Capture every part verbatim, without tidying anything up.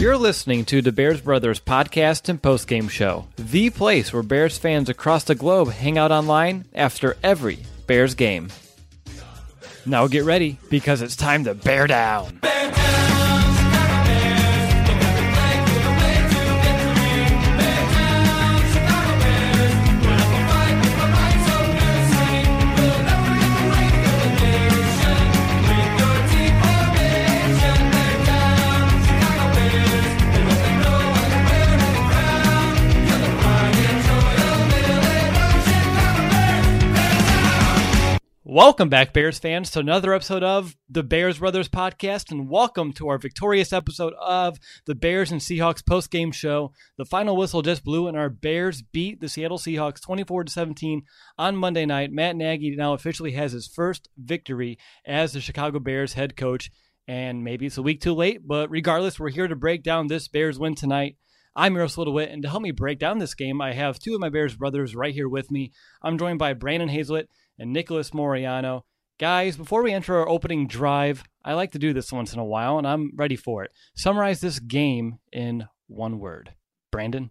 You're listening to the Bears Brothers podcast and postgame show, the place where Bears fans across the globe hang out online after every Bears game. Now get ready, because it's time to bear down. Bear down! Welcome back, Bears fans, to another episode of the Bears Brothers podcast, and welcome to our victorious episode of the Bears and Seahawks postgame show. The final whistle just blew, and our Bears beat the Seattle Seahawks twenty-four to seventeen on Monday night. Matt Nagy now officially has his first victory as the Chicago Bears head coach, and maybe it's a week too late, but regardless, we're here to break down this Bears win tonight. I'm Miroslav DeWitt, and to help me break down this game, I have two of my Bears brothers right here with me. I'm joined by Brandon Hazlett and Nicholas Moriano. Guys, before we enter our opening drive, I like to do this once in a while, and I'm ready for it. Summarize this game in one word. Brandon?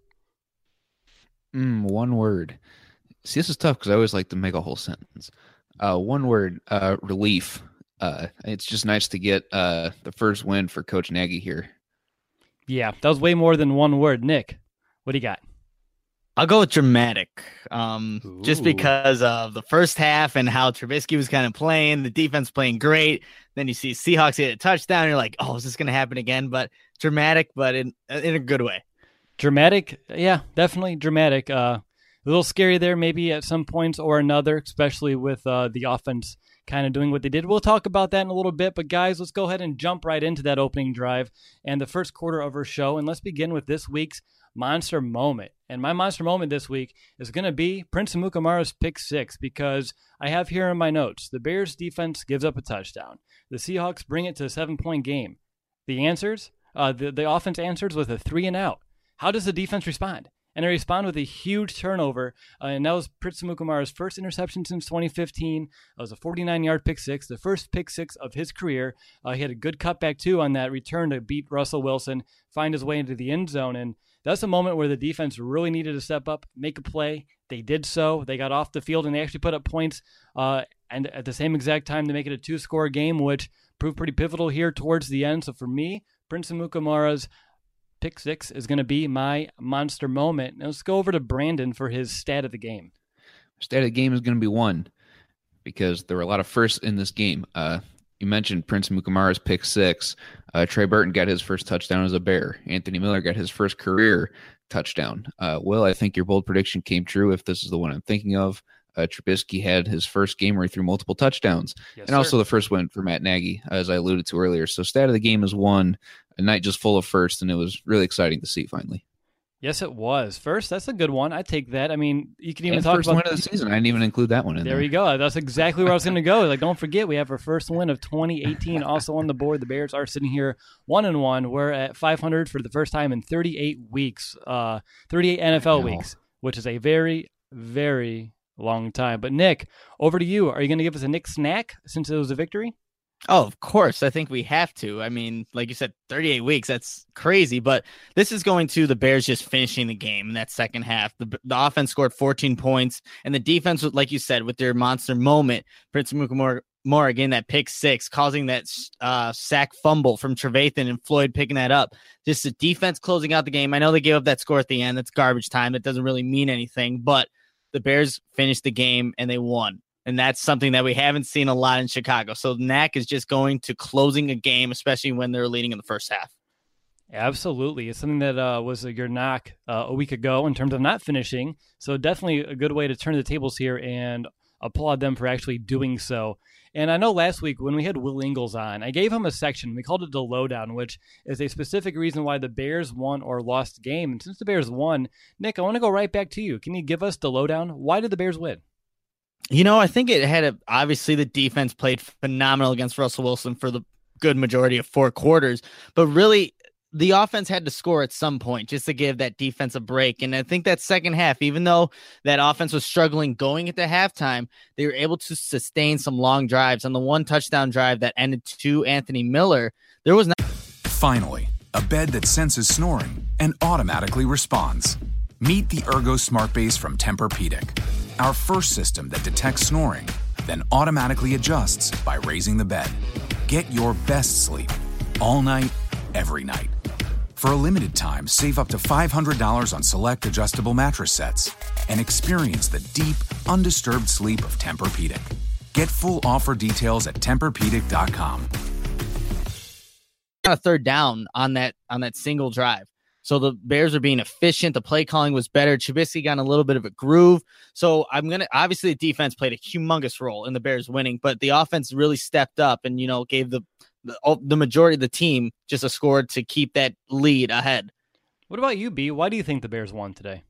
Mm, one word. See, this is tough because I always like to make a whole sentence. Uh, one word, uh, relief. Uh, it's just nice to get uh, the first win for Coach Nagy here. Yeah, that was way more than one word. Nick, what do you got? I'll go with dramatic, um, just because of the first half and how Trubisky was kind of playing, the defense playing great. Then you see Seahawks hit a touchdown, and you're like, oh, is this going to happen again? But dramatic, but in in a good way. Dramatic, yeah, definitely dramatic. Uh, a little scary there maybe at some points or another, especially with uh, the offense kind of doing what they did. We'll talk about that in a little bit, but guys, let's go ahead and jump right into that opening drive and the first quarter of our show, and let's begin with this week's monster moment. And my monster moment this week is going to be Prince Amukamara's pick six, because I have here in my notes, the Bears defense gives up a touchdown. The Seahawks bring it to a seven-point game. The answers, uh, the, the offense answers with a three and out. How does the defense respond? And they respond with a huge turnover, uh, and that was Prince Amukamara's first interception since twenty fifteen. That was a forty-nine-yard pick six, the first pick six of his career. Uh, he had a good cutback, too, on that return to beat Russell Wilson, find his way into the end zone, and that's a moment where the defense really needed to step up, make a play. They did so. They got off the field, and they actually put up points uh, and at the same exact time to make it a two-score game, which proved pretty pivotal here towards the end. So for me, Prince Amukamara's pick six is going to be my monster moment. Now let's go over to Brandon for his stat of the game. Stat of the game is going to be one, because there were a lot of firsts in this game. Uh, you mentioned Prince Amukamara's pick six. Uh, Trey Burton got his first touchdown as a Bear. Anthony Miller got his first career touchdown. Uh, Will, I think your bold prediction came true if this is the one I'm thinking of. Uh, Trubisky had his first game where he threw multiple touchdowns. Yes, and also sir. the first win for Matt Nagy, as I alluded to earlier. So stat of the game is one, a night just full of firsts, and it was really exciting to see finally. Yes, it was. First, that's a good one. I take that. I mean, you can even and talk first about win of the season. I didn't even include that one in there. There you go. That's exactly where I was going to go. Like, don't forget, we have our first win of twenty eighteen also on the board. The Bears are sitting here one and one. We're at five hundred for the first time in thirty-eight weeks, uh, thirty-eight N F L Wow. weeks, which is a very, very long time. But Nick, over to you. Are you going to give us a Nick snack since it was a victory? Oh, of course. I think we have to. I mean, like you said, thirty-eight weeks, that's crazy. But this is going to the Bears just finishing the game in that second half. The, the offense scored fourteen points, and the defense, like you said, with their monster moment, Prince Amukamara again, that pick six, causing that uh, sack fumble from Trevathan and Floyd picking that up. Just the defense closing out the game. I know they gave up that score at the end. That's garbage time. That doesn't really mean anything. But the Bears finished the game, and they won. And that's something that we haven't seen a lot in Chicago. So N A C is just going to closing a game, especially when they're leading in the first half. Absolutely. It's something that uh, was your knock uh, a week ago in terms of not finishing. So definitely a good way to turn the tables here and applaud them for actually doing so. And I know last week when we had Will Ingles on, I gave him a section. We called it the lowdown, which is a specific reason why the Bears won or lost the game. And since the Bears won, Nick, I want to go right back to you. Can you give us the lowdown? Why did the Bears win? You know, I think it had a, obviously the defense played phenomenal against Russell Wilson for the good majority of four quarters, but really the offense had to score at some point just to give that defense a break. And I think that second half, even though that offense was struggling going into halftime, they were able to sustain some long drives. On the one touchdown drive that ended to Anthony Miller, there was not. Finally, a bed that senses snoring and automatically responds. Meet the Ergo Smart Base from Tempur-Pedic, our first system that detects snoring, then automatically adjusts by raising the bed. Get your best sleep all night, every night. For a limited time, save up to five hundred dollars on select adjustable mattress sets and experience the deep, undisturbed sleep of Tempur-Pedic. Get full offer details at Tempur Pedic dot com. A third down on that on that single drive. So the Bears are being efficient. The play calling was better. Trubisky got in a little bit of a groove. So I'm going to, obviously the defense played a humongous role in the Bears winning, but the offense really stepped up and, you know, gave the, the, the majority of the team just a score to keep that lead ahead. What about you, B? Why do you think the Bears won today?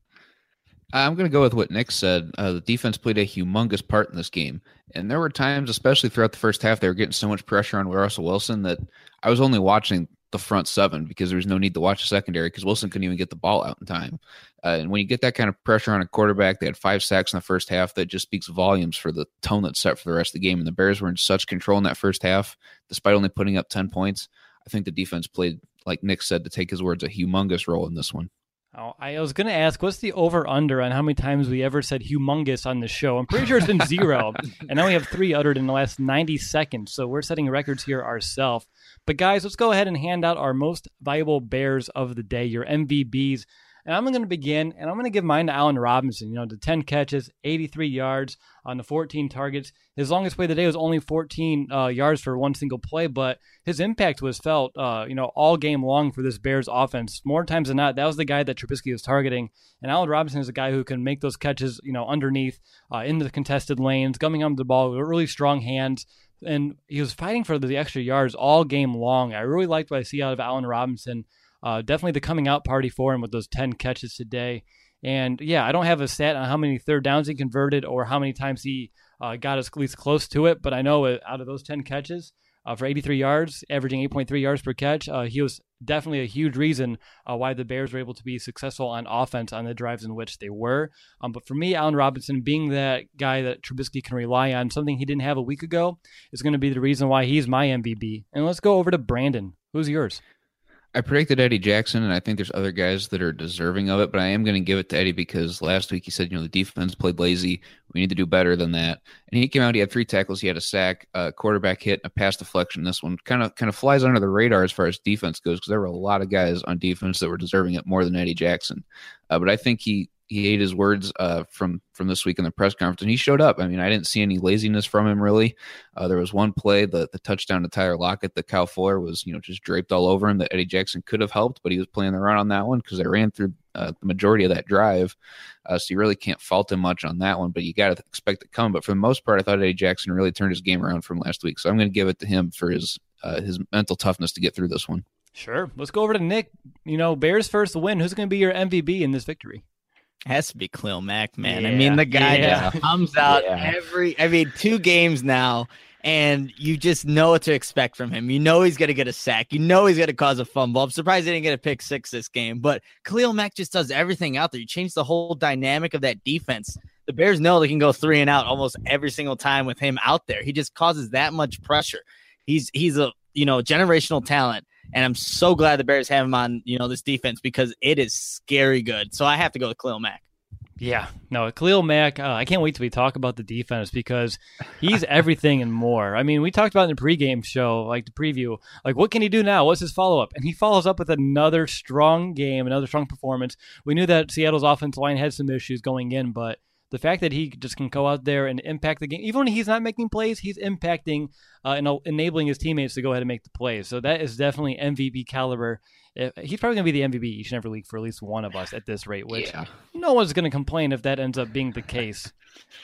I'm going to go with what Nick said. Uh, the defense played a humongous part in this game. And there were times, especially throughout the first half, they were getting so much pressure on Russell Wilson that I was only watching the front seven because there was no need to watch the secondary because Wilson couldn't even get the ball out in time. Uh, and when you get that kind of pressure on a quarterback, they had five sacks in the first half. That just speaks volumes for the tone that's set for the rest of the game. And the Bears were in such control in that first half, despite only putting up ten points. I think the defense played, like Nick said, to take his words, a humongous role in this one. Oh, I was going to ask, what's the over-under on how many times we ever said humongous on the show? I'm pretty sure it's been zero, and now we have three uttered in the last ninety seconds, so we're setting records here ourselves. But guys, let's go ahead and hand out our most valuable Bears of the day, your M V Bs. And I'm going to begin, and I'm going to give mine to Allen Robinson. You know, the ten catches, eighty-three yards on the fourteen targets. His longest play of the day was only fourteen uh, yards for one single play, but his impact was felt, uh, you know, all game long for this Bears offense. More times than not, that was the guy that Trubisky was targeting. And Allen Robinson is a guy who can make those catches, you know, underneath, uh, in the contested lanes, coming onto the ball with really strong hands. And he was fighting for the extra yards all game long. I really liked what I see out of Allen Robinson. Uh, definitely the coming out party for him with those ten catches today. And yeah, I don't have a stat on how many third downs he converted or how many times he uh, got us at least close to it. But I know out of those ten catches uh, for eighty-three yards, averaging eight point three yards per catch, uh, he was definitely a huge reason uh, why the Bears were able to be successful on offense on the drives in which they were. Um, but for me, Allen Robinson, being that guy that Trubisky can rely on, something he didn't have a week ago, is going to be the reason why he's my M V B. And let's go over to Brandon. Who's yours? I predicted Eddie Jackson, and I think there's other guys that are deserving of it, but I am going to give it to Eddie because last week he said, you know, the defense played lazy. We need to do better than that. And he came out, he had three tackles, he had a sack, a quarterback hit, a pass deflection. This one kind of kind of flies under the radar as far as defense goes because there were a lot of guys on defense that were deserving it more than Eddie Jackson. Uh, but I think he he ate his words uh, from from this week in the press conference, and he showed up. I mean, I didn't see any laziness from him, really. Uh, there was one play, the, the touchdown to Tyler Lockett, that Kyle Fuller was, you know, just draped all over him that Eddie Jackson could have helped, but he was playing the run on that one because they ran through uh, the majority of that drive. Uh, so you really can't fault him much on that one, but you got to expect it coming. But for the most part, I thought Eddie Jackson really turned his game around from last week. So I'm going to give it to him for his uh, his mental toughness to get through this one. Sure. Let's go over to Nick. You know, Bears first win. Who's going to be your M V B in this victory? Has to be Khalil Mack, man. Yeah, I mean, the guy yeah. just comes out Yeah. every, I mean, two games now, and you just know what to expect from him. You know he's going to get a sack. You know he's going to cause a fumble. I'm surprised he didn't get a pick six this game, but Khalil Mack just does everything out there. You change the whole dynamic of that defense. The Bears know they can go three and out almost every single time with him out there. He just causes that much pressure. He's he's a, you know, generational talent. And I'm so glad the Bears have him on, you know, this defense because it is scary good. So I have to go with Khalil Mack. Yeah, no, Khalil Mack, uh, I can't wait till we talk about the defense because he's everything and more. I mean, we talked about in the pregame show, like the preview, like what can he do now? What's his follow-up? And he follows up with another strong game, another strong performance. We knew that Seattle's offensive line had some issues going in, but the fact that he just can go out there and impact the game, even when he's not making plays, he's impacting uh, and enabling his teammates to go ahead and make the plays. So that is definitely M V P caliber. He's probably going to be the M V P each and every week for at least one of us at this rate, which Yeah. no one's going to complain if that ends up being the case.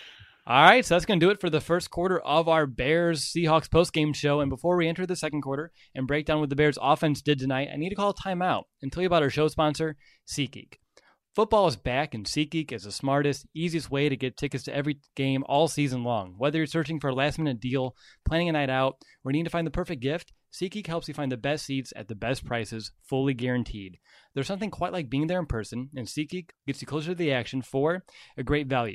All right, so that's going to do it for the first quarter of our Bears-Seahawks postgame show. And before we enter the second quarter and break down what the Bears offense did tonight, I need to call a timeout and tell you about our show sponsor, SeatGeek. Football is back, and SeatGeek is the smartest, easiest way to get tickets to every game all season long. Whether you're searching for a last-minute deal, planning a night out, or need to find the perfect gift, SeatGeek helps you find the best seats at the best prices, fully guaranteed. There's something quite like being there in person, and SeatGeek gets you closer to the action for a great value.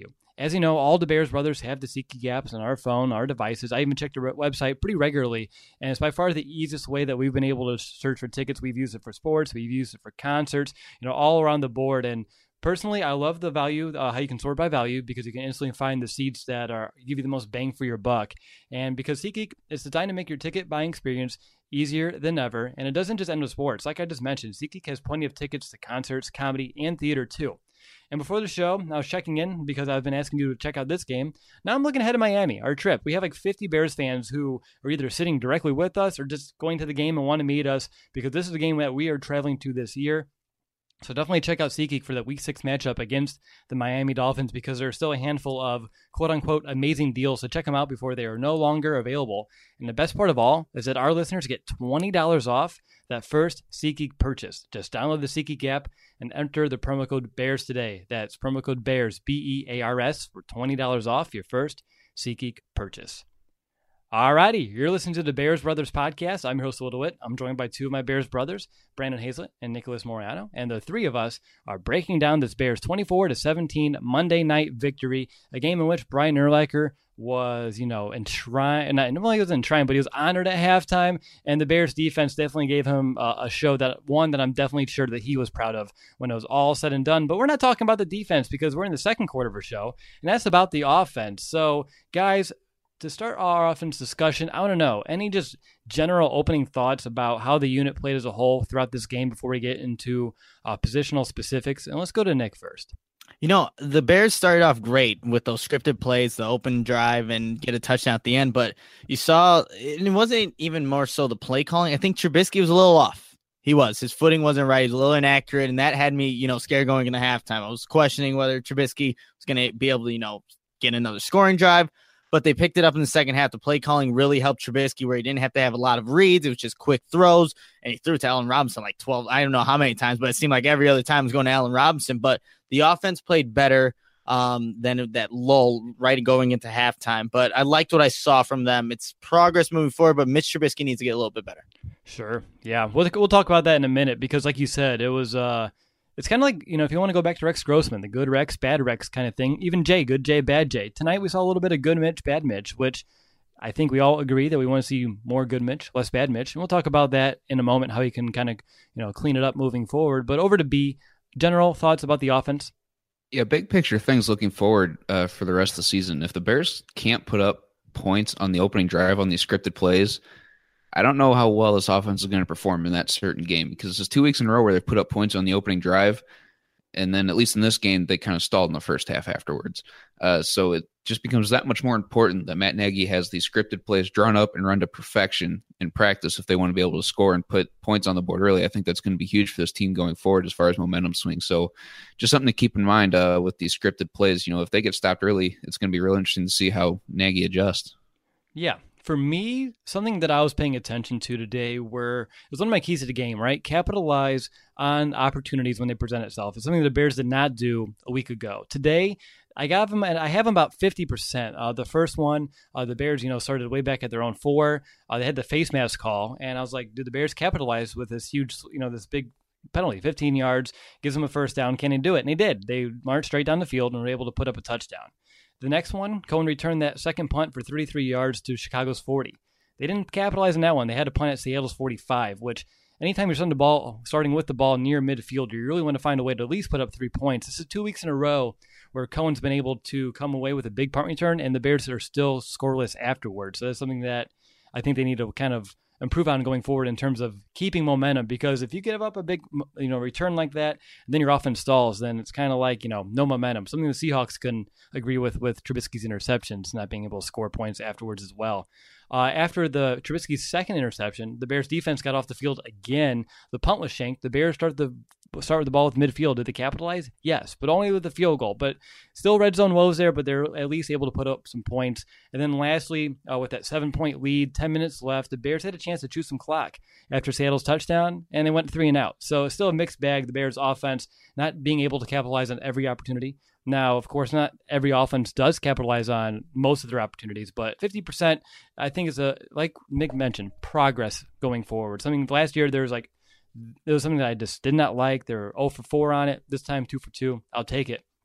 as you know, all the Bears brothers have the SeatGeek apps on our phone, our devices. I even check the website pretty regularly, and it's by far the easiest way that we've been able to search for tickets. We've used it for sports, we've used it for concerts, you know, all around the board. And personally, I love the value, uh, how you can sort by value, because you can instantly find the seats that are give you the most bang for your buck. And because SeatGeek is designed to make your ticket buying experience easier than ever, and it doesn't just end with sports. Like I just mentioned, SeatGeek has plenty of tickets to concerts, comedy, and theater too. And before the show, I was checking in because I've been asking you to check out this game. Now I'm looking ahead to Miami, our trip. We have like fifty Bears fans who are either sitting directly with us or just going to the game and want to meet us, because this is the game that we are traveling to this year. So definitely check out SeatGeek for that Week six matchup against the Miami Dolphins, because there are still a handful of quote-unquote amazing deals. So check them out before they are no longer available. And the best part of all is that our listeners get twenty dollars off that first SeatGeek purchase. Just download the SeatGeek app and enter the promo code BEARS today. That's promo code BEARS, B E A R S, for twenty dollars off your first SeatGeek purchase. Alrighty, you're listening to the Bears Brothers podcast. I'm your host, Will DeWitt. I'm joined by two of my Bears brothers, Brandon Hazlett and Nicholas Moriano, and the three of us are breaking down this Bears twenty-four to seventeen Monday night victory, a game in which Brian Urlacher was, you know, enshrined, not only was enshrined, but he was honored at halftime, and the Bears defense definitely gave him a, a show, that one that I'm definitely sure that he was proud of when it was all said and done. But we're not talking about the defense, because we're in the second quarter of our show, and that's about the offense. So, guys, to start our offense discussion, I want to know any just general opening thoughts about how the unit played as a whole throughout this game before we get into uh, positional specifics. And let's go to Nick first. You know, the Bears started off great with those scripted plays, the open drive, and get a touchdown at the end. But you saw, it wasn't even more so the play calling. I think Trubisky was a little off. He was. His footing wasn't right. He was a little inaccurate, and that had me, you know, scared going into halftime. I was questioning whether Trubisky was going to be able to, you know, get another scoring drive. But they picked it up in the second half. The play calling really helped Trubisky, where he didn't have to have a lot of reads. It was just quick throws, and he threw to Allen Robinson like twelve. I don't know how many times, but it seemed like every other time was going to Allen Robinson. But the offense played better um, than that lull right going into halftime. But I liked what I saw from them. It's progress moving forward, but Mitch Trubisky needs to get a little bit better. Sure. Yeah. We'll, we'll talk about that in a minute, because like you said, it was uh, – it's kind of like, you know, if you want to go back to Rex Grossman, the good Rex, bad Rex kind of thing. Even Jay, good Jay, bad Jay. Tonight we saw a little bit of good Mitch, bad Mitch, which I think we all agree that we want to see more good Mitch, less bad Mitch. And we'll talk about that in a moment, how he can kind of, you know, clean it up moving forward. But over to B, general thoughts about the offense. Yeah, big picture things looking forward uh, for the rest of the season. If the Bears can't put up points on the opening drive on these scripted plays, I don't know how well this offense is going to perform in that certain game, because it's two weeks in a row where they've put up points on the opening drive, and then at least in this game, they kind of stalled in the first half afterwards. Uh, so it just becomes that much more important that Matt Nagy has these scripted plays drawn up and run to perfection in practice if they want to be able to score and put points on the board early. I think that's going to be huge for this team going forward as far as momentum swings. So just something to keep in mind uh, with these scripted plays. You know, if they get stopped early, it's going to be real interesting to see how Nagy adjusts. Yeah. For me, something that I was paying attention to today were, it was one of my keys to the game, right? Capitalize on opportunities when they present itself. It's something the Bears did not do a week ago. Today, I got them, and I have them about fifty percent. Uh, the first one, uh, the Bears, you know, started way back at their own four. Uh, they had the face mask call, and I was like, did the Bears capitalize with this huge, you know, this big penalty, fifteen yards, gives them a first down. Can they do it? And they did. They marched straight down the field and were able to put up a touchdown. The next one, Cohen returned that second punt for thirty-three yards to Chicago's forty. They didn't capitalize on that one. They had to punt at Seattle's forty-five, which anytime you're starting the ball, starting with the ball near midfield, you really want to find a way to at least put up three points. This is two weeks in a row where Cohen's been able to come away with a big punt return, and the Bears are still scoreless afterwards. So that's something that I think they need to kind of improve on going forward in terms of keeping momentum, because if you give up a big, you know, return like that, and then your offense stalls, then it's kind of like, you know, no momentum. Something the Seahawks can agree with with Trubisky's interceptions, not being able to score points afterwards as well. Uh, after the Trubisky's second interception, the Bears defense got off the field again. The punt was shanked. The Bears started the start with the ball with midfield. Did they capitalize? Yes, but only with the field goal. But still red zone woes there, but they're at least able to put up some points. And then lastly, uh, with that seven-point lead, ten minutes left, the Bears had a chance to chew some clock after Seattle's touchdown, and they went three and out. So it's still a mixed bag, the Bears offense not being able to capitalize on every opportunity. Now, of course, not every offense does capitalize on most of their opportunities, but fifty percent, I think, is a, like Nick mentioned, progress going forward. Something last year, there was like, there was something that I just did not like. They were zero for four on it. This time, two for two. I'll take it.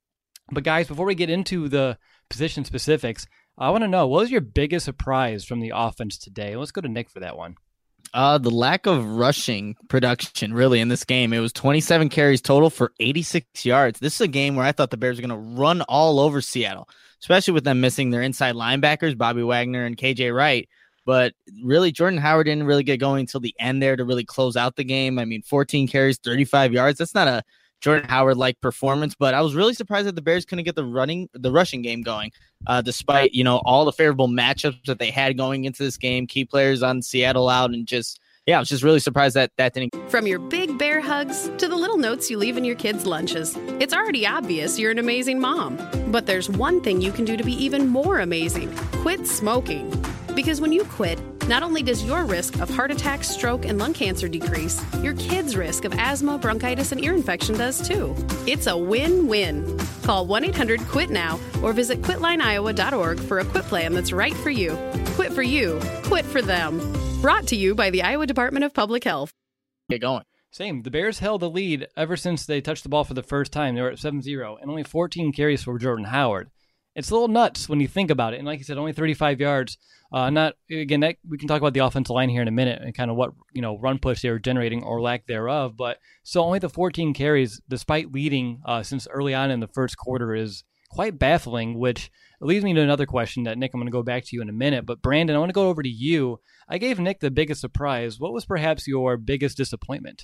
But guys, before we get into the position specifics, I want to know, what was your biggest surprise from the offense today? Let's go to Nick for that one. Uh, the lack of rushing production, really, in this game. It was twenty-seven carries total for eighty-six yards. This is a game where I thought the Bears were going to run all over Seattle, especially with them missing their inside linebackers, Bobby Wagner and K J Wright. But really, Jordan Howard didn't really get going until the end there to really close out the game. I mean, fourteen carries, thirty-five yards. That's not a Jordan Howard-like performance, but I was really surprised that the Bears couldn't get the running, the rushing game going, uh, despite, you know, all the favorable matchups that they had going into this game, key players on Seattle out, and just, yeah, I was just really surprised that that didn't. From your big bear hugs to the little notes you leave in your kids' lunches, it's already obvious you're an amazing mom. But there's one thing you can do to be even more amazing. Quit smoking. Because when you quit, not only does your risk of heart attack, stroke, and lung cancer decrease, your kids' risk of asthma, bronchitis, and ear infection does too. It's a win-win. Call one eight hundred quit now or visit quit line iowa dot org for a quit plan that's right for you. Quit for you. Quit for them. Brought to you by the Iowa Department of Public Health. Get going. Same. The Bears held the lead ever since they touched the ball for the first time. They were at seven zero and only fourteen carries for Jordan Howard. It's a little nuts when you think about it. And like you said, only thirty-five yards. Uh, not again. That, we can talk about the offensive line here in a minute and kind of what you know run push they were generating or lack thereof. But so only the fourteen carries, despite leading uh, since early on in the first quarter, is quite baffling. Which leads me to another question that Nick, I'm going to go back to you in a minute. But Brandon, I want to go over to you. I gave Nick the biggest surprise. What was perhaps your biggest disappointment?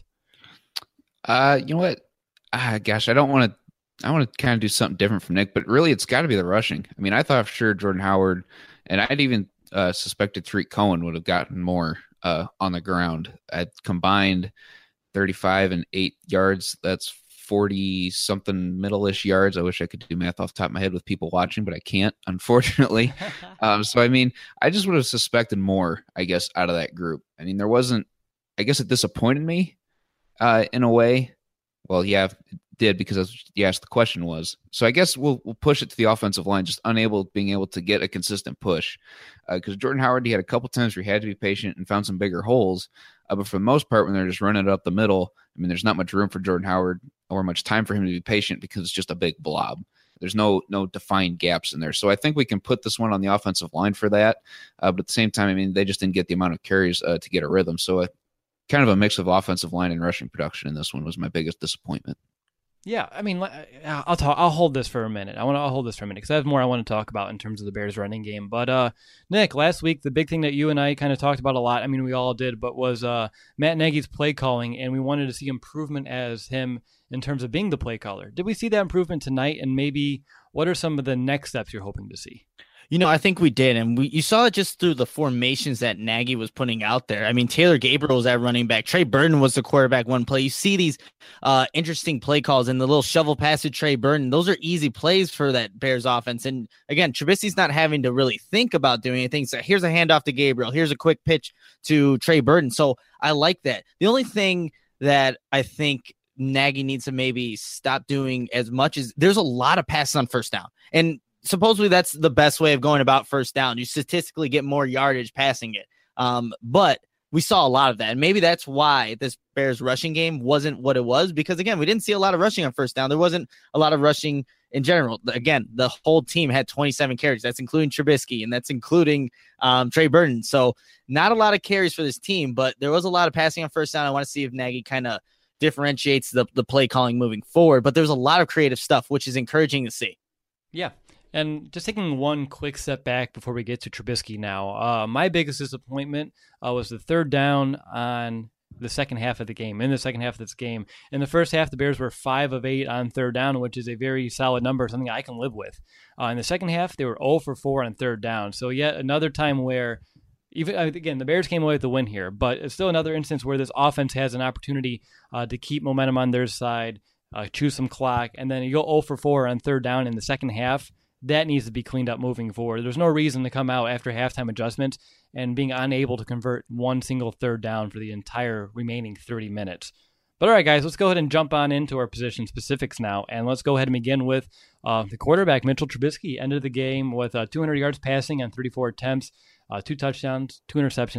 Uh, you know what? Ah, gosh, I don't want to. I want to kind of do something different from Nick, but really, it's got to be the rushing. I mean, I thought for sure Jordan Howard, and I'd even uh, suspected Tariq Cohen would have gotten more uh, on the ground. At combined thirty-five and eight yards. That's forty something middle-ish yards. I wish I could do math off the top of my head with people watching, but I can't, unfortunately. um, so, I mean, I just would have suspected more, I guess, out of that group. I mean, there wasn't, I guess it disappointed me uh, in a way. Well, yeah, it did, because that's what you asked the question was. So I guess we'll we'll push it to the offensive line, just unable being able to get a consistent push. Because uh, Jordan Howard, he had a couple times where he had to be patient and found some bigger holes. Uh, but for the most part, when they're just running it up the middle, I mean, there's not much room for Jordan Howard or much time for him to be patient because it's just a big blob. There's no no defined gaps in there. So I think we can put this one on the offensive line for that. Uh, but at the same time, I mean, they just didn't get the amount of carries uh, to get a rhythm. So uh, kind of a mix of offensive line and rushing production in this one was my biggest disappointment. Yeah, I mean, I'll talk. I'll hold this for a minute. I want to. I'll hold this for a minute because I have more I want to talk about in terms of the Bears' running game. But uh, Nick, last week the big thing that you and I kind of talked about a lot. I mean, we all did, but was uh, Matt Nagy's play calling, and we wanted to see improvement as him in terms of being the play caller. Did we see that improvement tonight? And maybe what are some of the next steps you're hoping to see? You know, I think we did, and we you saw it just through the formations that Nagy was putting out there. I mean, Taylor Gabriel was at running back. Trey Burton was the quarterback one play. You see these uh, interesting play calls and the little shovel pass to Trey Burton. Those are easy plays for that Bears offense. And again, Trubisky's not having to really think about doing anything. So here's a handoff to Gabriel. Here's a quick pitch to Trey Burton. So I like that. The only thing that I think Nagy needs to maybe stop doing as much as there's a lot of passes on first down. And supposedly that's the best way of going about first down. You statistically get more yardage passing it. Um, but we saw a lot of that. And maybe that's why this Bears rushing game wasn't what it was, because again, we didn't see a lot of rushing on first down. There wasn't a lot of rushing in general. Again, the whole team had twenty-seven carries. That's including Trubisky, and that's including um, Trey Burton. So not a lot of carries for this team, but there was a lot of passing on first down. I want to see if Nagy kind of differentiates the, the play calling moving forward, but there's a lot of creative stuff, which is encouraging to see. Yeah. And just taking one quick step back before we get to Trubisky now, uh, my biggest disappointment uh, was the third down on the second half of the game, in the second half of this game. In the first half, the Bears were five of eight on third down, which is a very solid number, something I can live with. Uh, in the second half, they were zero for four on third down. So yet another time where, even again, the Bears came away with the win here, but it's still another instance where this offense has an opportunity uh, to keep momentum on their side, uh, choose some clock, and then you go zero for four on third down in the second half. That needs to be cleaned up moving forward. There's no reason to come out after halftime adjustments and being unable to convert one single third down for the entire remaining thirty minutes. But all right, guys, let's go ahead and jump on into our position specifics now. And let's go ahead and begin with uh, the quarterback, Mitchell Trubisky. Ended the game with uh, two hundred yards passing on thirty-four attempts, uh, two touchdowns, two interceptions,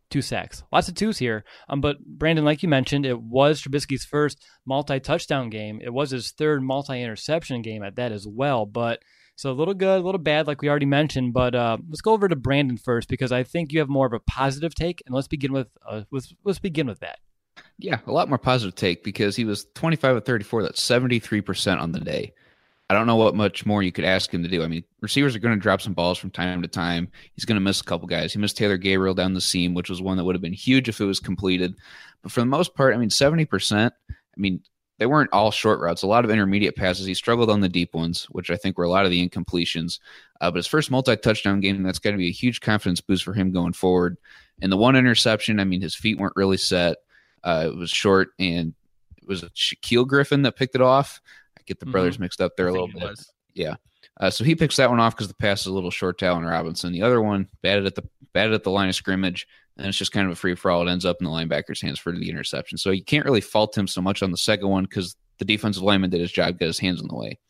two sacks. Lots of twos here. Um, but Brandon, like you mentioned, it was Trubisky's first multi-touchdown game. It was his third multi-interception game at that as well. But so a little good, a little bad, like we already mentioned. But uh, let's go over to Brandon first, because I think you have more of a positive take. And let's begin with uh, let's, let's begin with that. Yeah, a lot more positive take, because he was twenty-five of thirty-four. That's seventy-three percent on the day. I don't know what much more you could ask him to do. I mean, receivers are going to drop some balls from time to time. He's going to miss a couple guys. He missed Taylor Gabriel down the seam, which was one that would have been huge if it was completed. But for the most part, I mean, seventy percent, I mean, they weren't all short routes. A lot of intermediate passes. He struggled on the deep ones, which I think were a lot of the incompletions. Uh, but his first multi-touchdown game, that's got to be a huge confidence boost for him going forward. And the one interception, I mean, his feet weren't really set. Uh, it was short, and it was Shaquille Griffin that picked it off. Get the brothers mm-hmm. mixed up there a little bit. Was. Yeah. Uh, so he picks that one off because the pass is a little short to Allen Robinson. The other one batted at the batted at the line of scrimmage, and it's just kind of a free for all. It ends up in the linebacker's hands for the interception. So you can't really fault him so much on the second one because the defensive lineman did his job, got his hands in the way.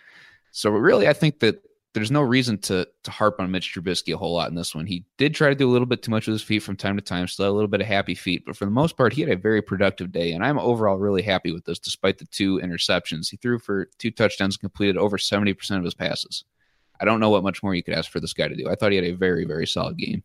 So really, I think that there's no reason to to harp on Mitch Trubisky a whole lot in this one. He did try to do a little bit too much with his feet from time to time, still a little bit of happy feet, but for the most part, he had a very productive day, and I'm overall really happy with this, despite the two interceptions. He threw for two touchdowns, completed over seventy percent of his passes. I don't know what much more you could ask for this guy to do. I thought he had a very, very solid game.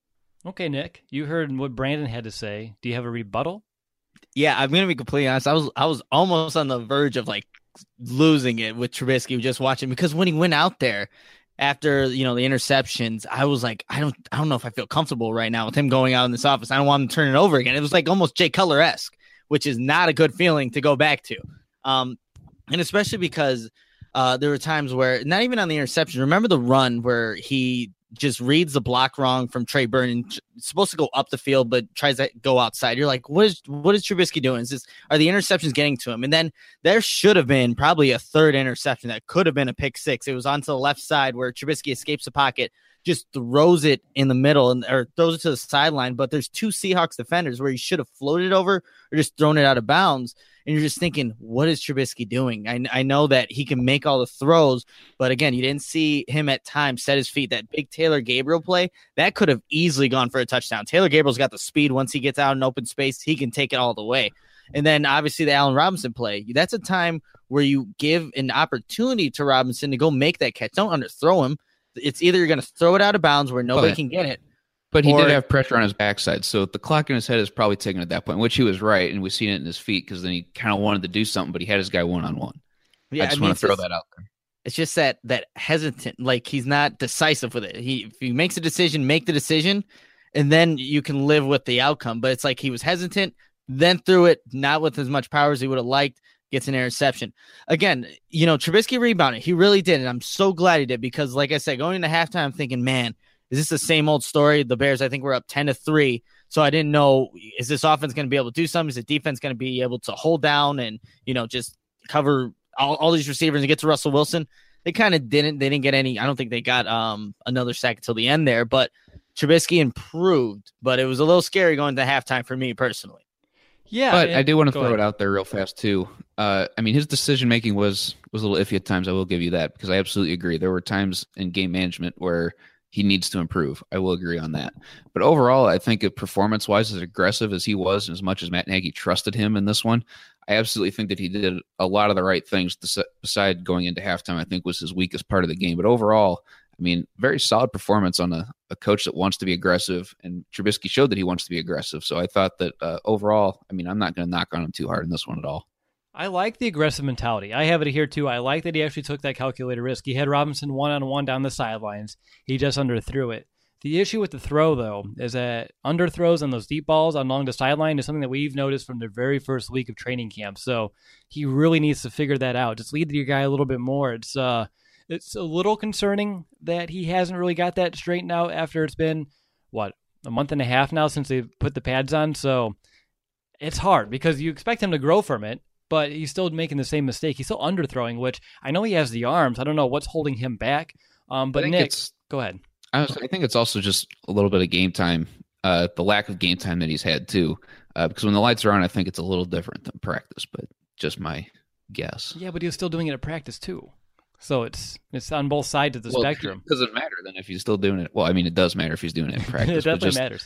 Okay, Nick, you heard what Brandon had to say. Do you have a rebuttal? Yeah, I'm going to be completely honest. I was I was almost on the verge of like losing it with Trubisky just watching, because when he went out there after, you know, the interceptions, I was like, I don't I don't know if I feel comfortable right now with him going out in this office. I don't want him to turn it over again. It was like almost Jay Cutler-esque, which is not a good feeling to go back to. Um, and especially because uh, there were times where, not even on the interception, remember the run where he just reads the block wrong from Trey Burton. It's supposed to go up the field, but tries to go outside. You're like, what is what is Trubisky doing? Is this, are the interceptions getting to him? And then there should have been probably a third interception that could have been a pick six. It was onto the left side where Trubisky escapes the pocket, just throws it in the middle, and or throws it to the sideline. But there's two Seahawks defenders where he should have floated over or just thrown it out of bounds. And you're just thinking, what is Trubisky doing? I, I know that he can make all the throws, but again, you didn't see him at times set his feet. That big Taylor Gabriel play, that could have easily gone for a touchdown. Taylor Gabriel's got the speed. Once he gets out in open space, he can take it all the way. And then obviously the Allen Robinson play, that's a time where you give an opportunity to Robinson to go make that catch. Don't underthrow him. It's either you're going to throw it out of bounds where nobody but, can get it. But he or, did have pressure on his backside, so the clock in his head is probably taken at that point, which he was right, and we've seen it in his feet because then he kind of wanted to do something, but he had his guy one-on-one. Yeah, I just I mean, want to throw just, that out there. It's just that that hesitant, like he's not decisive with it. He If he makes a decision, make the decision, and then you can live with the outcome. But it's like he was hesitant, then threw it, not with as much power as he would have liked, gets an interception. Again, you know, Trubisky rebounded. He really did, and I'm so glad he did because, like I said, going into halftime, I'm thinking, man, is this the same old story? The Bears, I think, were up ten to three, so I didn't know, is this offense going to be able to do something? Is the defense going to be able to hold down and, you know, just cover all, all these receivers and get to Russell Wilson? They kind of didn't. They didn't get any. I don't think they got um another sack until the end there, but Trubisky improved, but it was a little scary going to halftime for me personally. Yeah, but I do want to throw ahead. it out there real fast too. Uh, I mean, his decision making was was a little iffy at times. I will give you that because I absolutely agree. There were times in game management where he needs to improve. I will agree on that. But overall, I think performance wise, as aggressive as he was, and as much as Matt Nagy trusted him in this one, I absolutely think that he did a lot of the right things. Beside going into halftime, I think was his weakest part of the game. But overall, I mean, very solid performance on a, a coach that wants to be aggressive, and Trubisky showed that he wants to be aggressive. So I thought that uh, overall, I mean, I'm not going to knock on him too hard in this one at all. I like the aggressive mentality. I have it here too. I like that he actually took that calculated risk. He had Robinson one-on-one down the sidelines. He just underthrew it. The issue with the throw, though, is that underthrows on those deep balls along the sideline is something that we've noticed from the very first week of training camp. So he really needs to figure that out. Just lead your guy a little bit more. It's uh, it's a little concerning that he hasn't really got that straightened out after it's been, what, a month and a half now since they put the pads on. So it's hard because you expect him to grow from it, but he's still making the same mistake. He's still underthrowing, which I know he has the arms. I don't know what's holding him back. Um, but Nick, go ahead. I, was, I think it's also just a little bit of game time, uh, the lack of game time that he's had too. Uh, because when the lights are on, I think it's a little different than practice, but just my guess. Yeah, but he was still doing it at practice too. So it's it's on both sides of the well, spectrum. It doesn't matter then if he's still doing it. Well, I mean, it does matter if he's doing it in practice. It definitely but just, matters.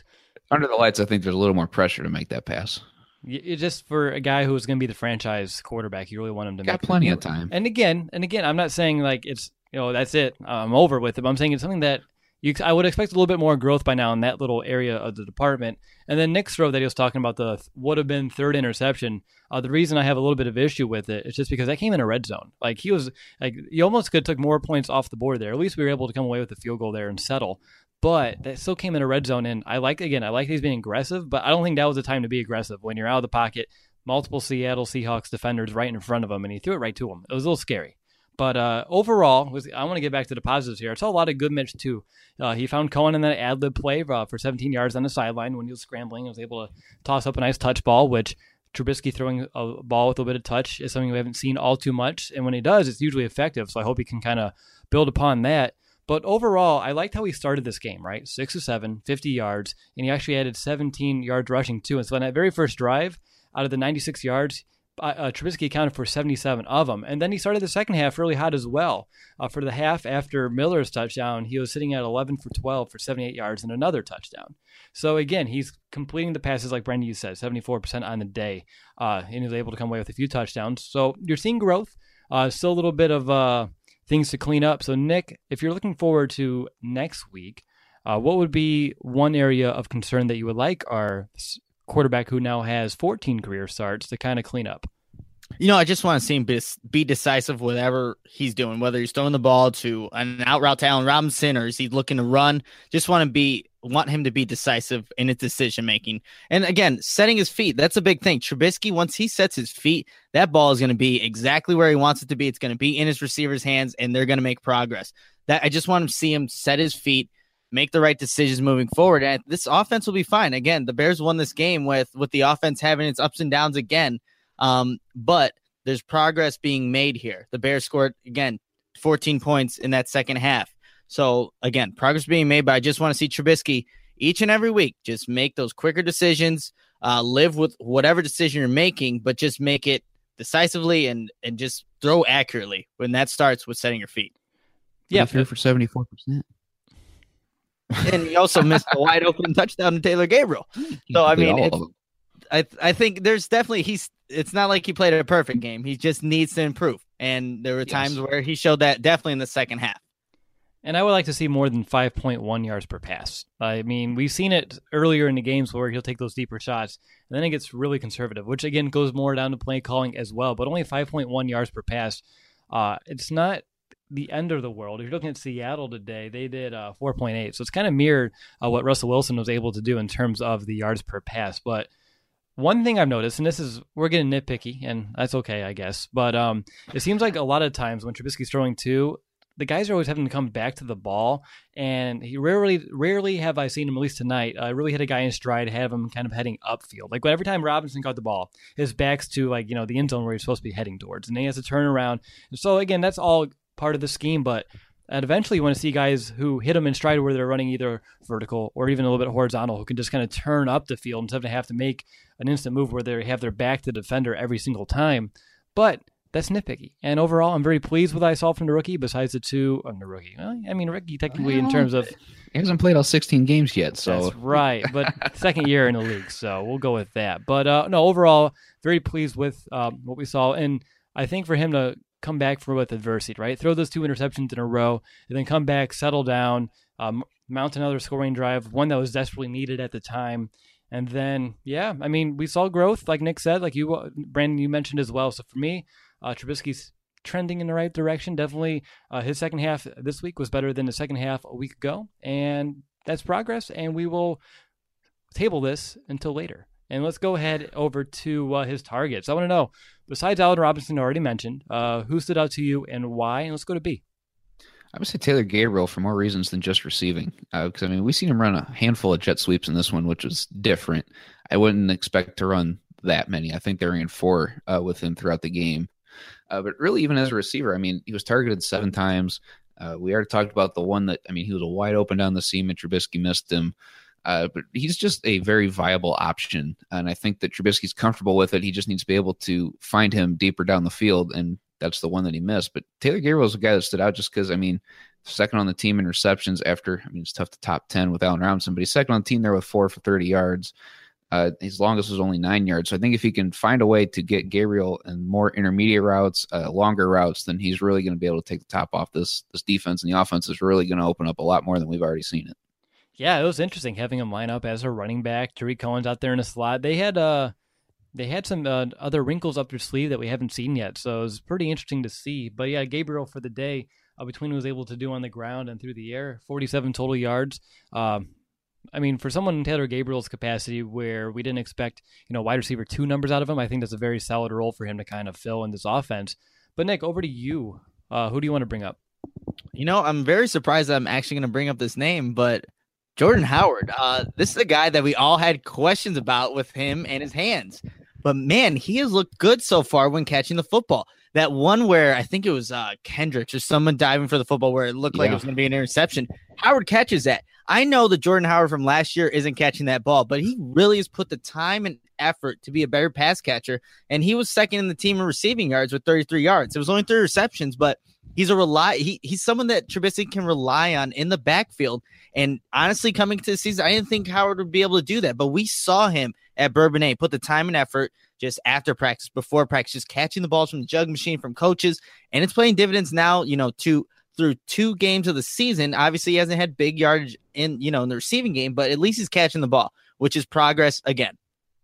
under the lights, I think there's a little more pressure to make that pass. It just for a guy who's going to be the franchise quarterback, you really want him to got make plenty it. of time. And again, and again, I'm not saying like it's you know that's it. I'm over with it. But I'm saying it's something that you I would expect a little bit more growth by now in that little area of the department. And then Nick's throw that he was talking about, the would have been third interception. Uh, the reason I have a little bit of issue with it is just because that came in a red zone. Like he was like you almost could have took more points off the board there. At least we were able to come away with a field goal there and settle. But that still came in a red zone. And I like again, I like he's being aggressive, but I don't think that was the time to be aggressive when you're out of the pocket. Multiple Seattle Seahawks defenders right in front of him, and he threw it right to him. It was a little scary. But uh, overall, was, I want to get back to the positives here. I saw a lot of good Mitch, too. Uh, he found Cohen in that ad-lib play uh, for seventeen yards on the sideline when he was scrambling. He was able to toss up a nice touch ball, which Trubisky throwing a ball with a bit of touch is something we haven't seen all too much. And when he does, it's usually effective. So I hope he can kind of build upon that. But overall, I liked how he started this game, right? Six to seven, fifty yards, and he actually added seventeen yards rushing, too. And so on that very first drive, out of the ninety-six yards, uh, Trubisky accounted for seventy-seven of them. And then he started the second half really hot as well. Uh, for the half after Miller's touchdown, he was sitting at eleven for twelve for seventy-eight yards and another touchdown. So again, he's completing the passes like Brendan you said, seventy-four percent on the day. Uh, and he was able to come away with a few touchdowns. So you're seeing growth. Uh, still a little bit of uh, things to clean up. So Nick, if you're looking forward to next week, uh, what would be one area of concern that you would like our quarterback who now has fourteen career starts to kind of clean up? You know, I just want to see him be, be decisive whatever he's doing, whether he's throwing the ball to an out route to Allen Robinson or is he looking to run. Just want to be want him to be decisive in his decision making. And again, setting his feet, that's a big thing. Trubisky, once he sets his feet, that ball is going to be exactly where he wants it to be. It's going to be in his receiver's hands, and they're going to make progress. That I just want him to see him set his feet, make the right decisions moving forward. And this offense will be fine. Again, the Bears won this game with, with the offense having its ups and downs again. Um, but there's progress being made here. The Bears scored, again, fourteen points in that second half. So, again, progress being made, but I just want to see Trubisky each and every week just make those quicker decisions, uh, live with whatever decision you're making, but just make it decisively and, and just throw accurately when that starts with setting your feet. Yeah, threw for seventy-four percent. And he also missed a wide open touchdown to Taylor Gabriel. So, I mean, it's, I I think there's definitely he's it's not like he played a perfect game. He just needs to improve. And there were Yes. times where he showed that definitely in the second half. And I would like to see more than five point one yards per pass. I mean, we've seen it earlier in the games where he'll take those deeper shots, and then it gets really conservative, which again goes more down to play calling as well. But only five point one yards per pass. Uh, it's not the end of the world. If you're looking at Seattle today, they did uh, four point eight. So it's kind of mirrored uh, what Russell Wilson was able to do in terms of the yards per pass. But one thing I've noticed, and this is, we're getting nitpicky, and that's okay, I guess, but um, it seems like a lot of times when Trubisky's throwing two, the guys are always having to come back to the ball, and he rarely, rarely have I seen him, at least tonight, uh, really hit a guy in stride, have him kind of heading upfield. Like every time Robinson caught the ball, his back's to like, you know, the end zone where he's supposed to be heading towards, and then he has to turn around. And so again, that's all part of the scheme, but and eventually you want to see guys who hit them in stride where they're running either vertical or even a little bit horizontal, who can just kind of turn up the field instead of have to make an instant move where they have their back to the defender every single time. But that's nitpicky. And overall, I'm very pleased with what I saw from the rookie, besides the two on the rookie. Well, I mean, rookie technically in terms of... He hasn't played all sixteen games yet, so... That's right, but second year in the league, so we'll go with that. But uh, no, overall, very pleased with um, what we saw. And I think for him to come back for with adversity, right? Throw those two interceptions in a row, and then come back, settle down, um, mount another scoring drive, one that was desperately needed at the time. And then, yeah, I mean, we saw growth, like Nick said, like you, Brandon, you mentioned as well. So for me, uh, Trubisky's trending in the right direction. Definitely uh, his second half this week was better than the second half a week ago. And that's progress. And we will table this until later. And let's go ahead over to uh, his targets. I want to know, besides Allen Robinson already mentioned, uh, who stood out to you and why? And let's go to B. I would say Taylor Gabriel for more reasons than just receiving. Because, uh, I mean, we've seen him run a handful of jet sweeps in this one, which was different. I wouldn't expect to run that many. I think they ran four uh, with him throughout the game. Uh, but really, even as a receiver, I mean, he was targeted seven times. Uh, we already talked about the one that, I mean, he was a wide open down the seam and Trubisky missed him. Uh, but he's just a very viable option. And I think that Trubisky's comfortable with it. He just needs to be able to find him deeper down the field. And that's the one that he missed. But Taylor Gabriel is a guy that stood out just because, I mean, second on the team in receptions after, I mean, it's tough to top ten with Allen Robinson, but he's second on the team there with four for thirty yards. Uh, his longest was only nine yards. So I think if he can find a way to get Gabriel and more intermediate routes, uh, longer routes, then he's really going to be able to take the top off this this defense, and the offense is really going to open up a lot more than we've already seen it. Yeah, it was interesting having him line up as a running back. Tariq Cohen's out there in a slot. They had uh, they had some uh, other wrinkles up their sleeve that we haven't seen yet, so it was pretty interesting to see. But yeah, Gabriel for the day, uh, between what he was able to do on the ground and through the air, forty-seven total yards. Um, I mean, for someone in Taylor Gabriel's capacity where we didn't expect, you know, wide receiver two numbers out of him, I think that's a very solid role for him to kind of fill in this offense. But Nick, over to you. Uh, who do you want to bring up? You know, I'm very surprised that I'm actually going to bring up this name, but Jordan Howard. Uh, this is a guy that we all had questions about with him and his hands. But, man, he has looked good so far when catching the football. That one where I think it was uh, Kendricks or someone diving for the football where it looked like yeah. it was going to be an interception. Howard catches that. I know that Jordan Howard from last year isn't catching that ball, but he really has put the time and effort to be a better pass catcher. And he was second in the team in receiving yards with thirty-three yards. It was only three receptions, but he's a rely. He, he's someone that Trubisky can rely on in the backfield. And honestly, coming to the season, I didn't think Howard would be able to do that, but we saw him at Bourbonnais put the time and effort just after practice, before practice, just catching the balls from the jug machine from coaches. And it's playing dividends now, you know, to through two games of the season. Obviously, he hasn't had big yardage in, you know, in the receiving game, but at least he's catching the ball, which is progress again.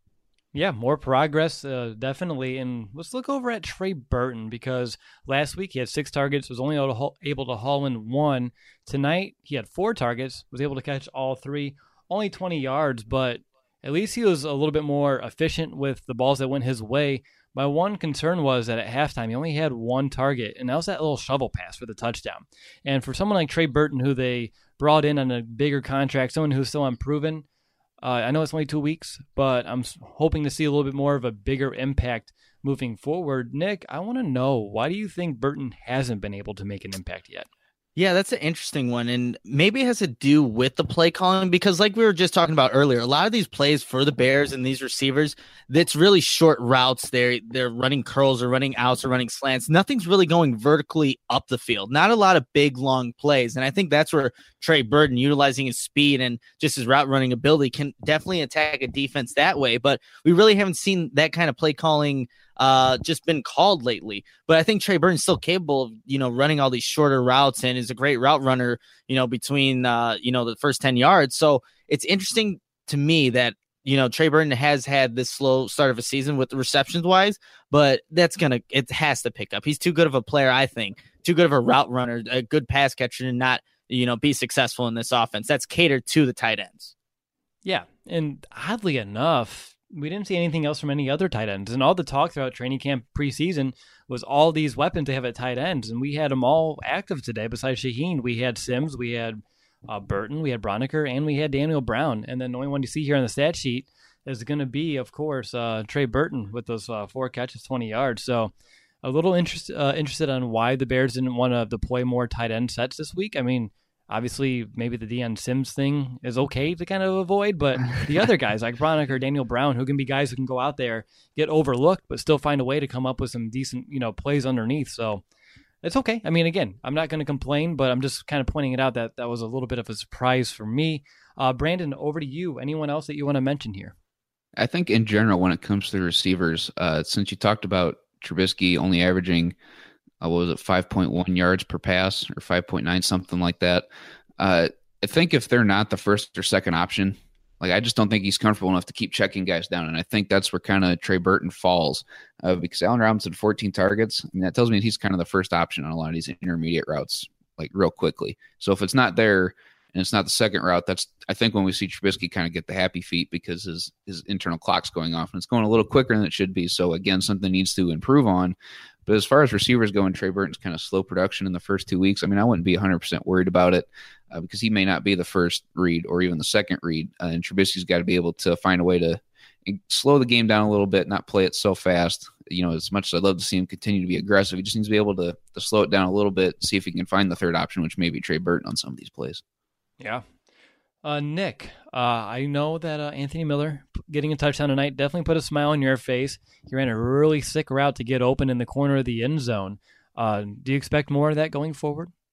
Yeah, more progress, uh, definitely. And let's look over at Trey Burton, because last week he had six targets, was only able to haul, able to haul in one. Tonight he had four targets, was able to catch all three, only twenty yards, but at least he was a little bit more efficient with the balls that went his way. My one concern was that at halftime he only had one target, and that was that little shovel pass for the touchdown. And for someone like Trey Burton, who they brought in on a bigger contract, someone who's still unproven, Uh, I know it's only two weeks, but I'm hoping to see a little bit more of a bigger impact moving forward. Nick, I want to know, why do you think Burton hasn't been able to make an impact yet? Yeah, that's an interesting one, and maybe it has to do with the play calling, because like we were just talking about earlier, a lot of these plays for the Bears and these receivers, that's really short routes. They're, they're running curls or running outs or running slants. Nothing's really going vertically up the field. Not a lot of big, long plays, and I think that's where Trey Burton, utilizing his speed and just his route running ability, can definitely attack a defense that way, but we really haven't seen that kind of play calling uh, just been called lately. But I think Trey Burton's still capable of, you know, running all these shorter routes and is a great route runner, you know, between, uh, you know, the first ten yards. So it's interesting to me that, you know, Trey Burton has had this slow start of a season with the receptions wise, but that's going to, it has to pick up. He's too good of a player, I think, too good of a route runner, a good pass catcher to not, you know, be successful in this offense. That's catered to the tight ends. Yeah. And oddly enough, we didn't see anything else from any other tight ends. And all the talk throughout training camp preseason was all these weapons they have at tight ends. And we had them all active today. Besides Shaheen, we had Sims, we had uh, Burton, we had Broniker, and we had Daniel Brown. And then the only one you see here on the stat sheet is going to be, of course, uh, Trey Burton with those uh, four catches, twenty yards. So a little interest, uh, interested on why the Bears didn't want to deploy more tight end sets this week. I mean, obviously, maybe the Deion Sims thing is okay to kind of avoid, but the other guys like Broniker, Daniel Brown, who can be guys who can go out there, get overlooked, but still find a way to come up with some decent, you know, plays underneath. So it's okay. I mean, again, I'm not going to complain, but I'm just kind of pointing it out that that was a little bit of a surprise for me. Uh, Brandon, over to you. Anyone else that you want to mention here? I think in general, when it comes to the receivers, uh, since you talked about Trubisky only averaging Uh, what was it, five point one yards per pass or five point nine, something like that. Uh, I think if they're not the first or second option, like I just don't think he's comfortable enough to keep checking guys down. And I think that's where kind of Trey Burton falls uh, because Allen Robinson, fourteen targets. I mean, that tells me he's kind of the first option on a lot of these intermediate routes, like real quickly. So if it's not there and it's not the second route, that's, I think when we see Trubisky kind of get the happy feet because his, his internal clock's going off and it's going a little quicker than it should be. So again, something needs to improve on. But as far as receivers go, and Trey Burton's kind of slow production in the first two weeks, I mean, I wouldn't be one hundred percent worried about it uh, because he may not be the first read or even the second read. Uh, and Trubisky's got to be able to find a way to slow the game down a little bit, not play it so fast. You know, as much as I'd love to see him continue to be aggressive, he just needs to be able to, to slow it down a little bit, see if he can find the third option, which may be Trey Burton on some of these plays. Yeah. Uh, Nick, uh, I know that uh, Anthony Miller getting a touchdown tonight definitely put a smile on your face. He ran a really sick route to get open in the corner of the end zone. Uh, do you expect more of that going forward?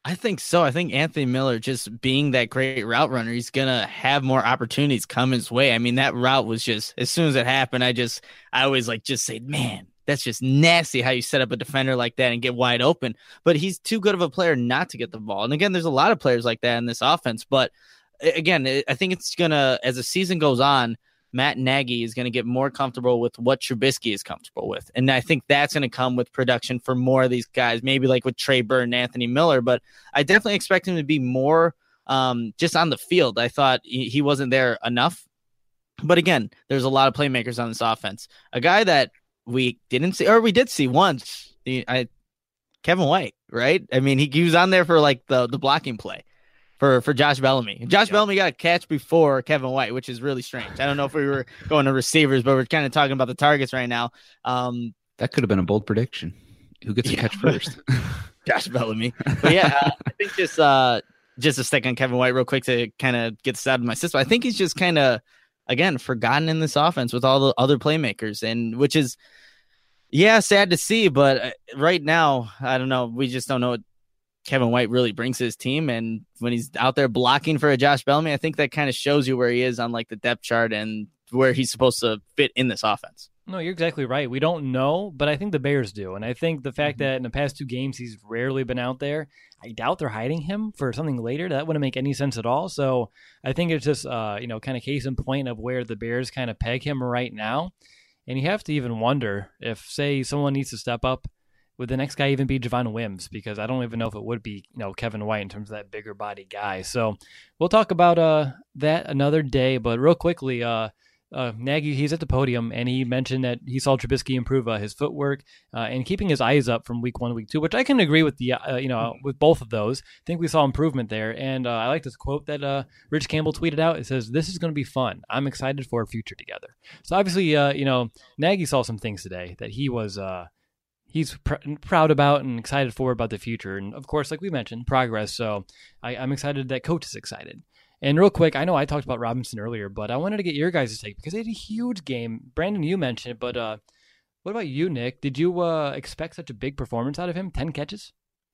I think so. I think Anthony Miller, just being that great route runner, he's going to have more opportunities come his way. I mean, that route was just, as soon as it happened, I just, I always like just say, man, that's just nasty how you set up a defender like that and get wide open. But he's too good of a player not to get the ball. And again, there's a lot of players like that in this offense. But again, I think it's going to, as the season goes on, Matt Nagy is going to get more comfortable with what Trubisky is comfortable with. And I think that's going to come with production for more of these guys, maybe like with Trey Burton and Anthony Miller. But I definitely expect him to be more um, just on the field. I thought he wasn't there enough. But again, there's a lot of playmakers on this offense. A guy that we didn't see, or we did see once, I, Kevin White, right? I mean, he, he was on there for like the, the blocking play. For, for Josh Bellamy. Josh yep. Bellamy got a catch before Kevin White, which is really strange. I don't know if we were going to receivers, but we're kind of talking about the targets right now. Um, that could have been a bold prediction. Who gets yeah. a catch first? Josh Bellamy. But yeah, uh, I think just uh, just a stick on Kevin White real quick to kind of get this out of my system. I think he's just kind of, again, forgotten in this offense with all the other playmakers, and which is, yeah, sad to see. But right now, I don't know. We just don't know what Kevin White really brings to his team, and when he's out there blocking for a Josh Bellamy, I think that kind of shows you where he is on like the depth chart and where he's supposed to fit in this offense. No, you're exactly right. We don't know, but I think the Bears do. And I think the fact mm-hmm. that in the past two games he's rarely been out there, I doubt they're hiding him for something later. That wouldn't make any sense at all. So I think it's just, uh, you know, kind of case in point of where the Bears kind of peg him right now. And you have to even wonder if, say, someone needs to step up, would the next guy even be Javon Wims? Because I don't even know if it would be, you know, Kevin White in terms of that bigger body guy. So we'll talk about uh, that another day. But real quickly, uh, uh, Nagy, he's at the podium, and he mentioned that he saw Trubisky improve uh, his footwork uh, and keeping his eyes up from week one to week two, which I can agree with the, uh, you know, with both of those. I think we saw improvement there. And uh, I like this quote that uh, Rich Campbell tweeted out. It says, "This is going to be fun. I'm excited for a future together." So obviously, uh, you know, Nagy saw some things today that he was, uh, he's pr- proud about and excited for about the future. And of course, like we mentioned, progress. So I, I'm excited that coach is excited. And real quick, I know I talked about Robinson earlier, but I wanted to get your guys' take because they had a huge game. Brandon, you mentioned it, but uh, what about you, Nick? Did you uh, expect such a big performance out of him? ten catches?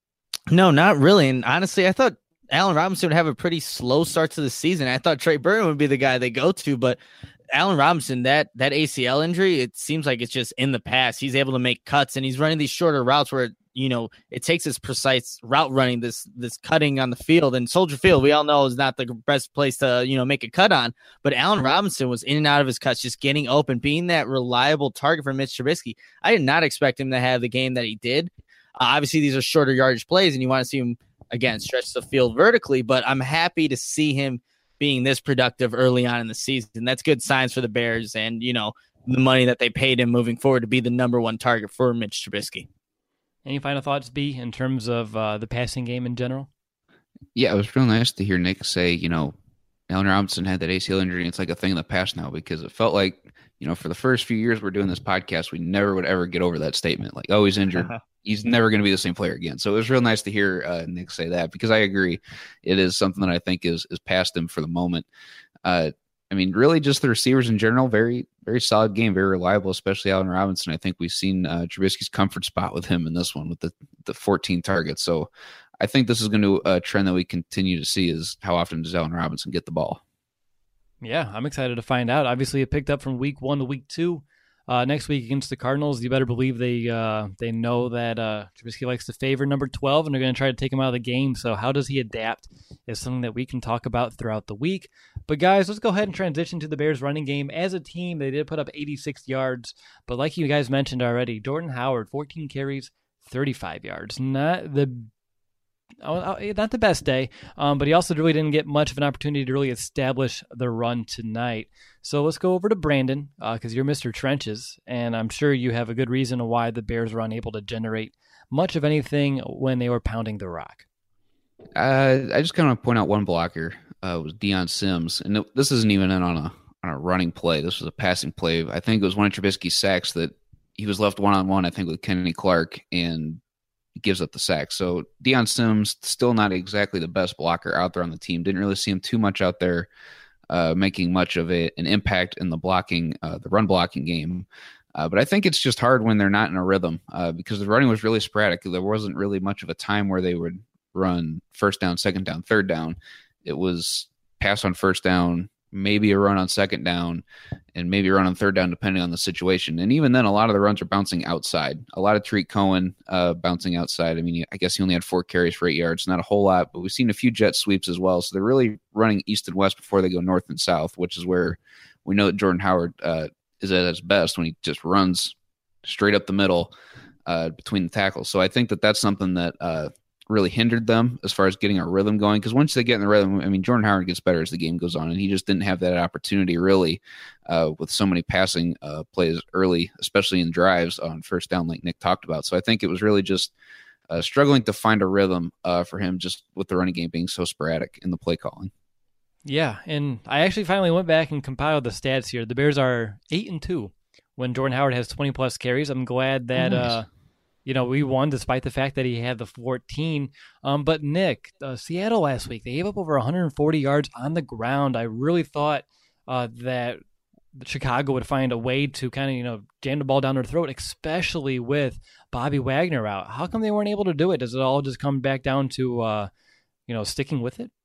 No, not really. And honestly, I thought Allen Robinson would have a pretty slow start to the season. I thought Trey Burton would be the guy they go to, but Allen Robinson, that that A C L injury, it seems like it's just in the past. He's able to make cuts, and he's running these shorter routes where, you know, it takes his precise route running, this this cutting on the field. And Soldier Field, we all know, is not the best place to, you know, make a cut on. But Allen Robinson was in and out of his cuts, just getting open, being that reliable target for Mitch Trubisky. I did not expect him to have the game that he did. Uh, obviously, these are shorter yardage plays, and you want to see him, again, stretch the field vertically. But I'm happy to see him being this productive early on in the season. That's good signs for the Bears and, you know, the money that they paid him moving forward to be the number one target for Mitch Trubisky. Any final thoughts, B, in terms of uh, the passing game in general? Yeah, it was real nice to hear Nick say, you know, Allen Robinson had that A C L injury, and it's like a thing of the past now, because it felt like, you know, for the first few years we're doing this podcast, we never would ever get over that statement. Like, oh, he's injured. Uh-huh. He's never going to be the same player again. So it was real nice to hear uh, Nick say that, because I agree. It is something that I think is is past him for the moment. Uh, I mean, really just the receivers in general, very, very solid game, very reliable, especially Allen Robinson. I think we've seen uh, Trubisky's comfort spot with him in this one with the, the fourteen targets. So I think this is going to a trend that we continue to see, is how often does Allen Robinson get the ball? Yeah, I'm excited to find out. Obviously, it picked up from week one to week two. Uh, next week against the Cardinals, you better believe they uh, they know that uh, Trubisky likes to favor number twelve, and they're going to try to take him out of the game. So how does he adapt is something that we can talk about throughout the week. But guys, let's go ahead and transition to the Bears running game. As a team, they did put up eighty-six yards, but like you guys mentioned already, Jordan Howard, fourteen carries, thirty-five yards. Not the Oh, not the best day, um, but he also really didn't get much of an opportunity to really establish the run tonight. So let's go over to Brandon, because uh, you're Mister Trenches, and I'm sure you have a good reason why the Bears were unable to generate much of anything when they were pounding the rock. Uh, I just kind of point out one blocker. Uh, was Deion Sims, and it, this isn't even in on a on a running play. This was a passing play. I think it was one of Trubisky's sacks that he was left one on one. I think with Kenny Clark, and gives up the sack. So Deion Sims, still not exactly the best blocker out there on the team. Didn't really see him too much out there uh, making much of a, an impact in the blocking, uh, the run blocking game. Uh, but I think it's just hard when they're not in a rhythm uh, because the running was really sporadic. There wasn't really much of a time where they would run first down, second down, third down. It was pass on first down, maybe a run on second down, and maybe a run on third down, depending on the situation. And even then, a lot of the runs are bouncing outside. A lot of Tariq Cohen uh, bouncing outside. I mean, I guess he only had four carries for eight yards, not a whole lot, but we've seen a few jet sweeps as well. So they're really running east and west before they go north and south, which is where we know that Jordan Howard uh, is at his best, when he just runs straight up the middle uh, between the tackles. So I think that that's something that uh, really hindered them as far as getting a rhythm going. Because once they get in the rhythm, I mean, Jordan Howard gets better as the game goes on, and he just didn't have that opportunity really uh, with so many passing uh, plays early, especially in drives on first down, like Nick talked about. So I think it was really just uh, struggling to find a rhythm uh, for him, just with the running game being so sporadic in the play calling. Yeah, and I actually finally went back and compiled the stats here. The Bears are eight and two when Jordan Howard has twenty plus carries. I'm glad that nice. uh, you know we won despite the fact that he had the fourteen. Um, but Nick, uh, Seattle last week, they gave up over one hundred forty yards on the ground. I really thought uh, that Chicago would find a way to kind of you know jam the ball down their throat, especially with Bobby Wagner out. How come they weren't able to do it? Does it all just come back down to uh, you know sticking with it?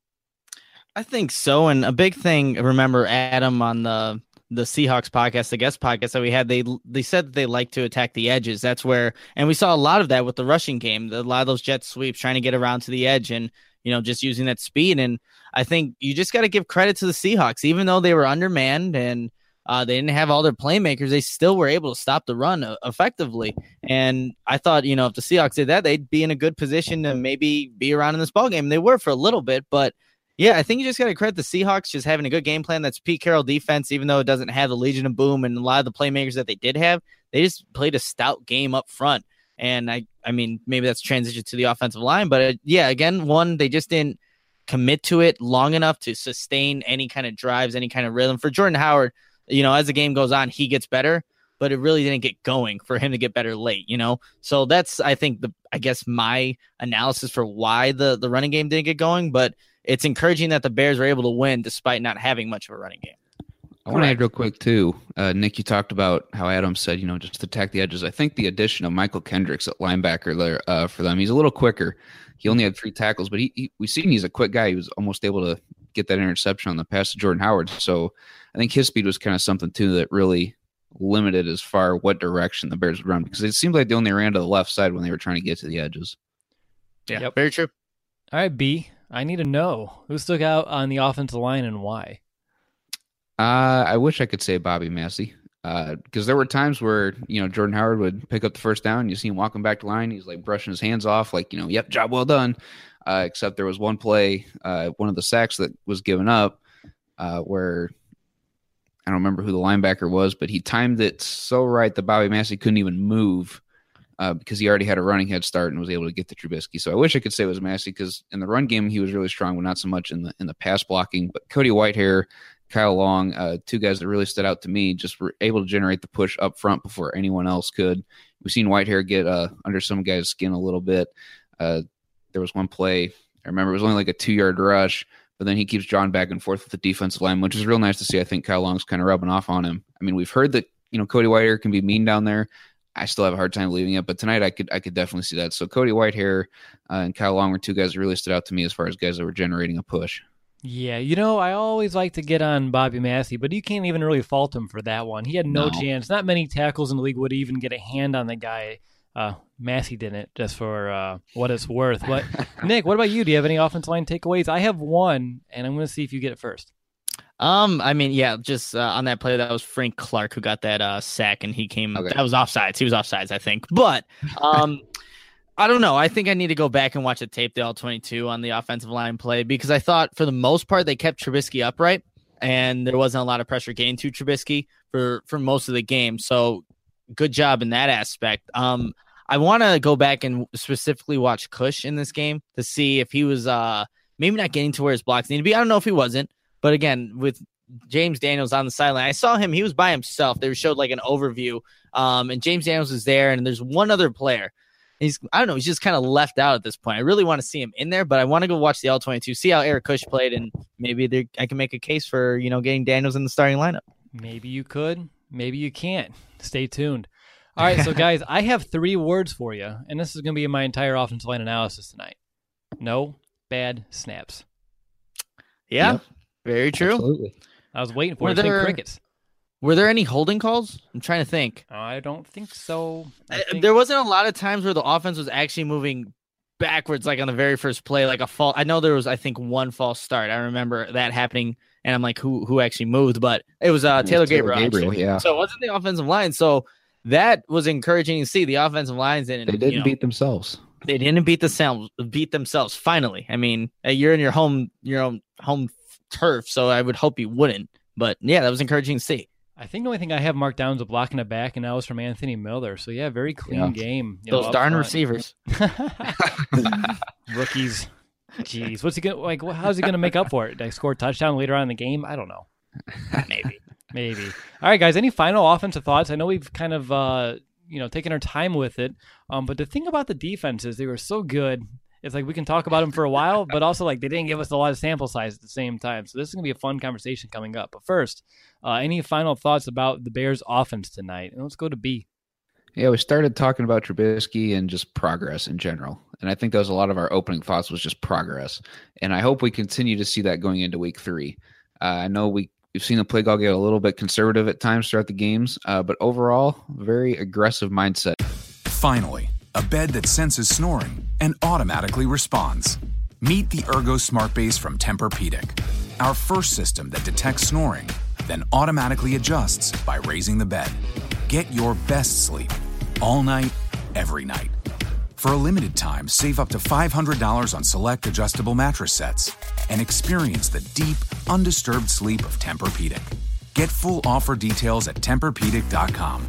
I think so. And a big thing, remember Adam on the the Seahawks podcast, the guest podcast that we had, they they said that they like to attack the edges. That's where, and we saw a lot of that with the rushing game, a lot of those jet sweeps, trying to get around to the edge and, you know, just using that speed. And I think you just got to give credit to the Seahawks, even though they were undermanned and uh, they didn't have all their playmakers, they still were able to stop the run uh, effectively. And I thought, you know, if the Seahawks did that, they'd be in a good position to maybe be around in this ballgame. They were for a little bit, but yeah, I think you just got to credit the Seahawks just having a good game plan. That's Pete Carroll defense, even though it doesn't have the Legion of Boom and a lot of the playmakers that they did have. They just played a stout game up front. And I, I mean, maybe that's transition to the offensive line. But uh, yeah, again, one, they just didn't commit to it long enough to sustain any kind of drives, any kind of rhythm. For Jordan Howard, you know, as the game goes on, he gets better, but it really didn't get going for him to get better late, you know? So that's, I think, the I guess my analysis for why the, the running game didn't get going. But it's encouraging that the Bears were able to win despite not having much of a running game. I want to add real quick, too. Uh, Nick, you talked about how Adam said, you know, just attack the edges. I think the addition of Michael Kendricks at linebacker there uh, for them, he's a little quicker. He only had three tackles, but he, he we've seen he's a quick guy. He was almost able to get that interception on the pass to Jordan Howard. So I think his speed was kind of something, too, that really limited as far what direction the Bears would run, because it seemed like they only ran to the left side when they were trying to get to the edges. Yeah, yep. Very true. All right, B, I need to know who stuck out on the offensive line and why. Uh, I wish I could say Bobby Massey, uh, because there were times where, you know, Jordan Howard would pick up the first down. You see him walking back to line. He's like brushing his hands off, like, you know, yep, job well done. Uh, except there was one play, uh, one of the sacks that was given up, uh, where I don't remember who the linebacker was, but he timed it so right that Bobby Massey couldn't even move. Uh, because he already had a running head start and was able to get to Trubisky. So I wish I could say it was Massey, because in the run game he was really strong, but not so much in the in the pass blocking. But Cody Whitehair, Kyle Long, uh, two guys that really stood out to me, just were able to generate the push up front before anyone else could. We've seen Whitehair get uh, under some guys' skin a little bit. Uh, there was one play, I remember it was only like a two-yard rush, but then he keeps drawing back and forth with the defensive line, which is real nice to see. I think Kyle Long's kind of rubbing off on him. I mean, we've heard that, you know, Cody Whitehair can be mean down there. I still have a hard time believing it, but tonight I could I could definitely see that. So Cody Whitehair uh, and Kyle Long were two guys that really stood out to me as far as guys that were generating a push. Yeah, you know, I always like to get on Bobby Massey, but you can't even really fault him for that one. He had no, no. chance. Not many tackles in the league would even get a hand on the guy. Uh, Massey didn't, just for uh, what it's worth. But Nick, what about you? Do you have any offensive line takeaways? I have one, and I'm going to see if you get it first. Um, I mean, yeah, just uh, on that play, that was Frank Clark who got that uh, sack, and he came. Okay. That was offsides. He was offsides, I think. But um, I don't know. I think I need to go back and watch the tape, the all twenty-two on the offensive line play, because I thought for the most part they kept Trubisky upright, and there wasn't a lot of pressure gained to Trubisky for for most of the game. So good job in that aspect. Um, I want to go back and specifically watch Cush in this game to see if he was uh maybe not getting to where his blocks need to be. I don't know if he wasn't. But again, with James Daniels on the sideline, I saw him. He was by himself. They showed like an overview, um, and James Daniels is there, and there's one other player. He's I don't know. He's just kind of left out at this point. I really want to see him in there, but I want to go watch the all twenty-two, see how Eric Cush played, and maybe I can make a case for you know getting Daniels in the starting lineup. Maybe you could. Maybe you can't. Stay tuned. All right, so guys, I have three words for you, and this is going to be my entire offensive line analysis tonight. No bad snaps. Yeah, Yep. very true. Absolutely. I was waiting for Were it to think there- crickets. Were there any holding calls? I'm trying to think. I don't think so. I Uh, think- There wasn't a lot of times where the offense was actually moving backwards, like on the very first play, like a fall. I know there was, I think, one false start. I remember that happening, and I'm like, who who actually moved? But it was uh, It was Taylor Taylor Gabriel. Gabriel, actually. yeah. So it wasn't the offensive line. So that was encouraging to see. The offensive lines didn't. They didn't you know, beat themselves. They didn't beat themselves. Beat themselves. Finally, I mean, uh, you're in your home, your own home turf. So I would hope you wouldn't. But yeah, that was encouraging to see. I think the only thing I have marked down is a block in the back, and that was from Anthony Miller. So yeah, very clean Yeah. game. you know, Those up darn front. receivers. Rookies. Jeez, what's he gonna like? wh- How's he gonna make up for it? Did I score a touchdown later on in the game? I don't know. Maybe. Maybe. All right, guys. Any final offensive thoughts? I know we've kind of uh, you know taken our time with it, um, but the thing about the defense is they were so good. It's like we can talk about them for a while, but also like they didn't give us a lot of sample size at the same time. So this is gonna be a fun conversation coming up. But first, uh, any final thoughts about the Bears' offense tonight? And let's go to B. Yeah, we started talking about Trubisky and just progress in general. And I think that was a lot of our opening thoughts was just progress. And I hope we continue to see that going into week three. Uh, I know we, we've seen the play call get a little bit conservative at times throughout the games, uh, but overall, very aggressive mindset. Finally, a bed that senses snoring and automatically responds. Meet the Ergo Smart Base from Tempur-Pedic, our first system that detects snoring, then automatically adjusts by raising the bed. Get your best sleep all night, every night. For a limited time, save up to five hundred dollars on select adjustable mattress sets and experience the deep, undisturbed sleep of Tempur-Pedic. Get full offer details at Tempur Pedic dot com.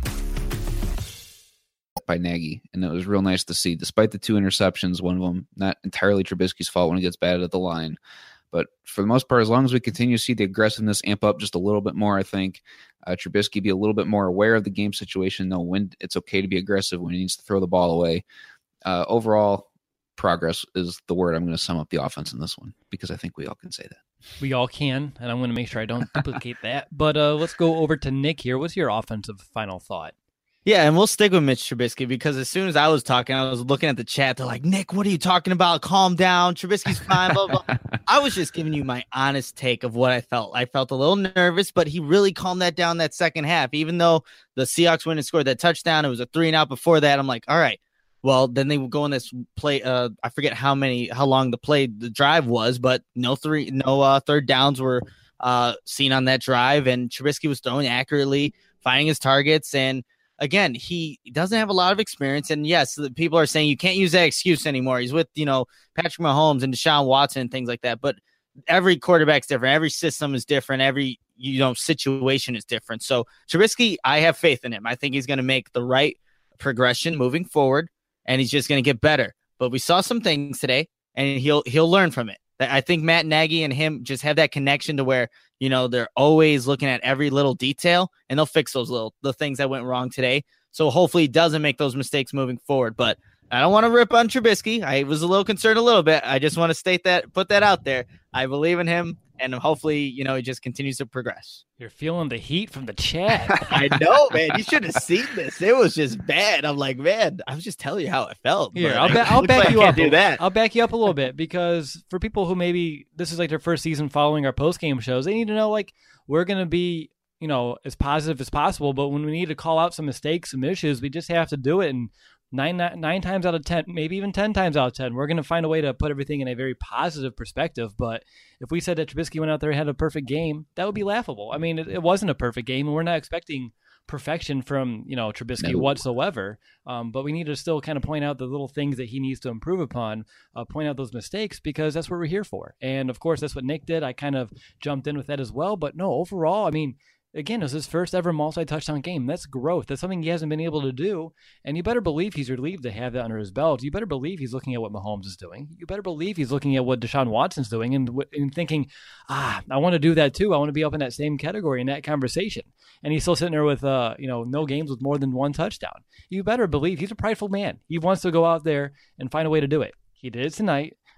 By Nagy, and it was real nice to see. Despite the two interceptions, one of them not entirely Trubisky's fault when he gets batted at the line, but for the most part, as long as we continue to see the aggressiveness amp up just a little bit more, I think uh, Trubisky be a little bit more aware of the game situation, know when it's okay to be aggressive, when he needs to throw the ball away. Uh, overall, progress is the word I'm going to sum up the offense in this one, because I think we all can say that. We all can, and I'm going to make sure I don't duplicate that. But uh, let's go over to Nick here. What's your offensive final thought? Yeah, and we'll stick with Mitch Trubisky because as soon as I was talking, I was looking at the chat. They're like, Nick, what are you talking about? Calm down. Trubisky's fine, blah, blah. I was just giving you my honest take of what I felt. I felt a little nervous, but he really calmed that down that second half. Even though the Seahawks went and scored that touchdown, it was a three and out before that. I'm like, all right. Well, then they would go in this play. Uh, I forget how many, how long the play, the drive was, but no three, no uh, third downs were uh, seen on that drive. And Trubisky was throwing accurately, finding his targets. And again, he doesn't have a lot of experience. And yes, the people are saying you can't use that excuse anymore. He's with, you know, Patrick Mahomes and Deshaun Watson and things like that. But every quarterback's different. Every system is different. Every, you know, situation is different. So Trubisky, I have faith in him. I think he's going to make the right progression moving forward. And he's just going to get better. But we saw some things today, and he'll he'll learn from it. I think Matt Nagy and him just have that connection to where, you know, they're always looking at every little detail, and they'll fix those little the things that went wrong today. So hopefully he doesn't make those mistakes moving forward. But I don't want to rip on Trubisky. I was a little concerned a little bit. I just want to state that, put that out there. I believe in him, and hopefully, you know, he just continues to progress. You're feeling the heat from the chat. I know, man. You should have seen this. It was just bad. I'm like, man, I was just telling you how it felt. Here, but I'll, ba- it I'll looks back like I you can't up. do that. I'll back you up a little bit because for people who maybe this is like their first season following our post game shows, they need to know like we're gonna be, you know, as positive as possible. But when we need to call out some mistakes, some issues, we just have to do it. And nine nine, nine times out of ten, maybe even ten times out of ten, we're gonna find a way to put everything in a very positive perspective. But if we said that Trubisky went out there and had a perfect game, that would be laughable. I mean, it, it wasn't a perfect game, and we're not expecting perfection from, you know, Trubisky No. whatsoever. Um, but we need to still kind of point out the little things that he needs to improve upon, uh, point out those mistakes, because that's what we're here for. And of course, that's what Nick did. I kind of jumped in with that as well. But no, overall, I mean, again, it was his first ever multi-touchdown game. That's growth. That's something he hasn't been able to do. And you better believe he's relieved to have that under his belt. You better believe he's looking at what Mahomes is doing. You better believe he's looking at what Deshaun Watson's doing and, and thinking, ah, I want to do that too. I want to be up in that same category in that conversation. And he's still sitting there with, uh, you know, no games with more than one touchdown. You better believe he's a prideful man. He wants to go out there and find a way to do it. He did it tonight.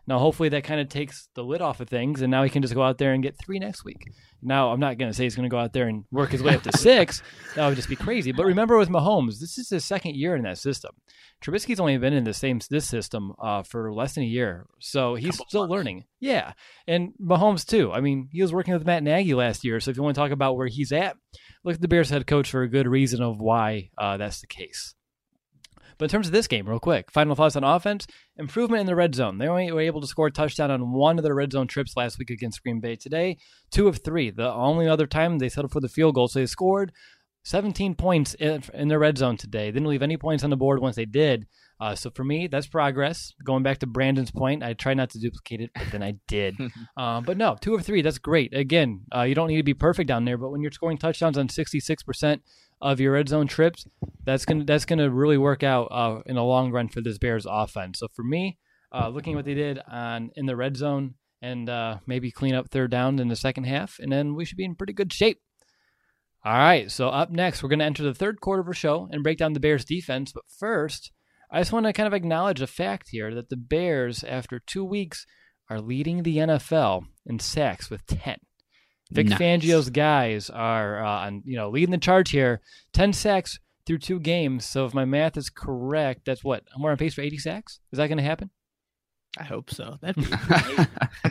Now, hopefully that kind of takes the lid off of things, and now he can just go out there and get three next week. Now, I'm not going to say he's going to go out there and work his way up to six. That would just be crazy. But remember with Mahomes, this is his second year in that system. Trubisky's only been in the same this system uh, for less than a year, so he's still months. learning. Yeah, and Mahomes too. I mean, he was working with Matt Nagy last year, so if you want to talk about where he's at, look at the Bears head coach for a good reason of why uh, that's the case. But in terms of this game, real quick, final thoughts on offense, improvement in the red zone. They only were able to score a touchdown on one of their red zone trips last week against Green Bay. Today, two of three. The only other time they settled for the field goal. So they scored seventeen points in, in their red zone today. They didn't leave any points on the board once they did. Uh, so for me, that's progress. Going back to Brandon's point, I tried not to duplicate it, but then I did. uh, but no, two of three, that's great. Again, uh, you don't need to be perfect down there, but when you're scoring touchdowns on sixty-six percent of your red zone trips, that's gonna that's gonna really work out uh, in the long run for this Bears offense. So for me, uh, looking at what they did on in the red zone and uh, maybe clean up third down in the second half, and then we should be in pretty good shape. All right, so up next, we're going to enter the third quarter of our show and break down the Bears defense. But first, I just want to kind of acknowledge a fact here that the Bears, after two weeks, are leading the N F L in sacks with ten. Vic nice. Fangio's guys are uh, on, you know, leading the charge here. ten sacks through two games. So if my math is correct, that's what? We're on pace for eighty sacks? Is that going to happen? I hope so. That'd be great.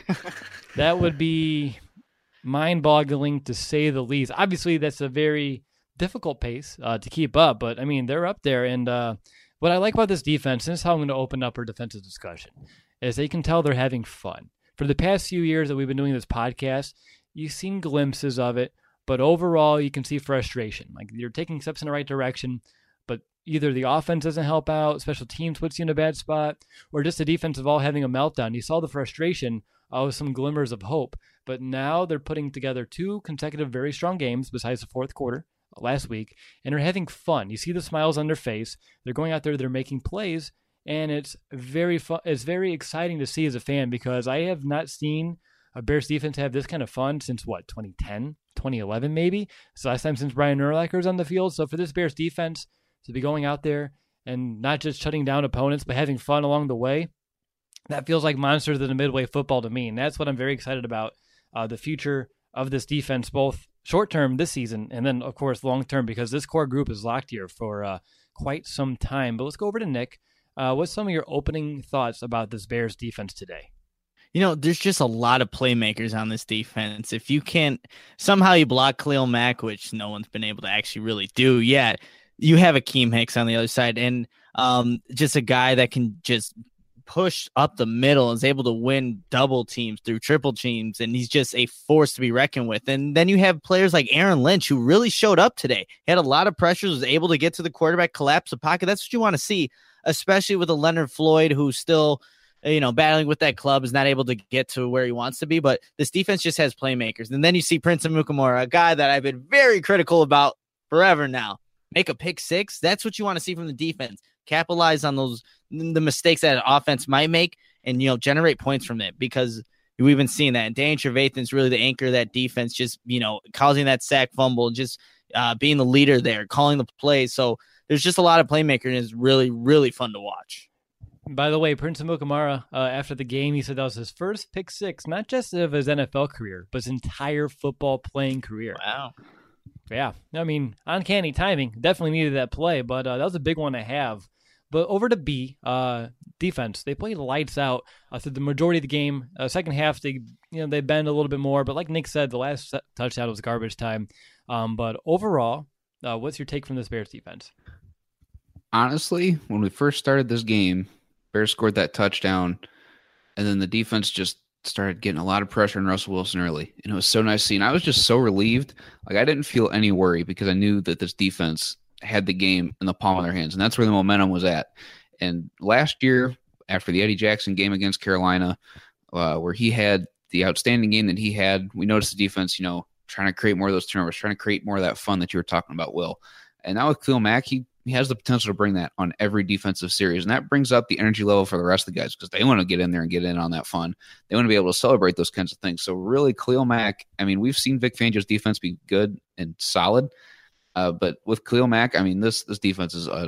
That would be mind-boggling to say the least. Obviously, that's a very difficult pace uh, to keep up, but I mean, they're up there. And uh, what I like about this defense, and this is how I'm going to open up our defensive discussion, is they can tell they're having fun. For the past few years that we've been doing this podcast, you've seen glimpses of it, but overall, you can see frustration. Like, you're taking steps in the right direction, but either the offense doesn't help out, special teams puts you in a bad spot, or just the defense of all having a meltdown. You saw the frustration uh, with some glimmers of hope, but now they're putting together two consecutive very strong games besides the fourth quarter last week, and they're having fun. You see the smiles on their face. They're going out there, they're making plays, and it's very fun. It's very exciting to see as a fan, because I have not seen a Bears defense have this kind of fun since, what, twenty ten, twenty eleven maybe? It's the last time since Brian Urlacher was on the field. So for this Bears defense to be going out there and not just shutting down opponents, but having fun along the way, that feels like monsters of the Midway football to me. And that's what I'm very excited about, uh, the future of this defense, both short-term this season and then, of course, long-term, because this core group is locked here for uh, quite some time. But let's go over to Nick. Uh, what's some of your opening thoughts about this Bears defense today? You know, there's just a lot of playmakers on this defense. If you can't, somehow you block Khalil Mack, which no one's been able to actually really do yet, you have Akeem Hicks on the other side, and um, just a guy that can just push up the middle and is able to win double teams through triple teams, and he's just a force to be reckoned with. And then you have players like Aaron Lynch, who really showed up today. He had a lot of pressures, was able to get to the quarterback, collapse the pocket. That's what you want to see, especially with a Leonard Floyd who's still, you know, battling with that club, is not able to get to where he wants to be. But this defense just has playmakers. And then you see Prince Amukamara, a guy that I've been very critical about forever now, make a pick six. That's what you want to see from the defense. Capitalize on those, the mistakes that an offense might make, and, you know, generate points from it, because we've been seeing that. And Danny Trevathan's really the anchor of that defense, just, you know, causing that sack fumble, just uh, being the leader there, calling the plays. So there's just a lot of playmakers, and it's really, really fun to watch. By the way, Prince Amukamara, uh, after the game, he said that was his first pick six, not just of his N F L career, but his entire football playing career. Wow. Yeah. I mean, uncanny timing. Definitely needed that play, but uh, that was a big one to have. But over to B, uh, defense. They played lights out uh, through the majority of the game. Uh, second half, they you know they bend a little bit more, but like Nick said, the last touchdown was garbage time. Um, but overall, uh, what's your take from this Bears defense? Honestly, when we first started this game, Bears scored that touchdown, and then the defense just started getting a lot of pressure on Russell Wilson early. And it was so nice seeing. I was just so relieved. Like, I didn't feel any worry, because I knew that this defense had the game in the palm of their hands, and that's where the momentum was at. And last year, after the Eddie Jackson game against Carolina, uh, where he had the outstanding game that he had, we noticed the defense, you know, trying to create more of those turnovers, trying to create more of that fun that you were talking about, Will. And now with Khalil Mack, he He has the potential to bring that on every defensive series, and that brings up the energy level for the rest of the guys, because they want to get in there and get in on that fun. They want to be able to celebrate those kinds of things. So really, Khalil Mack, I mean, we've seen Vic Fangio's defense be good and solid, uh, but with Khalil Mack, I mean, this this defense is a,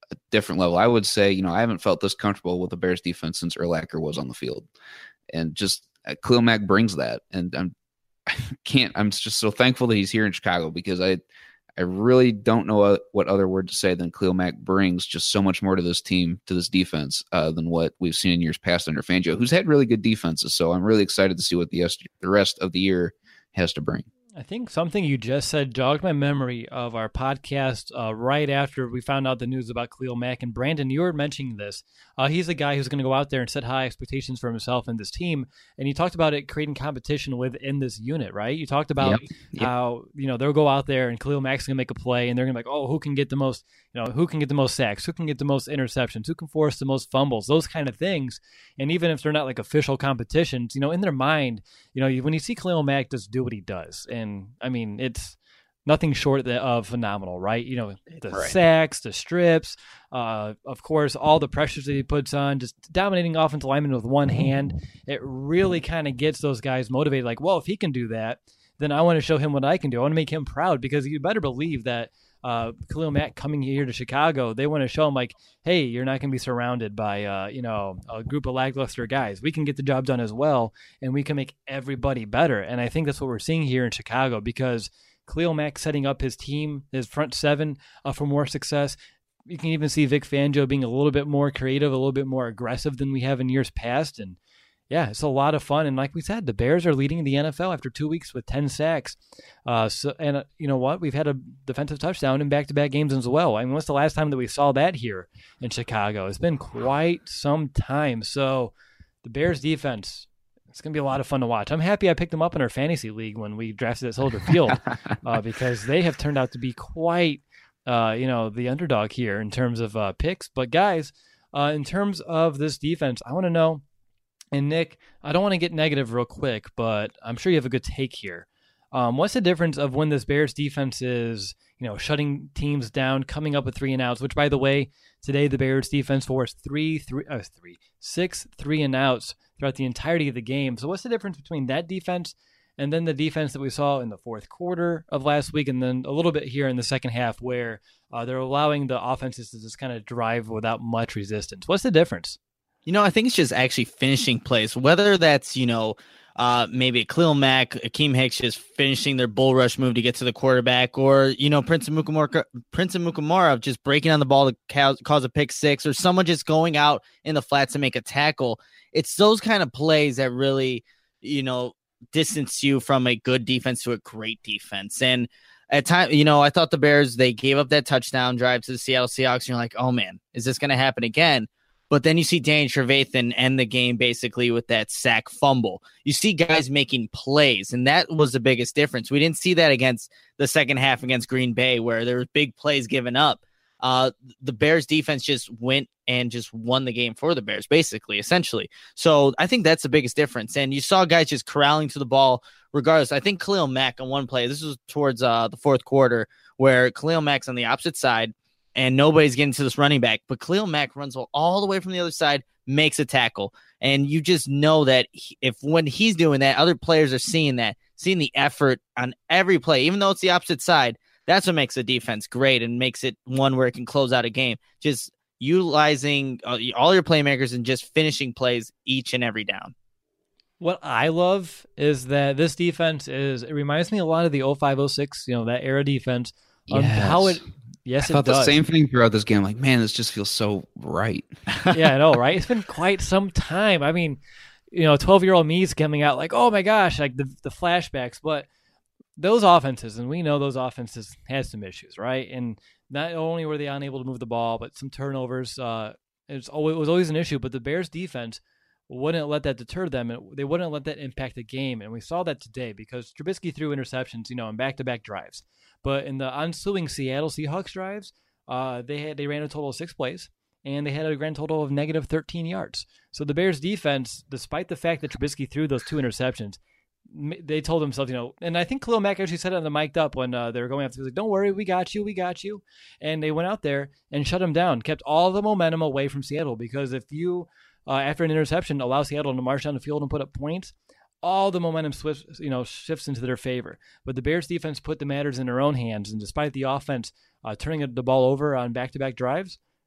a different level. I would say, you know, I haven't felt this comfortable with the Bears defense since Urlacher was on the field. And just uh, Khalil Mack brings that. And I'm, I can't, I'm just so thankful that he's here in Chicago, because I, I really don't know what other word to say than Khalil Mack brings just so much more to this team, to this defense, uh, than what we've seen in years past under Fangio, who's had really good defenses. So I'm really excited to see what the, the rest of the year has to bring. I think something you just said jogged my memory of our podcast uh, right after we found out the news about Khalil Mack. And Brandon, you were mentioning this. Uh, he's a guy who's going to go out there and set high expectations for himself and this team. And you talked about it creating competition within this unit, right? You talked about yep. Yep. how, you know, they'll go out there and Khalil Mack's going to make a play and they're going to be like, oh, who can get the most, you know, who can get the most sacks? Who can get the most interceptions? Who can force the most fumbles? Those kind of things. And even if they're not like official competitions, you know, in their mind, you know, when you see Khalil Mack just do what he does, and I mean, it's nothing short of phenomenal, right? You know, the right. sacks, the strips, uh, of course, all the pressures that he puts on, just dominating offensive linemen with one hand. It really kind of gets those guys motivated. Like, well, if he can do that, then I want to show him what I can do. I want to make him proud, because you better believe that uh, Khalil Mack coming here to Chicago, they want to show him like, hey, you're not going to be surrounded by, uh, you know, a group of lackluster guys. We can get the job done as well, and we can make everybody better. And I think that's what we're seeing here in Chicago, because Khalil Mack setting up his team, his front seven, uh, for more success. You can even see Vic Fangio being a little bit more creative, a little bit more aggressive than we have in years past. And yeah, it's a lot of fun. And like we said, the Bears are leading the N F L after two weeks with ten sacks. Uh, so, and uh, you know what? We've had a defensive touchdown in back-to-back games as well. I mean, when's the last time that we saw that here in Chicago? It's been quite some time. So the Bears defense, it's going to be a lot of fun to watch. I'm happy I picked them up in our fantasy league when we drafted at Soldier Field uh, because they have turned out to be quite, uh, you know, the underdog here in terms of uh, picks. But guys, uh, in terms of this defense, I want to know, and Nick, I don't want to get negative real quick, but I'm sure you have a good take here. Um, what's the difference of when this Bears defense is, you know, shutting teams down, coming up with three and outs, which, by the way, today the Bears defense forced three, three, uh, three, six three and outs throughout the entirety of the game. So what's the difference between that defense and then the defense that we saw in the fourth quarter of last week, and then a little bit here in the second half where uh, they're allowing the offenses to just kind of drive without much resistance? What's the difference? You know, I think it's just actually finishing plays, whether that's, you know, uh, maybe Khalil Mack, Akeem Hicks just finishing their bull rush move to get to the quarterback, or, you know, Prince Amukamara, Prince Amukamara just breaking on the ball to cause, cause a pick six, or someone just going out in the flats to make a tackle. It's those kind of plays that really, you know, distance you from a good defense to a great defense. And at time, you know, I thought the Bears, they gave up that touchdown drive to the Seattle Seahawks, and you're like, oh man, is this going to happen again? But then you see Danny Trevathan end the game basically with that sack fumble. You see guys making plays, and that was the biggest difference. We didn't see that against the second half against Green Bay, where there was big plays given up. Uh, the Bears defense just went and just won the game for the Bears, basically, essentially. So I think that's the biggest difference. And you saw guys just corralling to the ball regardless. I think Khalil Mack on one play, this was towards uh, the fourth quarter, where Khalil Mack's on the opposite side, and nobody's getting to this running back, but Khalil Mack runs all the way from the other side, makes a tackle. And you just know that he, if when he's doing that, other players are seeing that, seeing the effort on every play, even though it's the opposite side. That's what makes the defense great and makes it one where it can close out a game. Just utilizing uh, all your playmakers and just finishing plays each and every down. What I love is that this defense is, it reminds me a lot of the oh five oh six, you know, that era defense. Yes. Um, how it, yes, I thought it does. the same thing throughout this game. Like, man, this just feels so right. Yeah, I know, right? It's been quite some time. I mean, you know, twelve-year-old me's coming out like, oh my gosh, like the, the flashbacks. But those offenses, and we know those offenses had some issues, right? And not only were they unable to move the ball, but some turnovers. Uh, it's always, it was always an issue. But the Bears defense wouldn't let that deter them, and they wouldn't let that impact the game. And we saw that today because Trubisky threw interceptions, you know, in back-to-back drives. But in the ensuing Seattle Seahawks drives, uh, they had they ran a total of six plays, and they had a grand total of negative thirteen yards. So the Bears defense, despite the fact that Trubisky threw those two interceptions, they told themselves, you know, and I think Khalil Mack actually said it on the mic'd up when uh, they were going after. He was like, don't worry, we got you, we got you. And they went out there and shut him down, kept all the momentum away from Seattle, because if you, uh, after an interception, allow Seattle to march down the field and put up points, all the momentum swifts, you know, shifts into their favor. But the Bears defense put the matters in their own hands, and despite the offense uh, turning the ball over on back-to-back drives,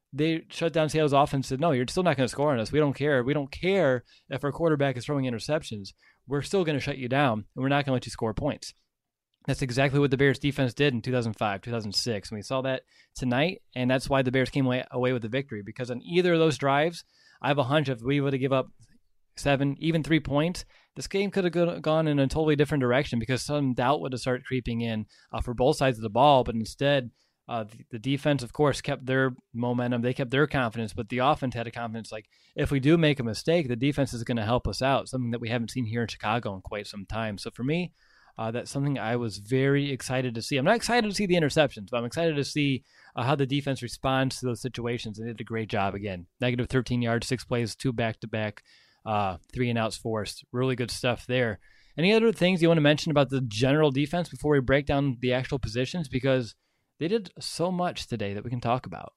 they shut down Seattle's offense and said, no, you're still not going to score on us. We don't care. We don't care if our quarterback is throwing interceptions. We're still going to shut you down, and we're not going to let you score points. That's exactly what the Bears defense did in two thousand five, two thousand six. And we saw that tonight, and that's why the Bears came away, away with the victory, because on either of those drives, I have a hunch if we would have given up seven, even three points, this game could have gone in a totally different direction, because some doubt would have started creeping in uh, for both sides of the ball. But instead, uh, the, the defense, of course, kept their momentum. They kept their confidence, but the offense had a confidence like, if we do make a mistake, the defense is going to help us out, something that we haven't seen here in Chicago in quite some time. So for me, uh, that's something I was very excited to see. I'm not excited to see the interceptions, but I'm excited to see uh, how the defense responds to those situations. And they did a great job again. Negative thirteen yards, six plays, two back-to-back. Uh, three and outs forced. Really good stuff there. Any other things you want to mention about the general defense before we break down the actual positions? Because they did so much today that we can talk about.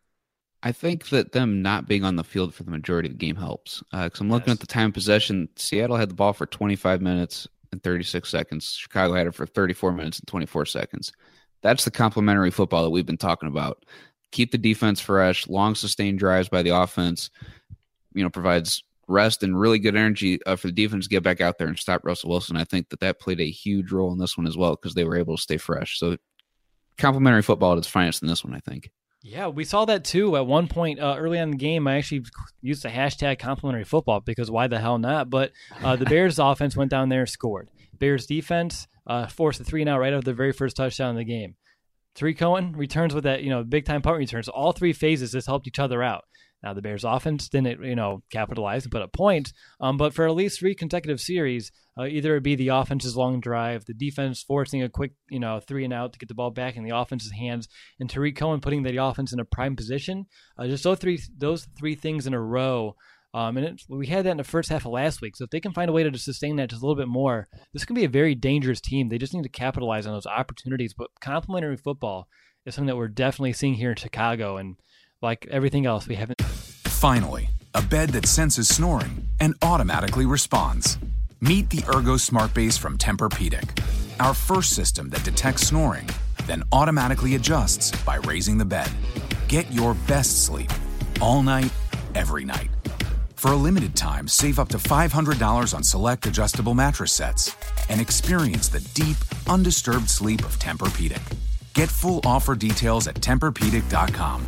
I think that them not being on the field for the majority of the game helps. Because uh, I'm looking Yes. at the time of possession. Seattle had the ball for twenty-five minutes and thirty-six seconds. Chicago had it for thirty-four minutes and twenty-four seconds. That's the complementary football that we've been talking about. Keep the defense fresh, long sustained drives by the offense, you know, provides rest and really good energy uh, for the defense to get back out there and stop Russell Wilson. I think that that played a huge role in this one as well, because they were able to stay fresh. So complimentary football at its finest in this one, I think. Yeah, we saw that too at one point uh, early on in the game. I actually used the hashtag complimentary football, because why the hell not? But uh, the Bears offense went down there and scored. Bears defense uh, forced a three and out right after the very first touchdown in the game. Tariq Cohen returns with that, you know, big time punt returns. All three phases just helped each other out. Now, the Bears offense didn't, you know, capitalize and put up points, um, but for at least three consecutive series, uh, either it be the offense's long drive, the defense forcing a quick, you know, three and out to get the ball back in the offense's hands, and Tariq Cohen putting the offense in a prime position. Uh, just those three, those three things in a row. Um, and it, we had that in the first half of last week. So if they can find a way to sustain that just a little bit more, this can be a very dangerous team. They just need to capitalize on those opportunities. But complementary football is something that we're definitely seeing here in Chicago, and like everything else, we haven't. Finally, a bed that senses snoring and automatically responds. Meet the Ergo Smart Base from Tempur-Pedic, our first system that detects snoring, then automatically adjusts by raising the bed. Get your best sleep all night, every night. For a limited time, save up to five hundred dollars on select adjustable mattress sets and experience the deep, undisturbed sleep of Tempur-Pedic. Get full offer details at Tempur Pedic dot com.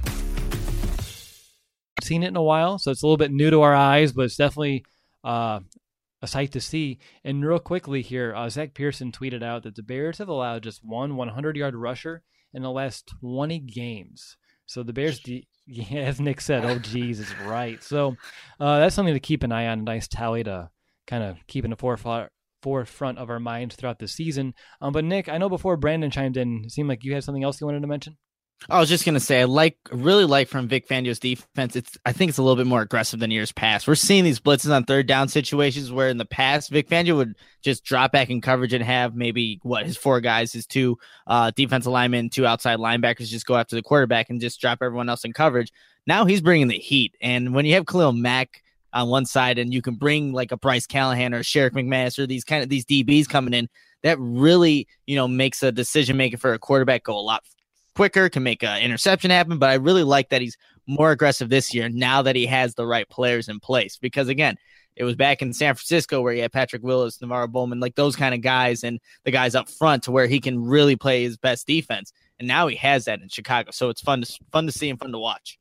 Seen it in a while, so it's a little bit new to our eyes, but it's definitely uh, a sight to see. And real quickly here, uh, Zach Pearson tweeted out that the Bears have allowed just one hundred-yard rusher in the last twenty games. So the Bears, de- yeah, as Nick said, oh, geez, is right. So uh, that's something to keep an eye on, a nice tally to kind of keep in the forefront forefront of our minds throughout the season. Um, but Nick, I know before Brandon chimed in, it seemed like you had something else you wanted to mention. I was just gonna say, I like, really like from Vic Fangio's defense. It's, I think it's a little bit more aggressive than years past. We're seeing these blitzes on third down situations where in the past Vic Fangio would just drop back in coverage and have maybe what his four guys, his two uh, defensive linemen, two outside linebackers just go after the quarterback and just drop everyone else in coverage. Now he's bringing the heat, and when you have Khalil Mack on one side and you can bring like a Bryce Callahan or Sherrick McManus or these kind of these D Bs coming in, that really, you know, makes a decision making for a quarterback go a lot quicker, can make an interception happen. But I really like that he's more aggressive this year now that he has the right players in place, because again, it was back in San Francisco where he had Patrick Willis, Navarro Bowman, like those kind of guys, and the guys up front to where he can really play his best defense. And now he has that in Chicago. So it's fun to fun to see and fun to watch.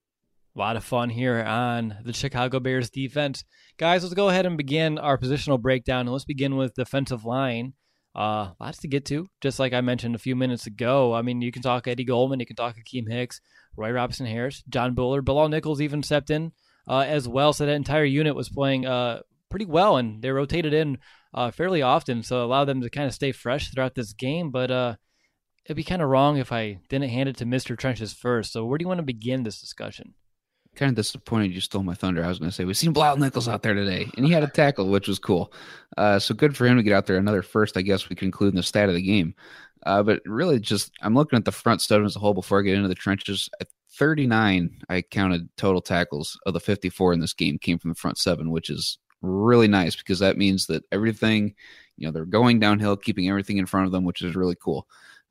A lot of fun here on the Chicago Bears defense. Guys, let's go ahead and begin our positional breakdown, and let's begin with defensive line. Uh, lots to get to, just like I mentioned a few minutes ago. I mean, you can talk Eddie Goldman, you can talk Akeem Hicks, Roy Robinson Harris, John Buller, Bilal Nichols even stepped in uh, as well. So that entire unit was playing uh, pretty well, and they rotated in uh, fairly often, so it allowed them to kind of stay fresh throughout this game. But uh, it'd be kind of wrong if I didn't hand it to Mister Trenches first. So where do you want to begin this discussion? Kind of disappointed you stole my thunder. I was going to say, we've seen Bilal Nichols out there today, and he had a tackle, which was cool. Uh, so good for him to get out there. Another first, I guess we can include in the stat of the game. Uh, but really just, I'm looking at the front seven as a whole before I get into the trenches. At thirty-nine, I counted total tackles of the fifty-four in this game came from the front seven, which is really nice because that means that everything, you know, they're going downhill, keeping everything in front of them, which is really cool.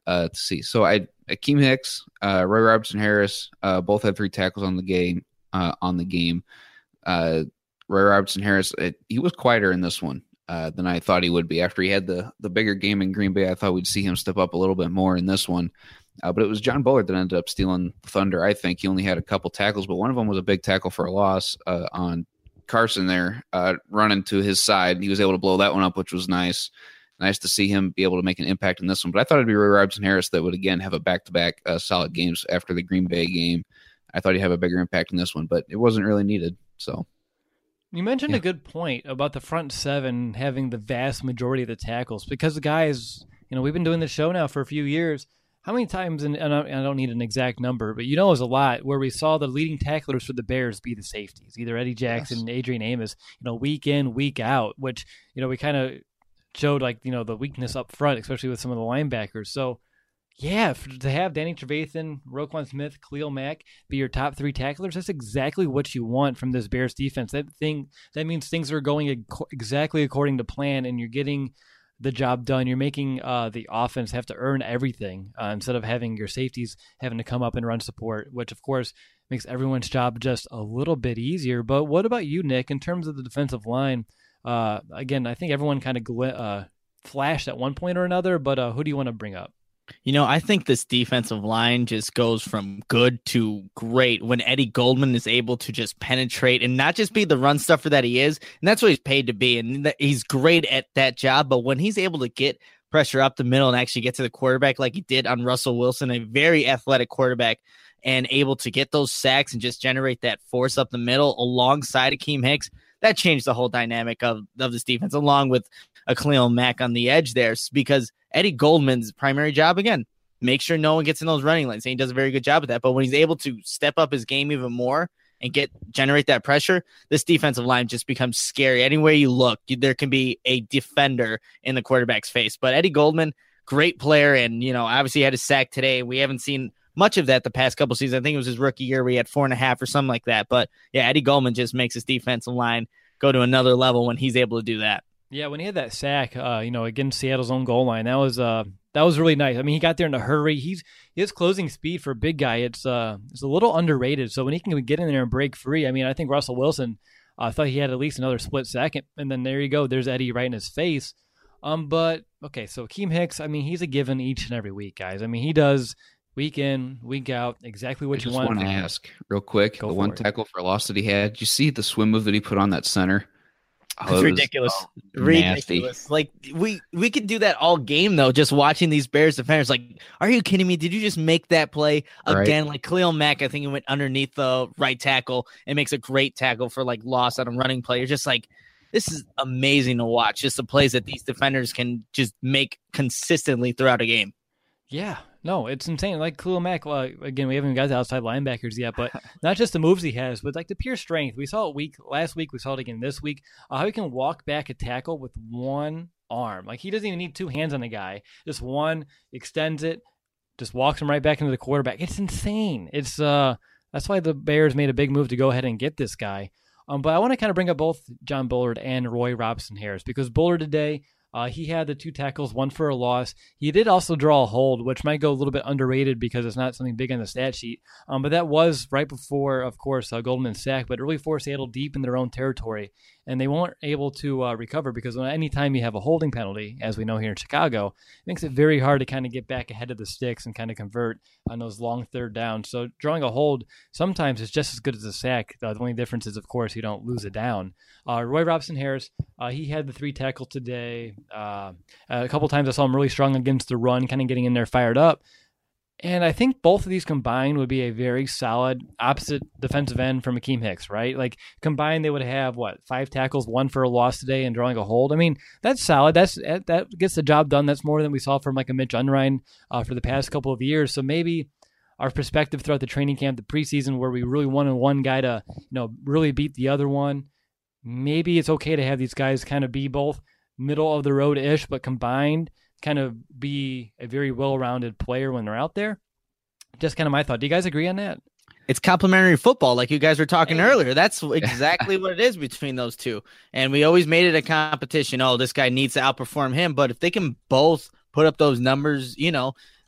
uh, to see. So I Akeem Hicks, uh, Roy Robertson Harris, uh, both had three tackles on the game. Uh, on the game, uh, Roy Robertson Harris, it, he was quieter in this one uh, than I thought he would be. After he had the the bigger game in Green Bay, I thought we'd see him step up a little bit more in this one. Uh, but it was John Bullard that ended up stealing the thunder. I think he only had a couple tackles, but one of them was a big tackle for a loss uh, on Carson there, uh, running to his side. He was able to blow that one up, which was nice. Nice to see him be able to make an impact in this one. But I thought it'd be Roy Robertson Harris that would, again, have a back-to-back uh, solid games after the Green Bay game. I thought he'd have a bigger impact in this one, but it wasn't really needed. So you mentioned yeah. a good point about the front seven having the vast majority of the tackles, because the guys, you know, we've been doing this show now for a few years. How many times, and I don't need an exact number, but you know it was a lot, where we saw the leading tacklers for the Bears be the safeties, either Eddie Jackson, yes. Adrian Amos, you know, week in, week out, which, you know, we kind of showed, like, you know, the weakness up front, especially with some of the linebackers. So, yeah, for, to have Danny Trevathan, Roquan Smith, Khalil Mack be your top three tacklers, that's exactly what you want from this Bears defense. That thing that means things are going ag- exactly according to plan, and you're getting the job done. You're making uh, the offense have to earn everything uh, instead of having your safeties having to come up and run support, which of course makes everyone's job just a little bit easier. But what about you, Nick, in terms of the defensive line? Uh, again, I think everyone kind of gl- uh, flashed at one point or another, but uh, who do you want to bring up? You know, I think this defensive line just goes from good to great when Eddie Goldman is able to just penetrate and not just be the run stuffer that he is. And that's what he's paid to be. And he's great at that job. But when he's able to get pressure up the middle and actually get to the quarterback like he did on Russell Wilson, a very athletic quarterback, and able to get those sacks and just generate that force up the middle alongside Akeem Hicks, that changed the whole dynamic of, of this defense, along with a Khalil Mack on the edge there, because Eddie Goldman's primary job, again, make sure no one gets in those running lanes. And he does a very good job at that. But when he's able to step up his game even more and get generate that pressure, this defensive line just becomes scary. Anywhere you look, there can be a defender in the quarterback's face. But Eddie Goldman, great player, and you know, obviously he had a sack today. We haven't seen much of that the past couple seasons. I think it was his rookie year where he had four and a half or something like that. But yeah, Eddie Goldman just makes his defensive line go to another level when he's able to do that. Yeah, when he had that sack, uh, you know, against Seattle's own goal line, that was uh, that was really nice. I mean, he got there in a hurry. He's his closing speed for a big guy, it's uh, it's a little underrated. So when he can get in there and break free, I mean, I think Russell Wilson uh, thought he had at least another split second, and then there you go. There's Eddie right in his face. Um, but okay, so Akeem Hicks, I mean, he's a given each and every week, guys. I mean, he does week in, week out, exactly what I you just want. want to ask real quick, Go the one it. tackle for a loss that he had. Did you see the swim move that he put on that center? It's oh, ridiculous. So ridiculous. nasty. Like we we could do that all game though, just watching these Bears defenders. Like, are you kidding me? Did you just make that play again? Right. Like Khalil Mack, I think he went underneath the right tackle and makes a great tackle for like loss on a running play. You're just like, this is amazing to watch. Just the plays that these defenders can just make consistently throughout a game. Yeah, no, it's insane. Like Khalil Mack, uh, again, we haven't even got to outside linebackers yet, but not just the moves he has, but like the pure strength. We saw it week last week. We saw it again this week. Uh, how he can walk back a tackle with one arm. Like he doesn't even need two hands on the guy. Just one, extends it, just walks him right back into the quarterback. It's insane. It's uh, that's why the Bears made a big move to go ahead and get this guy. Um, but I want to kind of bring up both John Bullard and Roy Robertson Harris, because Bullard today, Uh, he had the two tackles, one for a loss. He did also draw a hold, which might go a little bit underrated because it's not something big on the stat sheet. Um, but that was right before, of course, uh, Goldman's sack, but it really forced Seattle deep in their own territory. And they weren't able to uh, recover because anytime you have a holding penalty, as we know here in Chicago, it makes it very hard to kind of get back ahead of the sticks and kind of convert on those long third downs. So drawing a hold sometimes is just as good as a sack. Uh, the only difference is, of course, you don't lose it down. Uh, Roy Robertson Harris, uh, he had the three tackle today. Uh, a couple times I saw him really strong against the run, kind of getting in there fired up. And I think both of these combined would be a very solid opposite defensive end from Akeem Hicks, right? Like combined, they would have what, five tackles, one for a loss today, and drawing a hold. I mean, that's solid. That's that gets the job done. That's more than we saw from like a Mitch Unrein uh, for the past couple of years. So maybe our perspective throughout the training camp, the preseason, where we really wanted one guy to, you know, really beat the other one. Maybe it's okay to have these guys kind of be both middle of the road ish, but combined, kind of be a very well-rounded player when they're out there. Just kind of my thought. Do you guys agree on that? It's complementary football, like you guys were talking hey. earlier. That's exactly what it is between those two. And we always made it a competition. Oh, this guy needs to outperform him. But if they can both put up those numbers, you know,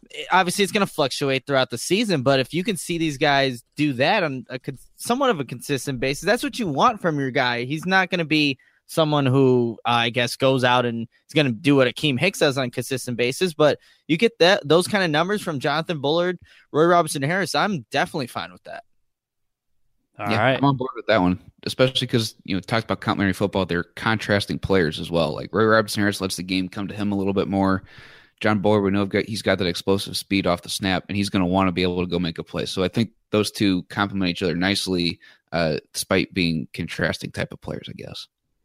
obviously it's going to fluctuate throughout the season, but if you can see these guys do that on a somewhat of a consistent basis, that's what you want from your guy. He's not going to be someone who uh, I guess goes out and is going to do what Akeem Hicks does on a consistent basis, but you get that those kind of numbers from Jonathan Bullard, Roy Robertson Harris. I'm definitely fine with that. All yeah, right. I'm on board with that one, especially because, you know, talked about complementary football. They're contrasting players as well. Like Roy Robertson Harris lets the game come to him a little bit more. John Bullard, we know he's got that explosive speed off the snap, and he's going to want to be able to go make a play. So I think those two complement each other nicely, uh, despite being contrasting type of players, I guess.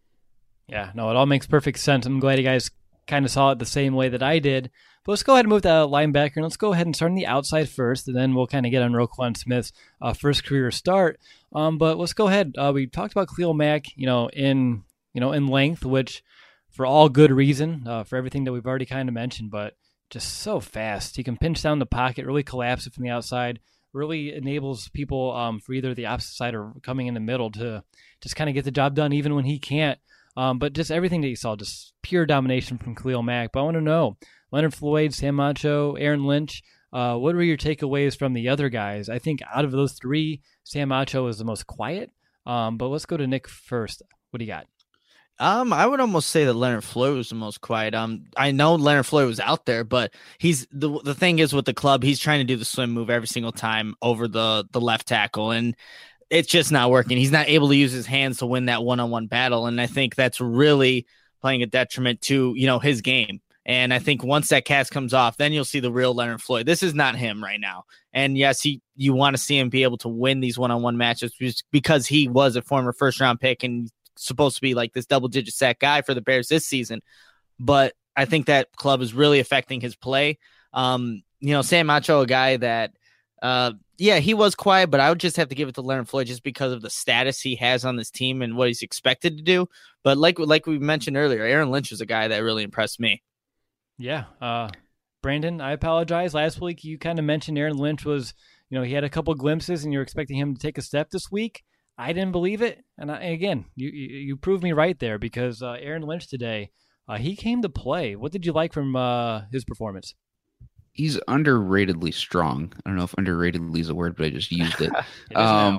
Yeah, no, it all makes perfect sense. I'm glad you guys kind of saw it the same way that I did. But let's go ahead and move to linebacker, and let's go ahead and start on the outside first, and then we'll kind of get on Roquan Smith's uh, first career start. Um, but let's go ahead. Uh, we talked about Khalil Mack, you know, in you know in length, which for all good reason, uh, for everything that we've already kind of mentioned, but just so fast. He can pinch down the pocket, really collapse it from the outside, really enables people um, for either the opposite side or coming in the middle to just kind of get the job done, even when he can't. Um, but just everything that you saw, just pure domination from Khalil Mack. But I want to know, Leonard Floyd, Sam Acho, Aaron Lynch, uh, what were your takeaways from the other guys? I think out of those three, Sam Acho is the most quiet. Um, but let's go to Nick first. What do you got? Um, I would almost say that Leonard Floyd was the most quiet. Um, I know Leonard Floyd was out there, but he's the the thing is with the club, he's trying to do the swim move every single time over the the left tackle, and it's just not working. He's not able to use his hands to win that one-on-one battle, and I think that's really playing a detriment to, you know, his game. And I think once that cast comes off, then you'll see the real Leonard Floyd. This is not him right now. And yes, he you want to see him be able to win these one-on-one matches because he was a former first-round pick and supposed to be like this double-digit sack guy for the Bears this season. But I think that club is really affecting his play. Um, you know, Sam Acho, a guy that, uh, yeah, he was quiet, but I would just have to give it to Leonard Floyd just because of the status he has on this team and what he's expected to do. But like like we mentioned earlier, Aaron Lynch was a guy that really impressed me. Yeah. Uh, Brandon, I apologize. Last week, you kind of mentioned Aaron Lynch was, you know, he had a couple glimpses and you're expecting him to take a step this week. I didn't believe it. And I, again, you, you you proved me right there because uh, Aaron Lynch today, uh, he came to play. What did you like from uh, his performance? He's underratedly strong. I don't know if underratedly is a word, but I just used it. it um,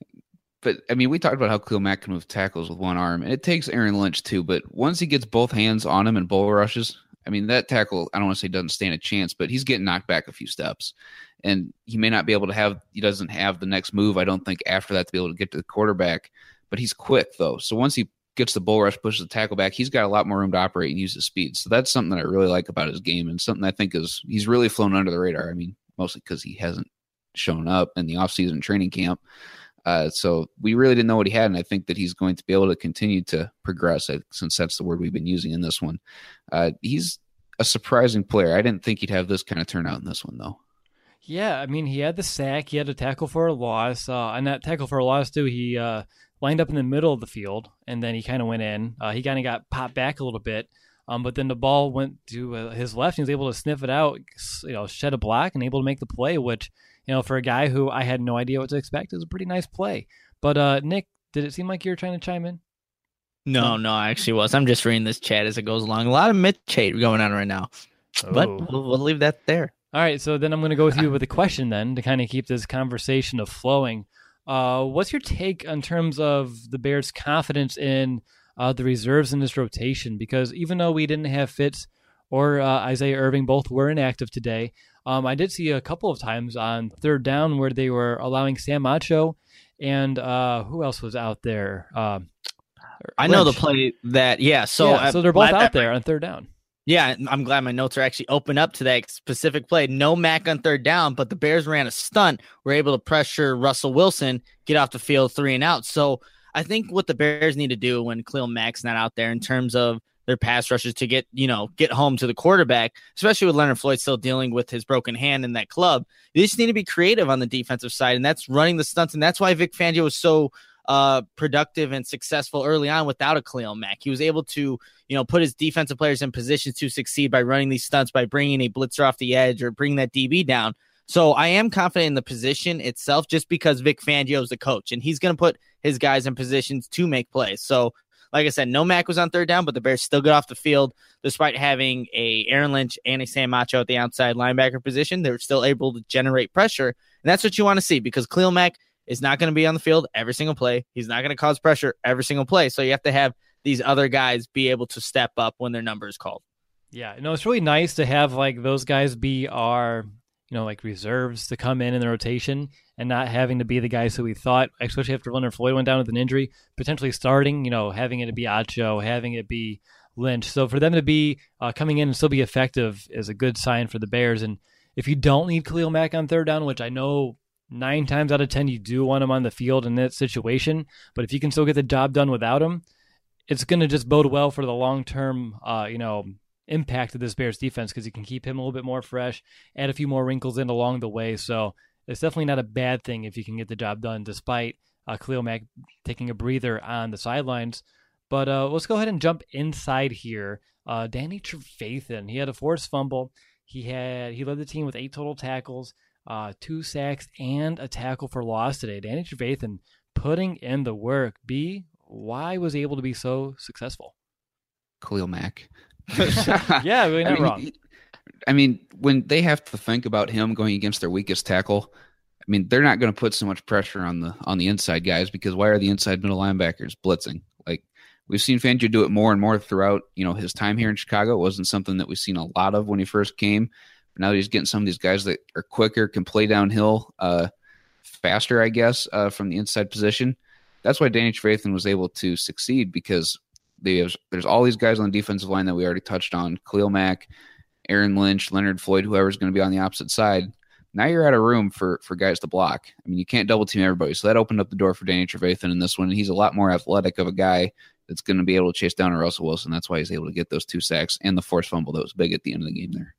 but, I mean, we talked about how Khalil Mack can move tackles with one arm, and it takes Aaron Lynch too. But once he gets both hands on him and bull rushes, I mean, that tackle, I don't want to say doesn't stand a chance, but he's getting knocked back a few steps. And he may not be able to have, he doesn't have the next move, I don't think, after that to be able to get to the quarterback. But he's quick, though. So once he gets the bull rush, pushes the tackle back, he's got a lot more room to operate and use his speed. So that's something that I really like about his game and something I think is he's really flown under the radar. I mean, mostly because he hasn't shown up in the offseason training camp. Uh, so we really didn't know what he had, and I think that he's going to be able to continue to progress, since that's the word we've been using in this one. Uh, he's a surprising player. I didn't think he'd have this kind of turnout in this one, though. Yeah, I mean, he had the sack. He had a tackle for a loss. Uh, and that tackle for a loss, too, he uh, lined up in the middle of the field, and then he kind of went in. Uh, he kind of got popped back a little bit, um, but then the ball went to uh, his left. And he was able to sniff it out, you know, shed a block, and able to make the play, which, you know, for a guy who I had no idea what to expect, is a pretty nice play. But, uh, Nick, did it seem like you were trying to chime in? No, no, I actually was. I'm just reading this chat as it goes along. A lot of Mitch hate going on right now, Oh. but we'll, we'll leave that there. All right, so then I'm going to go with you with a question then to kind of keep this conversation of flowing. Uh, what's your take in terms of the Bears' confidence in uh, the reserves in this rotation? Because even though we didn't have Fitz or uh, Isaiah Irving, both were inactive today, um, I did see a couple of times on third down where they were allowing Sam Acho and uh, who else was out there? Uh, I know the play that, yeah. So, yeah, so they're both out there on third down. Yeah, I'm glad my notes are actually open up to that specific play. No Mac on third down, but the Bears ran a stunt. We're able to pressure Russell Wilson, get off the field, three and out. So I think what the Bears need to do when Khalil Mack's not out there in terms of their pass rushes to get, you know, get home to the quarterback, especially with Leonard Floyd still dealing with his broken hand in that club. They just need to be creative on the defensive side, and that's running the stunts. And that's why Vic Fangio was so uh, productive and successful early on without a Khalil Mack. He was able to, you know, put his defensive players in positions to succeed by running these stunts, by bringing a blitzer off the edge or bringing that D B down. So I am confident in the position itself just because Vic Fangio is the coach and he's going to put his guys in positions to make plays. So like I said, no Mac was on third down, but the Bears still got off the field despite having a Aaron Lynch and a Sam Macho at the outside linebacker position. They were still able to generate pressure, and that's what you want to see because Khalil Mack is not going to be on the field every single play. He's not going to cause pressure every single play, so you have to have these other guys be able to step up when their number is called. Yeah, no, it's really nice to have like those guys be our, you know, like reserves to come in in the rotation and not having to be the guys who we thought, especially after Leonard Floyd went down with an injury, potentially starting, you know, having it be Acho, having it be Lynch. So for them to be uh, coming in and still be effective is a good sign for the Bears. And if you don't need Khalil Mack on third down, which I know nine times out of ten you do want him on the field in that situation, but if you can still get the job done without him, it's going to just bode well for the long-term, uh, you know, impact of this Bears defense because you can keep him a little bit more fresh, add a few more wrinkles in along the way. So it's definitely not a bad thing if you can get the job done despite uh, Khalil Mack taking a breather on the sidelines. But uh, let's go ahead and jump inside here. Uh, Danny Trevathan, he had a forced fumble. He had he led the team with eight total tackles, uh, two sacks, and a tackle for loss today. Danny Trevathan putting in the work. B, why was he able to be so successful? Khalil Mack. Yeah, really not I mean, wrong. he, I mean, when they have to think about him going against their weakest tackle, I mean, they're not going to put so much pressure on the on the inside guys because why are the inside middle linebackers blitzing? Like we've seen Fangio do it more and more throughout, you know, his time here in Chicago. It wasn't something that we've seen a lot of when he first came. But now he's getting some of these guys that are quicker, can play downhill uh, faster, I guess, uh, from the inside position. That's why Danny Trevathan was able to succeed because they have, there's all these guys on the defensive line that we already touched on. Khalil Mack, Aaron Lynch, Leonard Floyd, whoever's going to be on the opposite side. Now you're out of room for, for guys to block. I mean, you can't double team everybody. So that opened up the door for Danny Trevathan in this one. He's a lot more athletic of a guy that's going to be able to chase down a Russell Wilson. That's why he's able to get those two sacks and the forced fumble that was big at the end of the game there.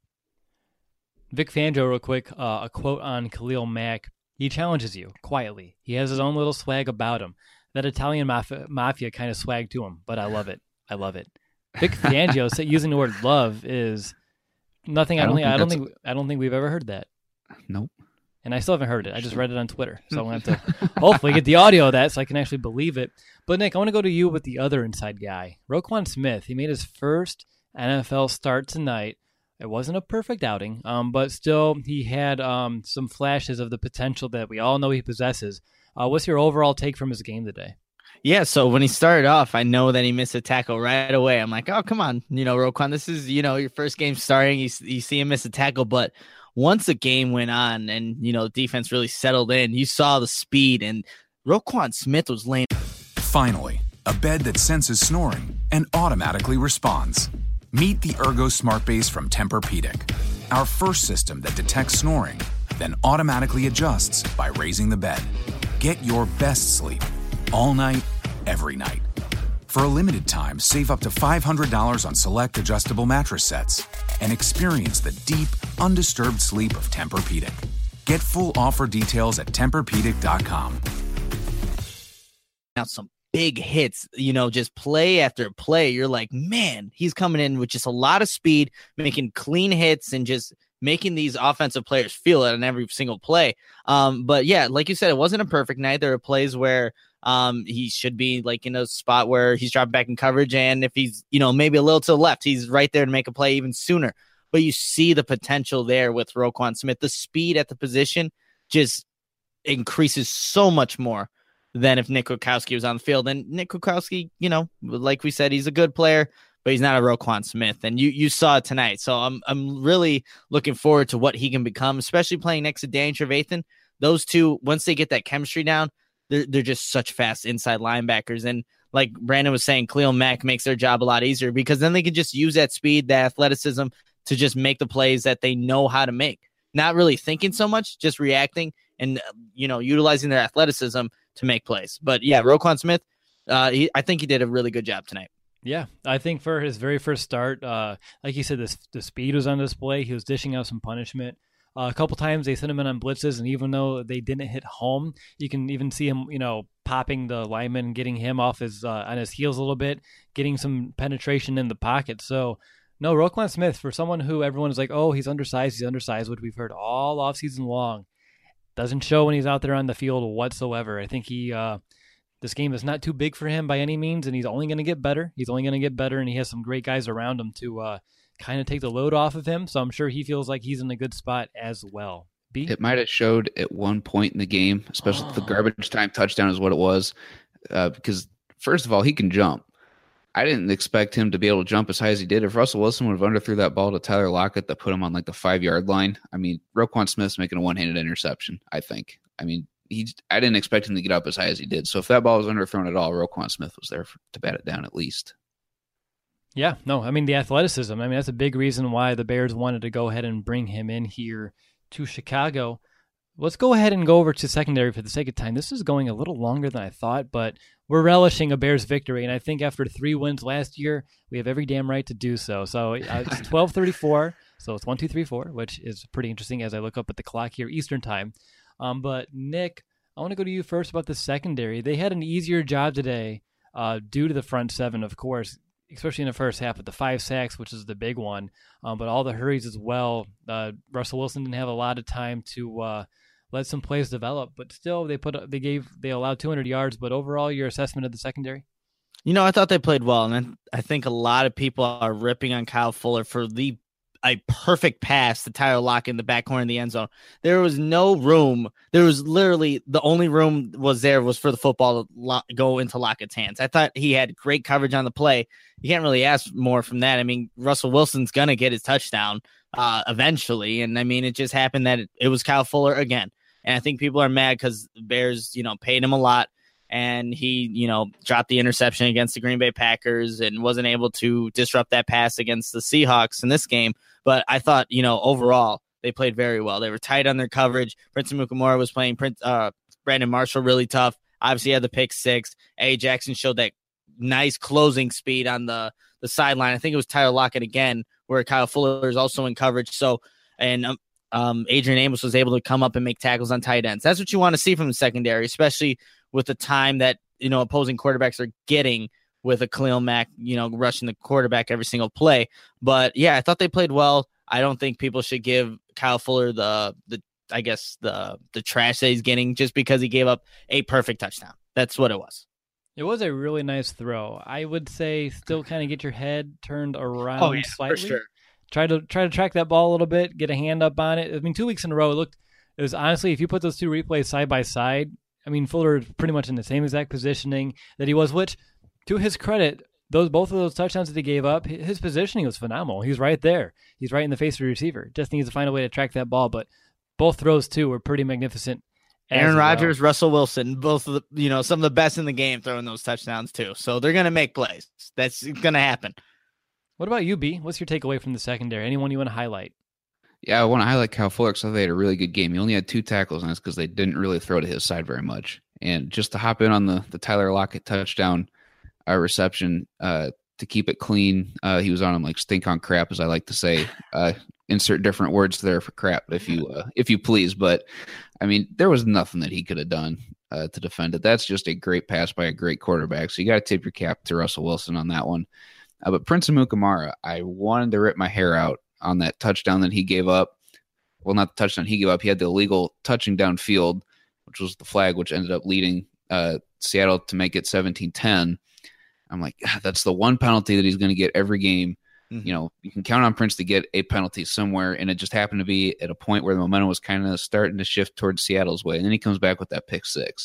Vic Fangio, real quick, uh, a quote on Khalil Mack. He challenges you quietly. He has his own little swag about him. That Italian mafia, mafia kind of swag to him, but I love it. I love it. Vic Fangio using the word love is nothing. I don't, I don't think. I don't think. I don't think we've ever heard that. Nope. And I still haven't heard it. I just read it on Twitter, so I'm gonna have to hopefully get the audio of that so I can actually believe it. But Nick, I want to go to you with the other inside guy, Roquan Smith. He made his first N F L start tonight. It wasn't a perfect outing, um, but still he had um, some flashes of the potential that we all know he possesses. Uh, what's your overall take from his game today? Yeah, so when he started off, I know that he missed a tackle right away. I'm like, oh, come on, you know, Roquan, this is, you know, your first game starting. You, you see him miss a tackle, but once the game went on and, you know, defense really settled in, you saw the speed, and Roquan Smith was laying. Finally, a bed that senses snoring and automatically responds. Meet the Ergo Smart Base from Tempur-Pedic, our first system that detects snoring, then automatically adjusts by raising the bed. Get your best sleep all night, every night. For a limited time, save up to five hundred dollars on select adjustable mattress sets and experience the deep, undisturbed sleep of Tempur-Pedic. Get full offer details at Tempur Pedic dot com. Now some big hits, you know, just play after play. You're like, man, he's coming in with just a lot of speed, making clean hits and just making these offensive players feel it on every single play. Um, but yeah, like you said, it wasn't a perfect night. There are plays where um, he should be like in a spot where he's dropping back in coverage. And if he's, you know, maybe a little to the left, he's right there to make a play even sooner. But you see the potential there with Roquan Smith. The speed at the position just increases so much more than if Nick Kwiatkowski was on the field. And Nick Kwiatkowski, you know, like we said, he's a good player, but he's not a Roquan Smith. And you you saw it tonight. So I'm I'm really looking forward to what he can become, especially playing next to Danny Trevathan. Those two, once they get that chemistry down, they're, they're just such fast inside linebackers. And like Brandon was saying, Khalil Mack makes their job a lot easier because then they can just use that speed, that athleticism to just make the plays that they know how to make. Not really thinking so much, just reacting and, you know, utilizing their athleticism to make plays. But yeah, Roquan Smith, uh, he, I think he did a really good job tonight. Yeah, I think for his very first start, uh, like you said, the, the speed was on display. He was dishing out some punishment. Uh, a couple times they sent him in on blitzes, and even though they didn't hit home, you can even see him, you know, popping the lineman, getting him off his uh, on his heels a little bit, getting some penetration in the pocket. So, no, Roquan Smith, for someone who everyone is like, oh, he's undersized, he's undersized, which we've heard all offseason long, doesn't show when he's out there on the field whatsoever. I think he uh, this game is not too big for him by any means, and he's only going to get better. He's only going to get better, and he has some great guys around him to uh, kind of take the load off of him. So I'm sure he feels like he's in a good spot as well. B? It might have showed at one point in the game, especially Oh. the garbage time touchdown is what it was, uh, because first of all, he can jump. I didn't expect him to be able to jump as high as he did. If Russell Wilson would have underthrew that ball to Tyler Lockett that put him on like the five-yard line, I mean, Roquan Smith's making a one-handed interception, I think. I mean, he, I didn't expect him to get up as high as he did. So if that ball was underthrown at all, Roquan Smith was there for, to bat it down at least. Yeah, no, I mean, the athleticism. I mean, that's a big reason why the Bears wanted to go ahead and bring him in here to Chicago. Let's go ahead and go over to secondary for the sake of time. This is going a little longer than I thought, but we're relishing a Bears victory, and I think after three wins last year, we have every damn right to do so. So uh, it's twelve thirty-four, so it's one, two, three, four, which is pretty interesting as I look up at the clock here, Eastern time. Um, but Nick, I want to go to you first about the secondary. They had an easier job today uh, due to the front seven, of course, especially in the first half with the five sacks, which is the big one, um, but all the hurries as well. Uh, Russell Wilson didn't have a lot of time to uh, let some plays develop, but still they put they gave they allowed two hundred yards. But overall, your assessment of the secondary? You know, I thought they played well, and I think a lot of people are ripping on Kyle Fuller for the a perfect pass to Tyler Lockett in the back corner in the end zone. There was no room. There was literally the only room was there was for the football to lo- go into Lockett's hands. I thought he had great coverage on the play. You can't really ask more from that. I mean, Russell Wilson's going to get his touchdown uh, eventually. And I mean, it just happened that it, it was Kyle Fuller again. And I think people are mad because the Bears, you know, paid him a lot. And he, you know, dropped the interception against the Green Bay Packers and wasn't able to disrupt that pass against the Seahawks in this game. But I thought, you know, overall, they played very well. They were tight on their coverage. Prince Amukamara was playing Prince, uh, Brandon Marshall really tough. Obviously, he had the pick six. A. Jackson showed that nice closing speed on the, the sideline. I think it was Tyler Lockett again, where Kyle Fuller is also in coverage. So, and um, um, Adrian Amos was able to come up and make tackles on tight ends. That's what you want to see from the secondary, especially with the time that, you know, opposing quarterbacks are getting with a Khalil Mack, you know, rushing the quarterback every single play. But yeah, I thought they played well. I don't think people should give Kyle Fuller the, the, I guess the, the trash that he's getting just because he gave up a perfect touchdown. That's what it was. It was a really nice throw. I would say still kind of get your head turned around Oh, yeah, slightly. for sure. Try to try to track that ball a little bit, get a hand up on it. I mean, two weeks in a row, it looked, it was honestly, if you put those two replays side by side, I mean, Fuller is pretty much in the same exact positioning that he was, which, to his credit, those both of those touchdowns that he gave up, his positioning was phenomenal. He was right there. He's right in the face of the receiver. Just needs to find a way to track that ball, but both throws, too, were pretty magnificent. Aaron well. Rodgers, Russell Wilson, both of the, you know, some of the best in the game throwing those touchdowns, too. So they're going to make plays. That's going to happen. What about you, B? What's your takeaway from the secondary? Anyone you want to highlight? Yeah, I want to highlight Kyle Fuller because I thought they had a really good game. He only had two tackles, and that's because they didn't really throw to his side very much. And just to hop in on the, the Tyler Lockett touchdown uh, reception, uh, to keep it clean, uh, he was on him like stink on crap, as I like to say. Uh, insert different words there for crap, if you uh, if you please. But, I mean, there was nothing that he could have done uh, to defend it. That's just a great pass by a great quarterback. So you got to tip your cap to Russell Wilson on that one. Uh, but Prince Amukamara, I wanted to rip my hair out on that touchdown that he gave up. Well, not the touchdown he gave up. He had the illegal touching downfield, which was the flag, which ended up leading uh, Seattle to make it seventeen ten. I'm like, that's the one penalty that he's going to get every game. Mm-hmm. You know, you can count on Prince to get a penalty somewhere, and it just happened to be at a point where the momentum was kind of starting to shift towards Seattle's way. And then he comes back with that pick six.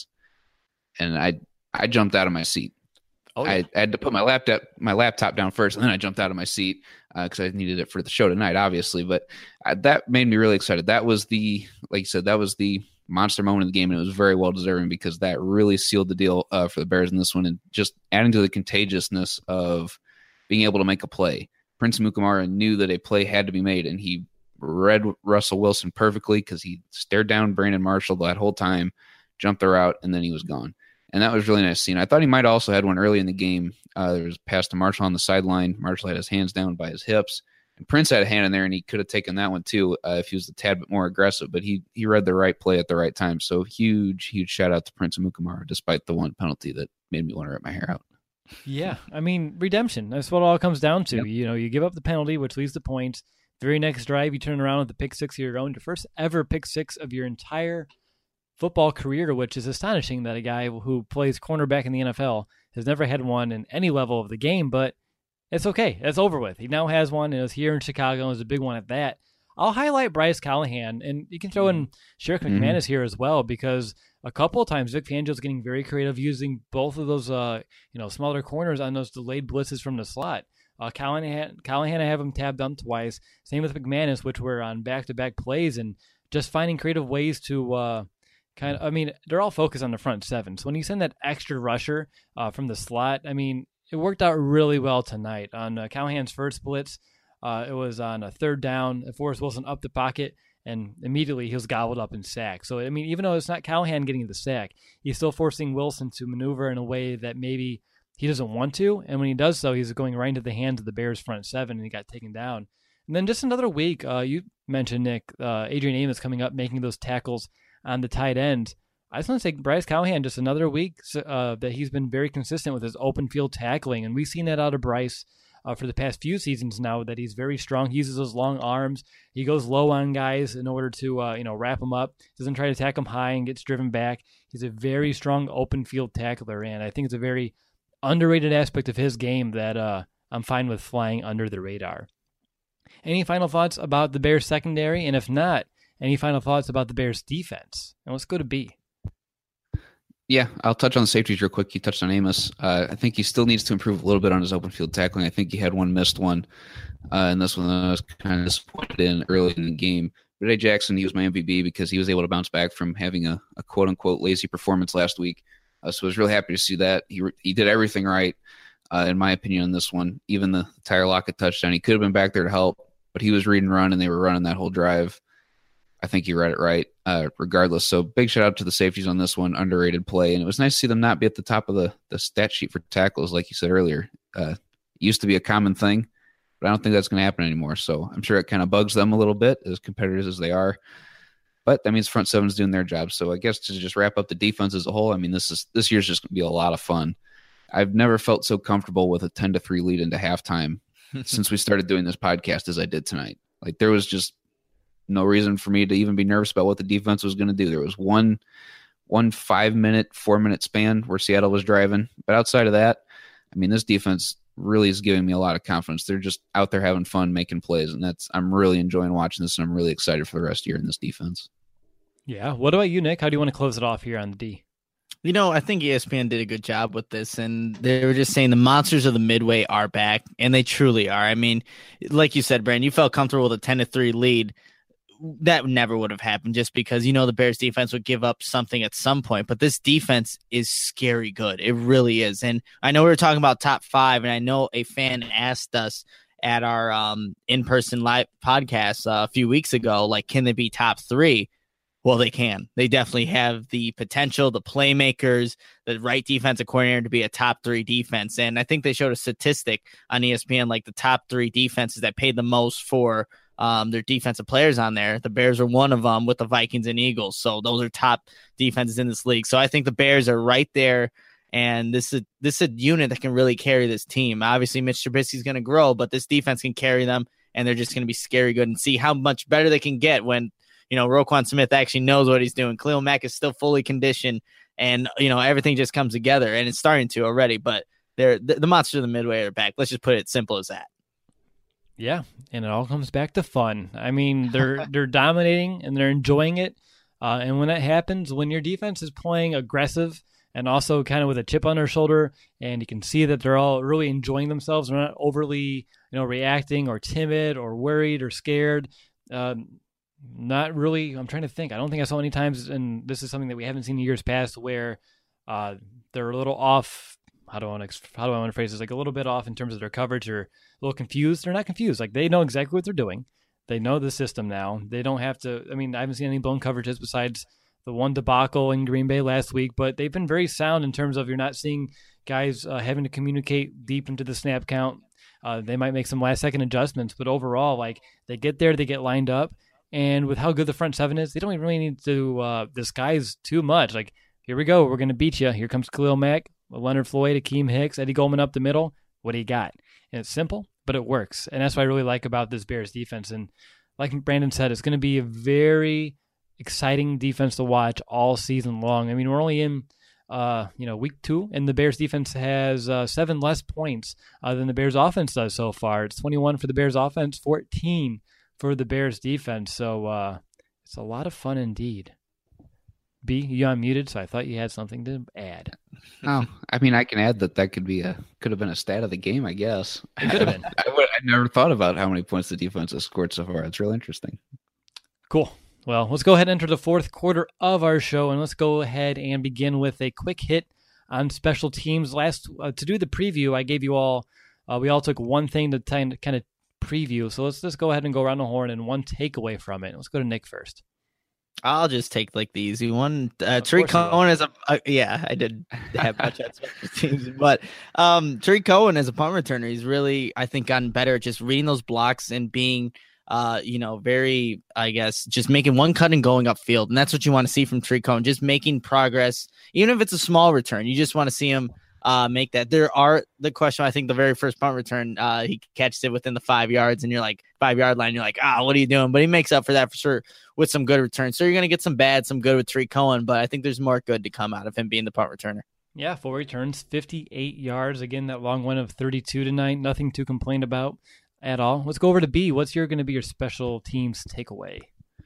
And I I jumped out of my seat. Oh, yeah. I, I had to put my laptop my laptop down first, and then I jumped out of my seat because uh, I needed it for the show tonight, obviously. But uh, that made me really excited. That was the, like you said, that was the monster moment of the game, and it was very well deserving because that really sealed the deal uh, for the Bears in this one, and just adding to the contagiousness of being able to make a play. Prince Amukamara knew that a play had to be made, and he read Russell Wilson perfectly because he stared down Brandon Marshall that whole time, jumped the route, and then he was gone. And that was really nice scene. I thought he might also had one early in the game. Uh, there was a pass to Marshall on the sideline. Marshall had his hands down by his hips. And Prince had a hand in there, and he could have taken that one too uh, if he was a tad bit more aggressive. But he he read the right play at the right time. So huge, huge shout out to Prince Amukamara, despite the one penalty that made me want to rip my hair out. Yeah, I mean, redemption. That's what it all comes down to. Yep. You know, you give up the penalty, which leads to points. Very next drive, you turn around with the pick six of your own, your first ever pick six of your entire football career, which is astonishing that a guy who plays cornerback in the N F L has never had one in any level of the game, but it's okay. It's over with. He now has one, and it's here in Chicago, and it's a big one at that. I'll highlight Bryce Callahan, and you can throw in Sherrick McManus mm-hmm. here as well, because a couple of times Vic Fangio's getting very creative using both of those uh, you know, smaller corners on those delayed blitzes from the slot. Uh, Callahan, Callahan, I have him tabbed on twice. Same with McManus, which were on back-to-back plays, and just finding creative ways to uh, kind of, I mean, they're all focused on the front seven. So when you send that extra rusher uh, from the slot, I mean, it worked out really well tonight. On uh, Callahan's first blitz, uh, it was on a third down. Forrest Wilson up the pocket, and immediately he was gobbled up and sacked. So, I mean, even though it's not Callahan getting the sack, he's still forcing Wilson to maneuver in a way that maybe he doesn't want to, and when he does so, he's going right into the hands of the Bears' front seven, and he got taken down. And then just another week, uh, you mentioned, Nick, uh, Adrian Amos coming up, making those tackles on the tight end. I just want to say Bryce Callahan, just another week uh, that he's been very consistent with his open field tackling, and we've seen that out of Bryce uh, for the past few seasons now, that he's very strong. He uses those long arms. He goes low on guys in order to uh, you know, wrap them up. Doesn't try to attack them high and gets driven back. He's a very strong open field tackler, and I think it's a very underrated aspect of his game that uh, I'm fine with flying under the radar. Any final thoughts about the Bears secondary? And if not, any final thoughts about the Bears defense? And let's go to B. Yeah, I'll touch on the safeties real quick. You touched on Amos. Uh, I think he still needs to improve a little bit on his open field tackling. I think he had one missed one, uh, and this one I was kind of disappointed in early in the game. But A. Jackson, he was my M V P because he was able to bounce back from having a, a quote-unquote lazy performance last week. Uh, so I was really happy to see that. He re- he did everything right, uh, in my opinion, on this one. Even the Tyler Lockett touchdown, he could have been back there to help, but he was read and run, and they were running that whole drive. I think he read it right, uh, regardless. So big shout out to the safeties on this one, underrated play. And it was nice to see them not be at the top of the, the stat sheet for tackles, like you said earlier. Uh, it used to be a common thing, but I don't think that's going to happen anymore. So I'm sure it kind of bugs them a little bit, as competitors as they are. But that means front seven's doing their job. So I guess to just wrap up the defense as a whole, I mean, this is this year's just going to be a lot of fun. I've never felt so comfortable with a ten to three lead into halftime since we started doing this podcast as I did tonight. Like, there was just no reason for me to even be nervous about what the defense was going to do. There was one one five-minute, four-minute span where Seattle was driving. But outside of that, I mean, this defense really is giving me a lot of confidence. They're just out there having fun, making plays, and that's I'm really enjoying watching this, and I'm really excited for the rest of the year in this defense. Yeah. What about you, Nick? How do you want to close it off here on the D? You know, I think E S P N did a good job with this, and they were just saying the monsters of the Midway are back, and they truly are. I mean, like you said, Brandon, you felt comfortable with a ten to three lead. That never would have happened just because, you know, the Bears defense would give up something at some point, but this defense is scary good. It really is. And I know we were talking about top five, and I know a fan asked us at our um, in-person live podcast uh, a few weeks ago, like, can they be top three? Well, they can. They definitely have the potential, the playmakers, the right defensive coordinator to be a top three defense. And I think they showed a statistic on E S P N, like the top three defenses that paid the most for um, their defensive players on there. The Bears are one of them with the Vikings and Eagles. So those are top defenses in this league. So I think the Bears are right there. And this is this is a unit that can really carry this team. Obviously, Mitch Trubisky is going to grow, but this defense can carry them, and they're just going to be scary good, and see how much better they can get when, you know, Roquan Smith actually knows what he's doing. Khalil Mack is still fully conditioned, and, you know, everything just comes together, and it's starting to already. But they're the, the monsters of the Midway are back. Let's just put it simple as that. Yeah, and it all comes back to fun. I mean, they're they're dominating and they're enjoying it. Uh, and when that happens, when your defense is playing aggressive and also kind of with a chip on their shoulder, and you can see that they're all really enjoying themselves, they're not overly, you know, reacting or timid or worried or scared. Um, Not really. I'm trying to think. I don't think I saw any times, and this is something that we haven't seen in years past, where uh, they're a little off. How do I want to how do I want to phrase this? Like a little bit off in terms of their coverage, or a little confused. They're not confused. Like, they know exactly what they're doing. They know the system now. They don't have to. I mean, I haven't seen any blown coverages besides the one debacle in Green Bay last week, but they've been very sound in terms of you're not seeing guys uh, having to communicate deep into the snap count. Uh, they might make some last second adjustments, but overall, like, they get there, they get lined up. And with how good the front seven is, they don't even really need to uh, disguise too much. Like, here we go. We're going to beat you. Here comes Khalil Mack, Leonard Floyd, Akeem Hicks, Eddie Goldman up the middle. What do you got? And it's simple, but it works. And that's what I really like about this Bears defense. And like Brandon said, it's going to be a very exciting defense to watch all season long. I mean, we're only in uh, you know, week two, and the Bears defense has uh, seven less points uh, than the Bears offense does so far. It's twenty-one for the Bears offense, fourteen for the Bears defense. So uh, it's a lot of fun indeed. B, you unmuted, so I thought you had something to add. Oh, I mean, I can add that that could be a could have been a stat of the game, I guess. It could have been. I, would, I never thought about how many points the defense has scored so far. It's real interesting. Cool. Well, let's go ahead and enter the fourth quarter of our show, and let's go ahead and begin with a quick hit on special teams. Last uh, to do the preview, I gave you all. Uh, we all took one thing to kind of, kind of preview. So let's just go ahead and go around the horn and one takeaway from it. Let's go to Nick first. I'll just take like the easy one. Uh, Tariq Cohen is a uh, yeah, I did have much at special teams, but um, Tariq Cohen as a punt returner, he's really I think gotten better at just reading those blocks and being uh, you know, very I guess just making one cut and going upfield, and that's what you want to see from Tariq Cohen, just making progress, even if it's a small return. You just want to see him uh, make that. There are the question. I think the very first punt return, uh, he catches it within the five yards, and you're like five yard line. You're like, ah, what are you doing? But he makes up for that for sure with some good returns. So you're going to get some bad, some good with Tariq Cohen, but I think there's more good to come out of him being the punt returner. Yeah, four returns, fifty-eight yards. Again, that long one of thirty-two tonight. Nothing to complain about at all. Let's go over to B. What's your going to be your special teams takeaway?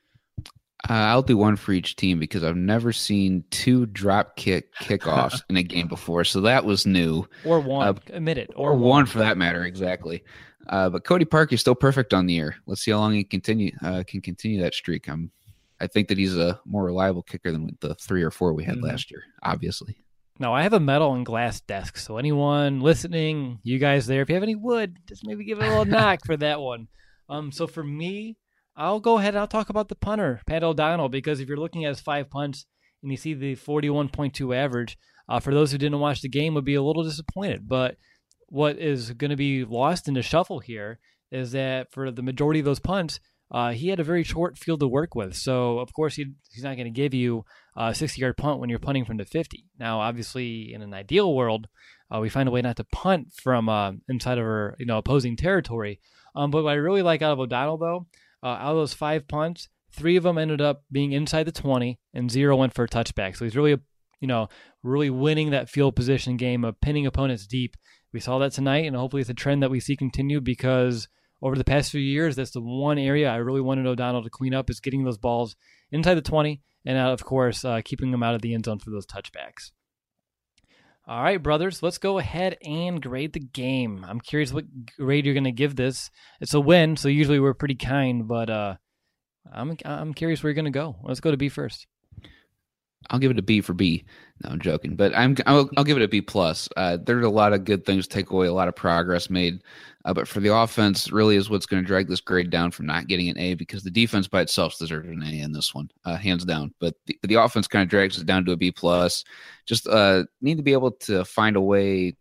Uh, I'll do one for each team because I've never seen two drop kick kickoffs in a game before, so that was new. Or one, uh, admit it. Or, or one. one for that matter, exactly. Uh, but Cody Parkey is still perfect on the air. Let's see how long he continue uh, can continue that streak. I'm, I think that he's a more reliable kicker than the three or four we had mm-hmm. last year, obviously. Now, I have a metal and glass desk, so anyone listening, you guys there, if you have any wood, just maybe give it a little knock for that one. Um, so for me, I'll go ahead and I'll talk about the punter, Pat O'Donnell, because if you're looking at his five punts and you see the forty-one point two average, uh, for those who didn't watch the game would be a little disappointed. But what is going to be lost in the shuffle here is that for the majority of those punts, uh, he had a very short field to work with. So, of course, he, he's not going to give you a sixty-yard punt when you're punting from the fifty. Now, obviously, in an ideal world, uh, we find a way not to punt from uh, inside of our you know opposing territory. Um, but what I really like out of O'Donnell, though, Uh, out of those five punts, three of them ended up being inside the twenty, and zero went for a touchback. So he's really, you know, really winning that field position game of pinning opponents deep. We saw that tonight, and hopefully it's a trend that we see continue because over the past few years, that's the one area I really wanted O'Donnell to clean up is getting those balls inside the twenty, and uh, of course, uh, keeping them out of the end zone for those touchbacks. All right, brothers, let's go ahead and grade the game. I'm curious what grade you're going to give this. It's a win, so usually we're pretty kind, but uh, I'm I'm curious where you're going to go. Let's go to B first. I'll give it a B for B. No, I'm joking, but I'm I'll, I'll give it a B plus. Uh, there's a lot of good things to take away, a lot of progress made, uh, but for the offense, really is what's going to drag this grade down from not getting an A because the defense by itself deserves an A in this one, uh, hands down. But the, the offense kind of drags it down to a B plus. Just uh, need to be able to find a way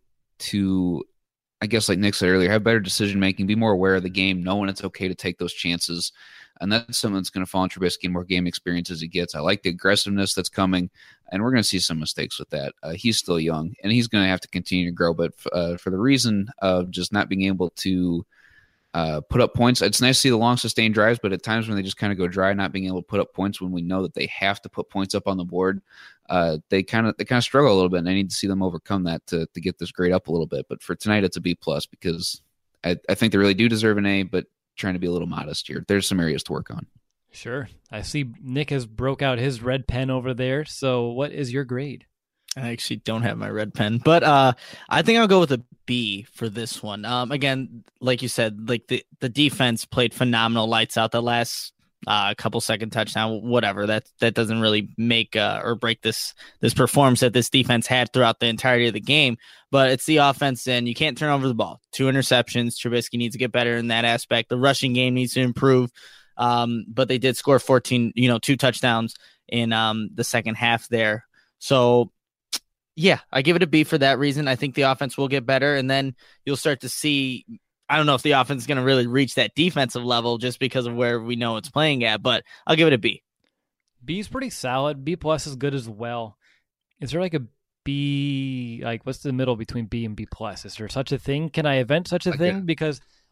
to, I guess, like Nick said earlier, have better decision making, be more aware of the game, know when it's okay to take those chances. And that's something that's going to fall on Trubisky and more game experience as he gets. I like the aggressiveness that's coming, and we're going to see some mistakes with that. Uh, he's still young, and he's going to have to continue to grow. But uh, for the reason of just not being able to uh, put up points, it's nice to see the long sustained drives, but at times when they just kind of go dry, not being able to put up points when we know that they have to put points up on the board, uh, they kind of they kind of struggle a little bit, and I need to see them overcome that to to get this grade up a little bit. But for tonight, it's a B plus because I, I think they really do deserve an A, but trying to be a little modest here. There's some areas to work on. Sure. I see Nick has broke out his red pen over there. So what is your grade? I actually don't have my red pen, but uh, I think I'll go with a B for this one. Um, again, like you said, like the, the defense played phenomenal, lights out. The last uh, couple second touchdown, whatever, that that doesn't really make uh, or break this this performance that this defense had throughout the entirety of the game. But it's the offense, and you can't turn over the ball. Two interceptions. Trubisky needs to get better in that aspect. The rushing game needs to improve. Um, but they did score fourteen, you know, two touchdowns in um, the second half there. So, yeah, I give it a B for that reason. I think the offense will get better, and then you'll start to see. I don't know if the offense is going to really reach that defensive level just because of where we know it's playing at, but I'll give it a B. B is pretty solid. B plus is good as well. Is there like a B, like what's the middle between B and B plus? Is there such a thing? Can I invent such a like thing? a, because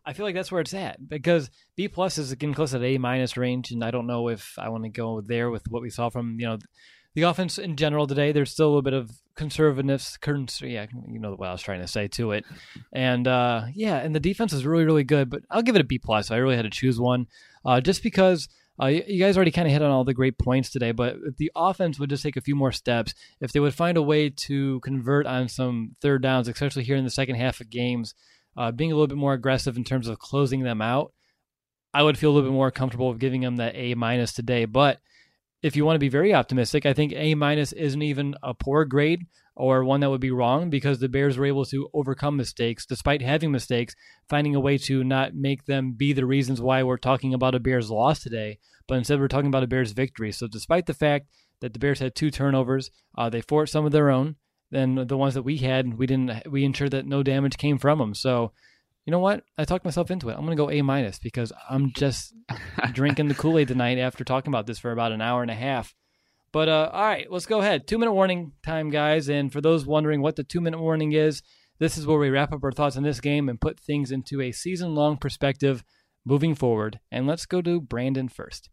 I feel like that's where it's at, because B plus is getting close to the A minus range, and I don't know if I want to go there with what we saw from, you know, the offense in general today. There's still a little bit of conservativeness, cons- yeah, you know what I was trying to say to it, and uh, yeah, and the defense is really, really good. But I'll give it a B plus. I really had to choose one, uh, just because uh, you guys already kind of hit on all the great points today. But if the offense would just take a few more steps, if they would find a way to convert on some third downs, especially here in the second half of games. Uh, being a little bit more aggressive in terms of closing them out, I would feel a little bit more comfortable with giving them that A minus today. But if you want to be very optimistic, I think A minus isn't even a poor grade or one that would be wrong, because the Bears were able to overcome mistakes despite having mistakes, finding a way to not make them be the reasons why we're talking about a Bears loss today, but instead we're talking about a Bears victory. So despite the fact that the Bears had two turnovers, uh, they forced some of their own. Then the ones that we had, we didn't. We ensured that no damage came from them. So, you know what? I talked myself into it. I'm going to go A minus because I'm just drinking the Kool-Aid tonight after talking about this for about an hour and a half. But uh, all right, let's go ahead. Two minute warning time, guys. And for those wondering what the two minute warning is, this is where we wrap up our thoughts on this game and put things into a season long perspective moving forward. And let's go to Brandon first.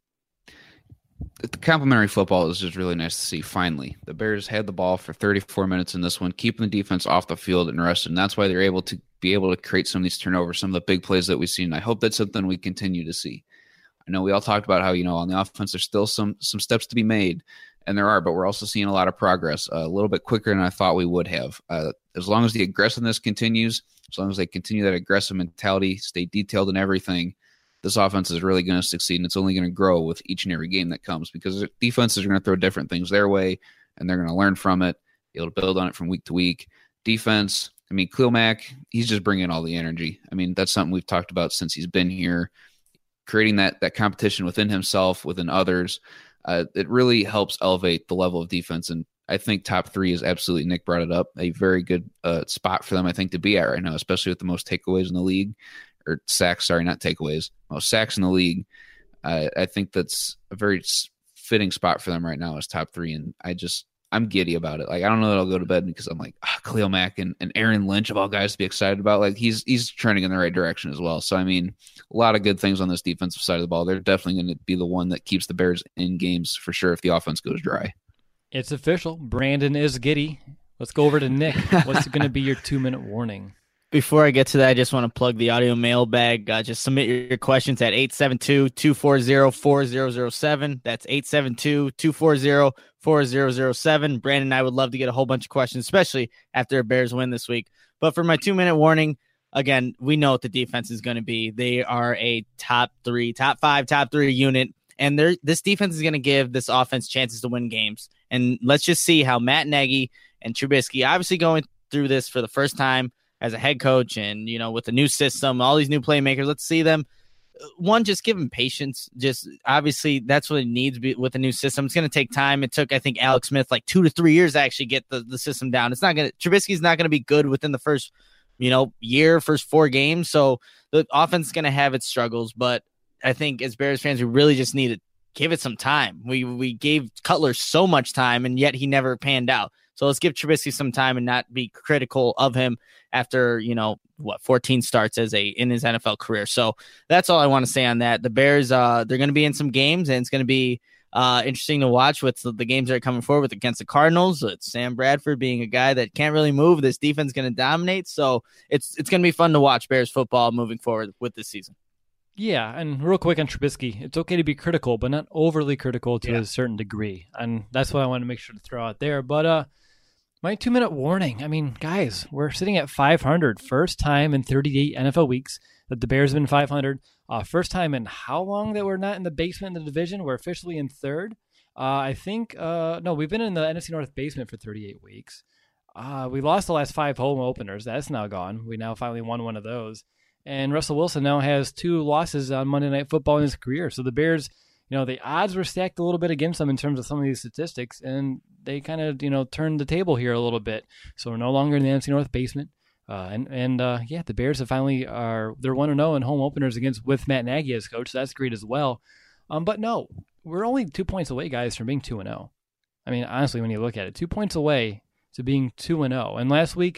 The complimentary football is just really nice to see. Finally, the Bears had the ball for thirty-four minutes in this one, keeping the defense off the field and rested. And that's why they're able to be able to create some of these turnovers, some of the big plays that we've seen. I hope that's something we continue to see. I know we all talked about how, you know, on the offense, there's still some some steps to be made, and there are, but we're also seeing a lot of progress, uh, a little bit quicker than I thought we would have. Uh, as long as the aggressiveness continues, as long as they continue that aggressive mentality, stay detailed in everything, this offense is really going to succeed, and it's only going to grow with each and every game that comes, because defenses are going to throw different things their way, and they're going to learn from it, be able to build on it from week to week. Defense, I mean, Khalil Mack, he's just bringing all the energy. I mean, that's something we've talked about since he's been here, creating that that competition within himself, within others. Uh, it really helps elevate the level of defense, and I think top three is absolutely, Nick brought it up, a very good uh, spot for them, I think, to be at right now, especially with the most takeaways in the league. Or sacks, sorry, not takeaways. Most sacks in the league. Uh, I think that's a very fitting spot for them right now as top three, and I just I'm giddy about it. Like, I don't know that I'll go to bed because I'm like, ah, Khalil Mack and, and Aaron Lynch of all guys to be excited about. Like, he's he's trending in the right direction as well. So I mean, a lot of good things on this defensive side of the ball. They're definitely going to be the one that keeps the Bears in games for sure if the offense goes dry. It's official. Brandon is giddy. Let's go over to Nick. What's going to be your two minute warning? Before I get to that, I just want to plug the audio mailbag. Uh, just submit your questions at eight seven two, two four zero, four zero zero seven. That's eight seven two, two four zero, four zero zero seven. Brandon and I would love to get a whole bunch of questions, especially after a Bears win this week. But for my two-minute warning, again, we know what the defense is going to be. They are a top three, top five, top three unit, and they're, this defense is going to give this offense chances to win games. And let's just see how Matt Nagy and Trubisky, obviously going through this for the first time, as a head coach and, you know, with the new system, all these new playmakers, let's see them. One, just give them patience. Just obviously that's what it needs with the new system. It's going to take time. It took, I think, Alex Smith like two to three years to actually get the, the system down. It's not going to, Trubisky's not going to be good within the first, you know, year, first four games. So the offense is going to have its struggles. But I think as Bears fans, we really just need to give it some time. We, we gave Cutler so much time and yet he never panned out. So let's give Trubisky some time and not be critical of him after, you know, what, fourteen starts as a in his N F L career. So that's all I want to say on that. The Bears, uh, they're going to be in some games, and it's going to be uh, interesting to watch with the, the games that are coming forward against the Cardinals. It's Sam Bradford being a guy that can't really move. This defense is going to dominate. So it's it's going to be fun to watch Bears football moving forward with this season. Yeah, and real quick on Trubisky, it's okay to be critical, but not overly critical to yeah. a certain degree. And that's what I want to make sure to throw out there. But, uh, my two-minute warning, I mean, guys, we're sitting at five hundred. First time in thirty-eight N F L weeks that the Bears have been five hundred. Uh, first time in how long that we're not in the basement of the division? We're officially in third. Uh, I think, uh, no, we've been in the N F C North basement for thirty-eight weeks. Uh, we lost the last five home openers. That's now gone. We now finally won one of those. And Russell Wilson now has two losses on Monday Night Football in his career. So the Bears, you know, the odds were stacked a little bit against them in terms of some of these statistics, and they kind of, you know, turned the table here a little bit. So we're no longer in the N F C North basement. Uh, and, and uh, yeah, the Bears have finally are, they're one and oh in home openers against with Matt Nagy as coach. So that's great as well. Um, but no, we're only two points away, guys, from being two and oh. I mean, honestly, when you look at it, two points away to being two and oh. And last week,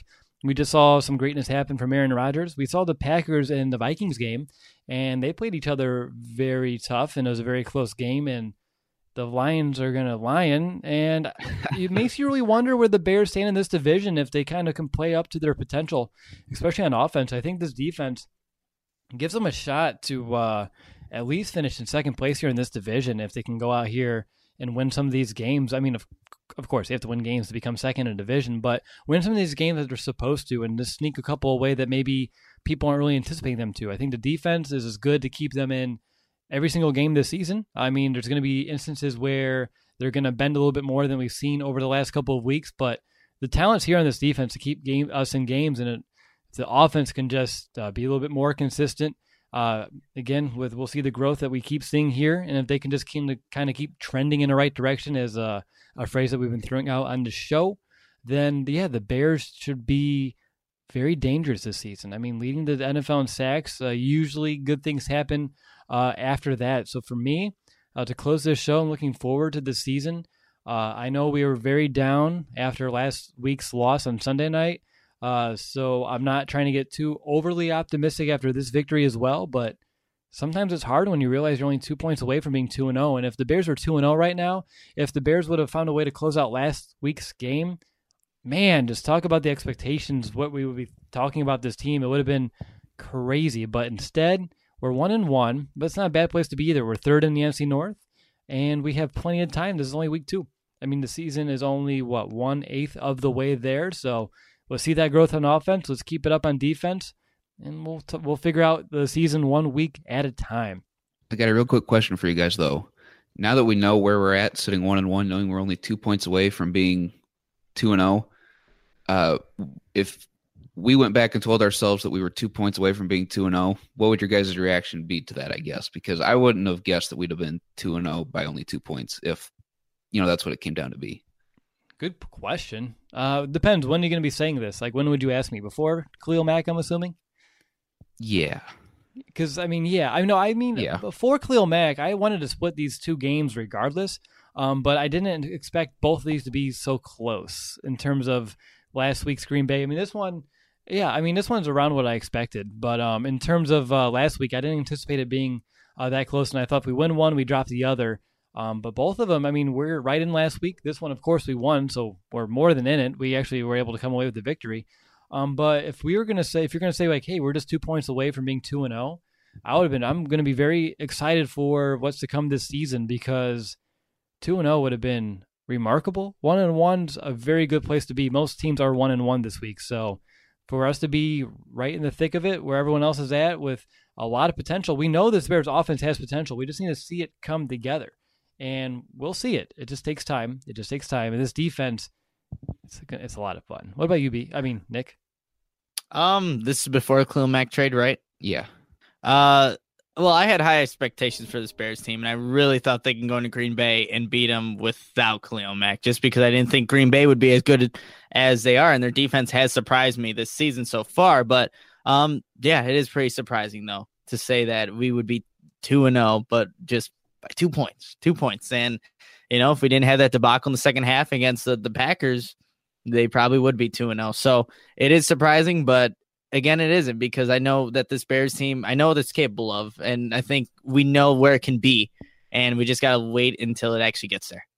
We just saw some greatness happen from Aaron Rodgers. We saw the Packers and the Vikings game, and they played each other very tough, and it was a very close game, and the Lions are going to lion, and it makes you really wonder where the Bears stand in this division if they kind of can play up to their potential, especially on offense. I think this defense gives them a shot to uh, at least finish in second place here in this division if they can go out here and win some of these games. I mean, of, of course, they have to win games to become second in a division, but win some of these games that they're supposed to and just sneak a couple away that maybe people aren't really anticipating them to. I think the defense is as good to keep them in every single game this season. I mean, there's going to be instances where they're going to bend a little bit more than we've seen over the last couple of weeks, but the talent's here on this defense to keep game, us in games, and it, the offense can just uh, be a little bit more consistent. Uh, again, with we'll see the growth that we keep seeing here, and if they can just keep, kind of keep trending in the right direction, as a, a phrase that we've been throwing out on the show, then yeah, the Bears should be very dangerous this season. I mean, leading the N F L in sacks, uh, usually good things happen uh, after that. So for me, uh, to close this show, I'm looking forward to the season. Uh, I know we were very down after last week's loss on Sunday night, uh, so I'm not trying to get too overly optimistic after this victory as well, but sometimes it's hard when you realize you're only two points away from being two and oh, and if the Bears were two and oh right now, if the Bears would have found a way to close out last week's game, man, just talk about the expectations, what we would be talking about this team. It would have been crazy. But instead, we're one and one, but it's not a bad place to be either. We're third in the N F C North, and we have plenty of time. This is only week two. I mean, the season is only, what, one-eighth of the way there. So we'll see that growth on offense. Let's keep it up on defense, and we'll t- we'll figure out the season one week at a time. I got a real quick question for you guys, though. Now that we know where we're at, sitting one and one, knowing we're only two points away from being two and zero, uh, if we went back and told ourselves that we were two points away from being two and zero, what would your guys' reaction be to that? I guess because I wouldn't have guessed that we'd have been two and zero by only two points if, you know, that's what it came down to be. Good question. Uh, depends. When are you going to be saying this? Like, when would you ask me? Before Khalil Mack, I'm assuming? Yeah. Because, I mean, yeah. I know. I mean, yeah. Before Khalil Mack, I wanted to split these two games regardless, um, but I didn't expect both of these to be so close in terms of last week's Green Bay. I mean, this one, yeah, I mean, this one's around what I expected. But um, in terms of uh, last week, I didn't anticipate it being uh, that close, and I thought if we win one, we drop the other. Um, but both of them, I mean, we're right in last week. This one, of course, we won, so we're more than in it. We actually were able to come away with the victory. Um, but if we were going to say, if you're going to say like, hey, we're just two points away from being two and zero, I would have been. I'm going to be very excited for what's to come this season because two and zero would have been remarkable. One and one's a very good place to be. Most teams are one and one this week, so for us to be right in the thick of it, where everyone else is at, with a lot of potential, we know this Bears offense has potential. We just need to see it come together. And we'll see it. It just takes time. It just takes time. And this defense, it's a, it's a lot of fun. What about you, B? I mean, Nick? Um, this is before the Khalil Mack trade, right? Yeah. Uh, well, I had high expectations for this Bears team, and I really thought they can go into Green Bay and beat them without Khalil Mack, just because I didn't think Green Bay would be as good as they are, and their defense has surprised me this season so far. But um, yeah, it is pretty surprising, though, to say that we would be two and oh, but just by two points, two points. And, you know, if we didn't have that debacle in the second half against the, the Packers, they probably would be two and oh. So it is surprising, but again, it isn't, because I know that this Bears team, I know that's capable of, and I think we know where it can be, and we just got to wait until it actually gets there.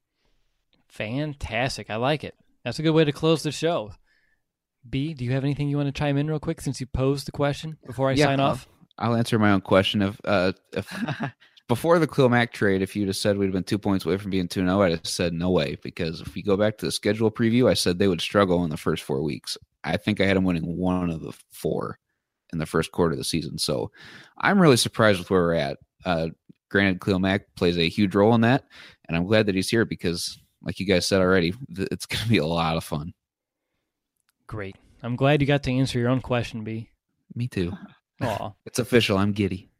Fantastic. I like it. That's a good way to close the show. B, do you have anything you want to chime in real quick since you posed the question before I yeah, sign I'll, off? I'll answer my own question. If, uh, if before the Khalil Mack trade, if you'd have said we'd have been two points away from being two and oh, I'd have said no way, because if we go back to the schedule preview, I said they would struggle in the first four weeks. I think I had them winning one of the four in the first quarter of the season. So I'm really surprised with where we're at. Uh, granted, Khalil Mack plays a huge role in that, and I'm glad that he's here because, like you guys said already, it's going to be a lot of fun. Great. I'm glad you got to answer your own question, B. Me too. Aw. It's official. I'm giddy.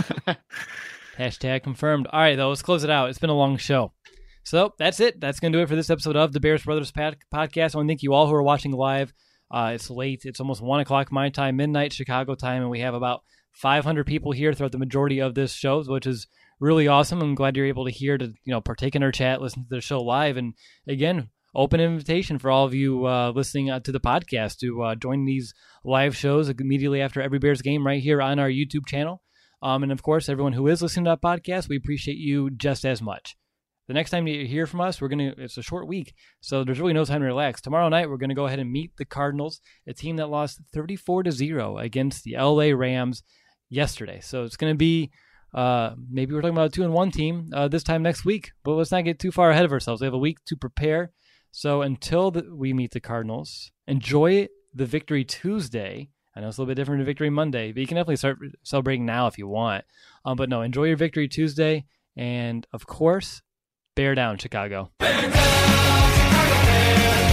Hashtag confirmed. All right, though, let's close it out. It's been a long show. So that's it. That's going to do it for this episode of the Bears Brothers Pod- Podcast. I want to thank you all who are watching live. Uh, it's late. It's almost one o'clock my time, midnight Chicago time, and we have about five hundred people here throughout the majority of this show, which is really awesome. I'm glad you're able to hear to you know partake in our chat, listen to the show live, and again, open invitation for all of you uh, listening uh, to the podcast to uh, join these live shows immediately after every Bears game right here on our YouTube channel. Um, and of course, everyone who is listening to that podcast, we appreciate you just as much. The next time you hear from us, we're going to, it's a short week, so there's really no time to relax. Tomorrow night, we're going to go ahead and meet the Cardinals, a team that lost thirty-four to zero against the L A Rams yesterday. So it's going to be, uh, maybe we're talking about a two and one team uh, this time next week, but let's not get too far ahead of ourselves. We have a week to prepare. So until the, we meet the Cardinals, enjoy the Victory Tuesday. I know it's a little bit different than Victory Monday, but you can definitely start celebrating now if you want. Um, but no, enjoy your Victory Tuesday. And of course, bear down, Chicago. Bear down, Chicago Bears.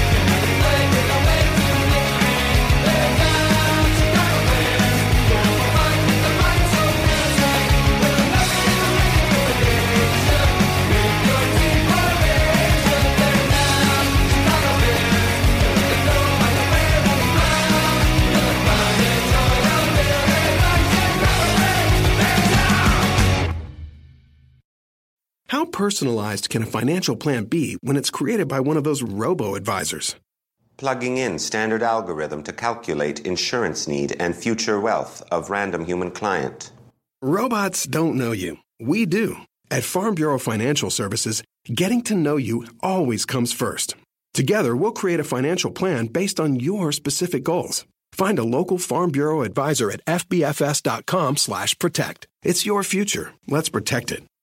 How personalized can a financial plan be when it's created by one of those robo-advisors? Plugging in standard algorithm to calculate insurance need and future wealth of random human client. Robots don't know you. We do. At Farm Bureau Financial Services, getting to know you always comes first. Together, we'll create a financial plan based on your specific goals. Find a local Farm Bureau advisor at f b f s dot com slash protect. It's your future. Let's protect it.